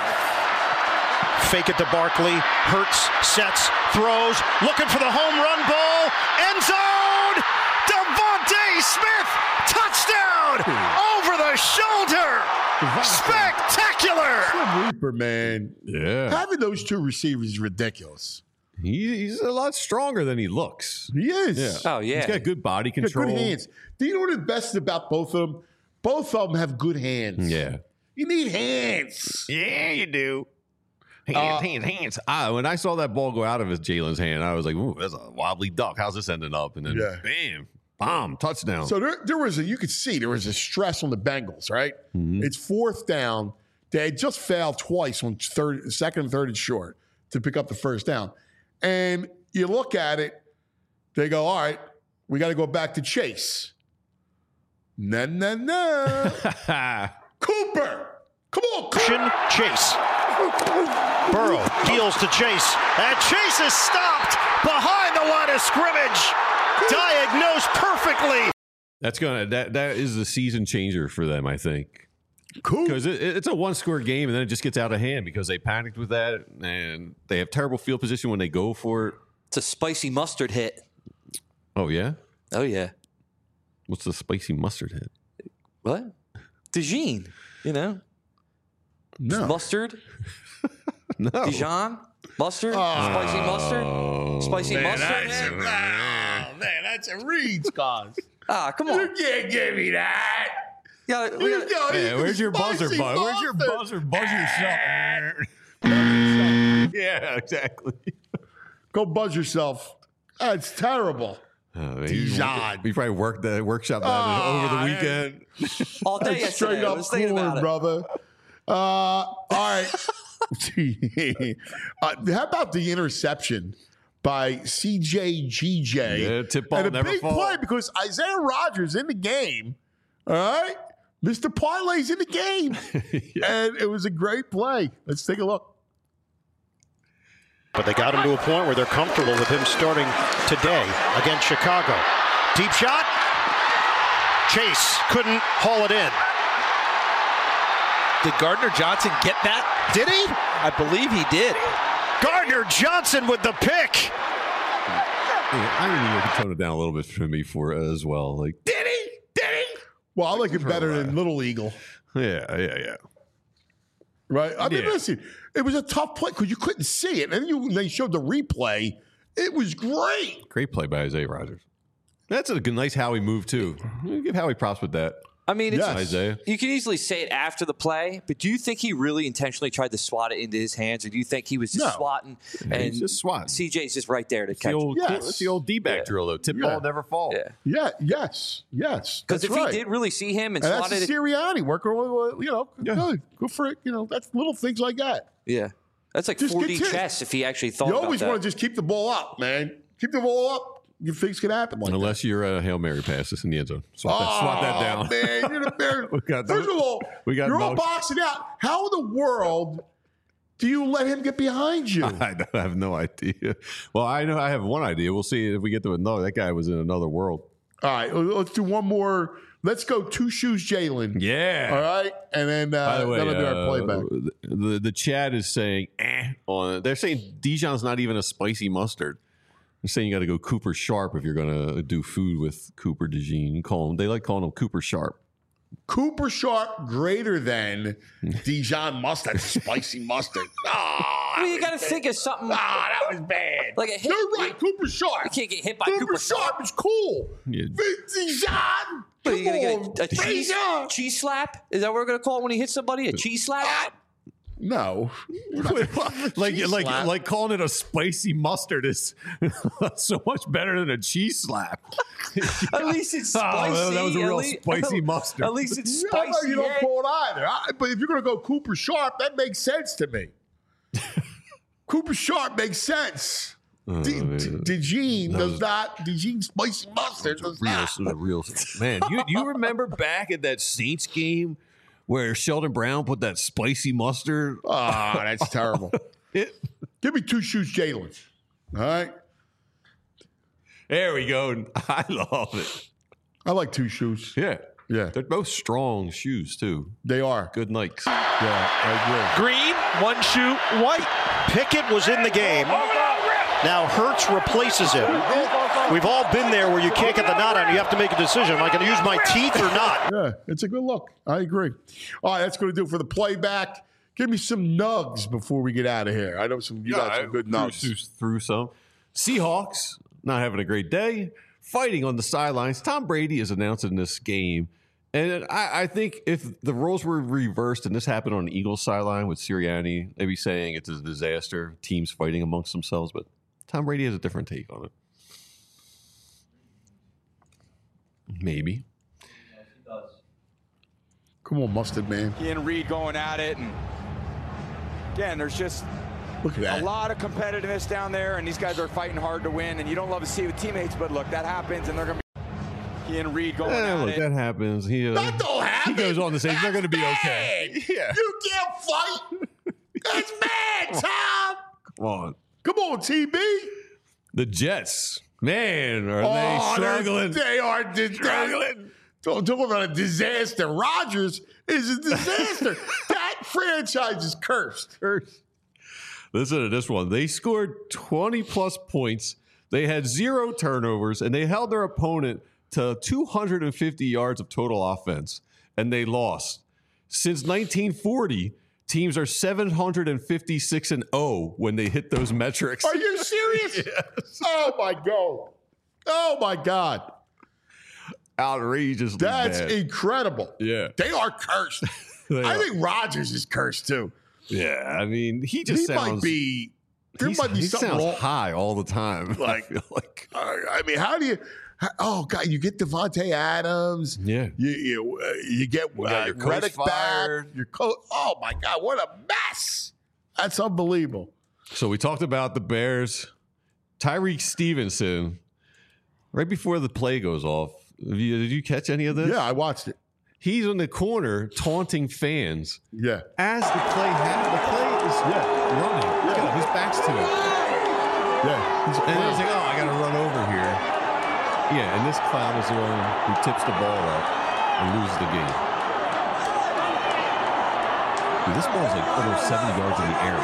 Fake it to Barkley. Hurts, sets, throws, looking for the home run ball. End zone! Devontae Smith! Touchdown! Over the shoulder! Spectacular! Slim Reaper, man. Yeah. Having those two receivers is ridiculous. He, he's a lot stronger than he looks. He is. Yeah. Oh, yeah. He's got good body He's got control. good hands. Do you know what the best is about both of them? Both of them have good hands. Yeah. You need hands. Yeah, you do. Hands, Uh, hands, hands. I, when I saw that ball go out of his Jalen's hand, I was like, ooh, that's a wobbly duck. How's this ending up? And then Yeah. bam, bomb, touchdown. So there, there was a, you could see there was a stress on the Bengals, right? Mhm. It's fourth down. They had just failed twice on third, second and third and short to pick up the first down. And you look at it, they go, all right, we got to go back to Chase. No, no, no. Cooper. Come on, Cooper. Chase. Burrow deals to Chase. And Chase is stopped behind the line of scrimmage. Diagnosed perfectly. That's gonna that that is the season changer for them, I think. Cool. Because it, it's a one score game and then it just gets out of hand because they panicked with that and they have terrible field position when they go for it. It's a spicy mustard hit. Oh yeah? Oh, yeah. What's the spicy mustard hit? What? Dijon, you know? No. Mustard? No. Dijon? Mustard? Spicy mustard? Spicy Man, mustard? that's a, oh, man, that's a read, Scott. Ah, come You on. can't give me that. Yeah, we You gotta- know, Yeah, it's where's your buzzer, spicy buzz? Where's your mustard. buzzer? Buzz yourself. Yeah, exactly. Go buzz yourself. That's terrible. Oh, man, Dijon. We probably worked that workshop that Oh, over the man. weekend. all day That's yesterday. straight I up was thinking corn, about it. brother. Uh, all right. uh, how about the interception by C J G J? Yeah, tip ball and a never big fall. play because Isaiah Rodgers in the game. All right, Mister Parlay's in the game, and it was a great play. Let's take a look. But they got him to a point where they're comfortable with him starting today against Chicago. Deep shot. Chase couldn't haul it in. Did Gardner Johnson get that? Did he? I believe he did. Gardner Johnson with the pick. Yeah, I need to tone it down a little bit for me for it as well. Like, Did he? Did he? Well, I like it better than Little Eagle. yeah, yeah, yeah. Right? I mean, Yeah. listen, it was a tough play because you couldn't see it. And then you, they showed the replay. It was great. Great play by Isaiah Rodgers. That's a good, nice Howie move too. Give Howie props with that. I mean, it's, Yes. Isaiah. you can easily say it after the play, but do you think he really intentionally tried to swat it into his hands, or do you think he was just No. swatting Yeah, he's and just swatting. C J's just right there to It's the catch old, it? Yes. it's the old D-back Yeah. drill though. Tip Yeah. ball never fall. Yeah. Yeah, yes, yes. Because That's if right. he did really see him and, And that's swatted it, Sirianni working, with, you know, Yeah. good, good for it. You know, that's little things like that. yeah, that's like Just four D continue. chess if he actually thought You about always that. want to just keep the ball up, man. Keep the ball up. You things can happen like Unless you're a Hail Mary pass this in the end zone. Swat, that, swat that down. that. Man, you're the bear. We got First the- of all, we got you're all most- boxing out. How in the world do you let him get behind you? I don't- I have no idea. Well, I know I have one idea. We'll see if we get to it. No, that guy was in another world. All right, let's do one more. Let's go two shoes, Jalen. Yeah. All right, and then uh, By the way, that'll be our uh, playback. the, the the chat is saying eh, on. They're saying Dijon's not even a spicy mustard. saying you got to go Cooper Sharp if you're going to do food with Cooper DeJean. Call him. They like calling him Cooper Sharp. Cooper Sharp greater than Dijon mustard, spicy mustard. Oh, well, you got to think of something. Ah, oh, that was bad. Like a hit. You're right, Cooper Sharp. You can't get hit by Cooper, Cooper Sharp. Sharp. is cool. Yeah. Dijon. What, are you going to on, get a, a cheese, cheese slap? Is that what we're going to call it when he hits somebody? A cheese slap? No. like cheese like slap. like calling it a spicy mustard is so much better than a cheese slap. At least it's spicy. Oh, that was a real least, spicy mustard. At least it's Yeah, spicy. no, you don't yeah. call it either. I, but if you're going to go Cooper Sharp, that makes sense to me. Cooper Sharp makes sense. Oh, D- man. D- DeJean That does was- not. DeJean spicy mustard does real, not. a real man. You you remember back at that Saints game where Sheldon Brown put that spicy mustard? Ah, that's terrible. It, Give me two shoes, Jalen. All right. there we go. I love it. I like two shoes. Yeah, Yeah, they're both strong shoes too. they are. Good Nikes. Yeah, I agree. Green, one shoe, white. Pickett was in the game. Now Hurts replaces him. We've all been there where you can't get the knot on. You have to make a decision. Am I going to use my teeth or not? Yeah, it's a good look. I agree. All right, that's going to do it for the playback. Give me some nugs before we get out of here. I know some you got some good nugs. Through, through some Seahawks not having a great day, fighting on the sidelines. Tom Brady is announced in this game, and I, I think if the roles were reversed and this happened on the Eagles sideline with Sirianni, they'd be saying it's a disaster, teams fighting amongst themselves. But Tom Brady has a different take on it. Maybe. Come on, Mustard Man. He and Reed going at it, and again, there's just Look at that. a lot of competitiveness down there, and these guys are fighting hard to win, and you don't love to see it with teammates, but look, that happens, and they're going to be he and Reed going Eh, at look, it. that happens. He, uh, That don't happen. he goes on to say he's not going to be That's okay. bad. Yeah. You can't fight. That's bad, Tom. Come on. Come on, T B. The Jets. Man, are Oh, they struggling? They are di- struggling. Don't talk about a disaster. Rodgers is a disaster. That franchise is cursed. Cursed. Listen to this one. They scored twenty plus points. They had zero turnovers, and they held their opponent to two hundred fifty yards of total offense, and they lost. Since nineteen forty, teams are seven hundred fifty-six and oh when they hit those metrics. Are you serious? Yes. Oh, my God. Oh, my God. Outrageously That's bad. incredible. Yeah. They are cursed. They I are. think Rodgers is cursed, too. Yeah, I mean, he just he sounds... might be... There he's- might be he something sounds wrong. high all the time. Like- I feel like... Uh, I mean, how do you... how- oh, God, you get Devontae Adams. Yeah. You you, uh, you get You got uh, your coach Reddick back. fired. Your coach... Oh, my God, what a mess. That's unbelievable. So we talked about the Bears. Tyreek Stevenson, right before the play goes off, have you, did you catch any of this? Yeah, I watched it. He's in the corner taunting fans Yeah. as the play happens. The play is Yeah. running. Look at him. His back's to it. Yeah. He's a And he's clown. like, oh, I got to run over here. Yeah, and this clown is the one who tips the ball up and loses the game. Dude, this ball is like almost seventy yards in the air.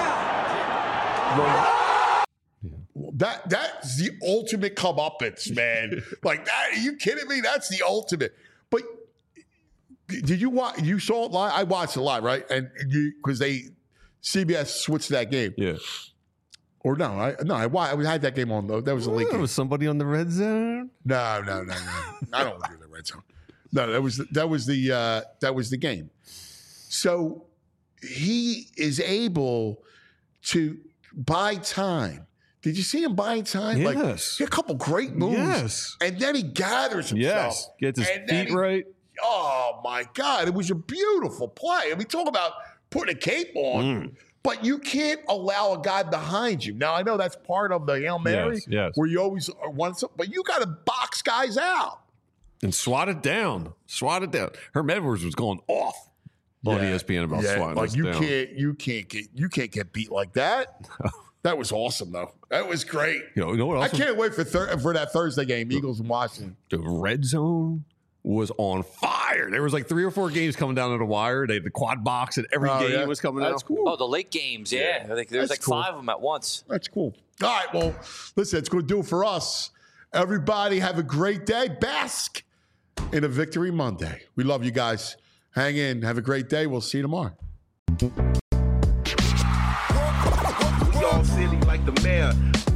That that's the ultimate comeuppance, man. Like that? Are you kidding me? That's the ultimate. But did you watch? You saw it live? I watched it live, right? And you because they C B S switched that game. Yeah. Or no, I no, I, wa- I had that game on though. That was a late There game. was somebody on the red zone. No, no, no, no. I don't want to do the red zone. No, that was that was the uh, that was the game. So he is able to buy time. Did you see him buying time? Yes. Like he had a couple great moves. Yes. And then he gathers himself. Yes. Gets his And then feet he- right. Oh my God. It was a beautiful play. I mean, talk about putting a cape on. Mm. But you can't allow a guy behind you. Now I know that's part of the Hail Mary, Yes, yes. where you always want something, but you got to box guys out. And swat it down. Swat it down. Herm Edwards was going off on Yeah. E S P N about Yeah, swatting like us you down. can't, you can't get, you can't get beat like that. That was awesome, though. That was great. You know, you know what I else? was- can't wait for thir- for that Thursday game, Eagles and Washington. the red zone. was on fire. There was like three or four games coming down to the wire. They had the quad box and every Oh, game yeah. was coming That's out. cool. Oh, the late games, yeah. I think there's That's like cool. five of them at once. That's cool. All right, well, listen, it's going to do it for us. Everybody have a great day. Bask in a Victory Monday. We love you guys. Hang in. Have a great day. We'll see you tomorrow. We all silly like the mayor.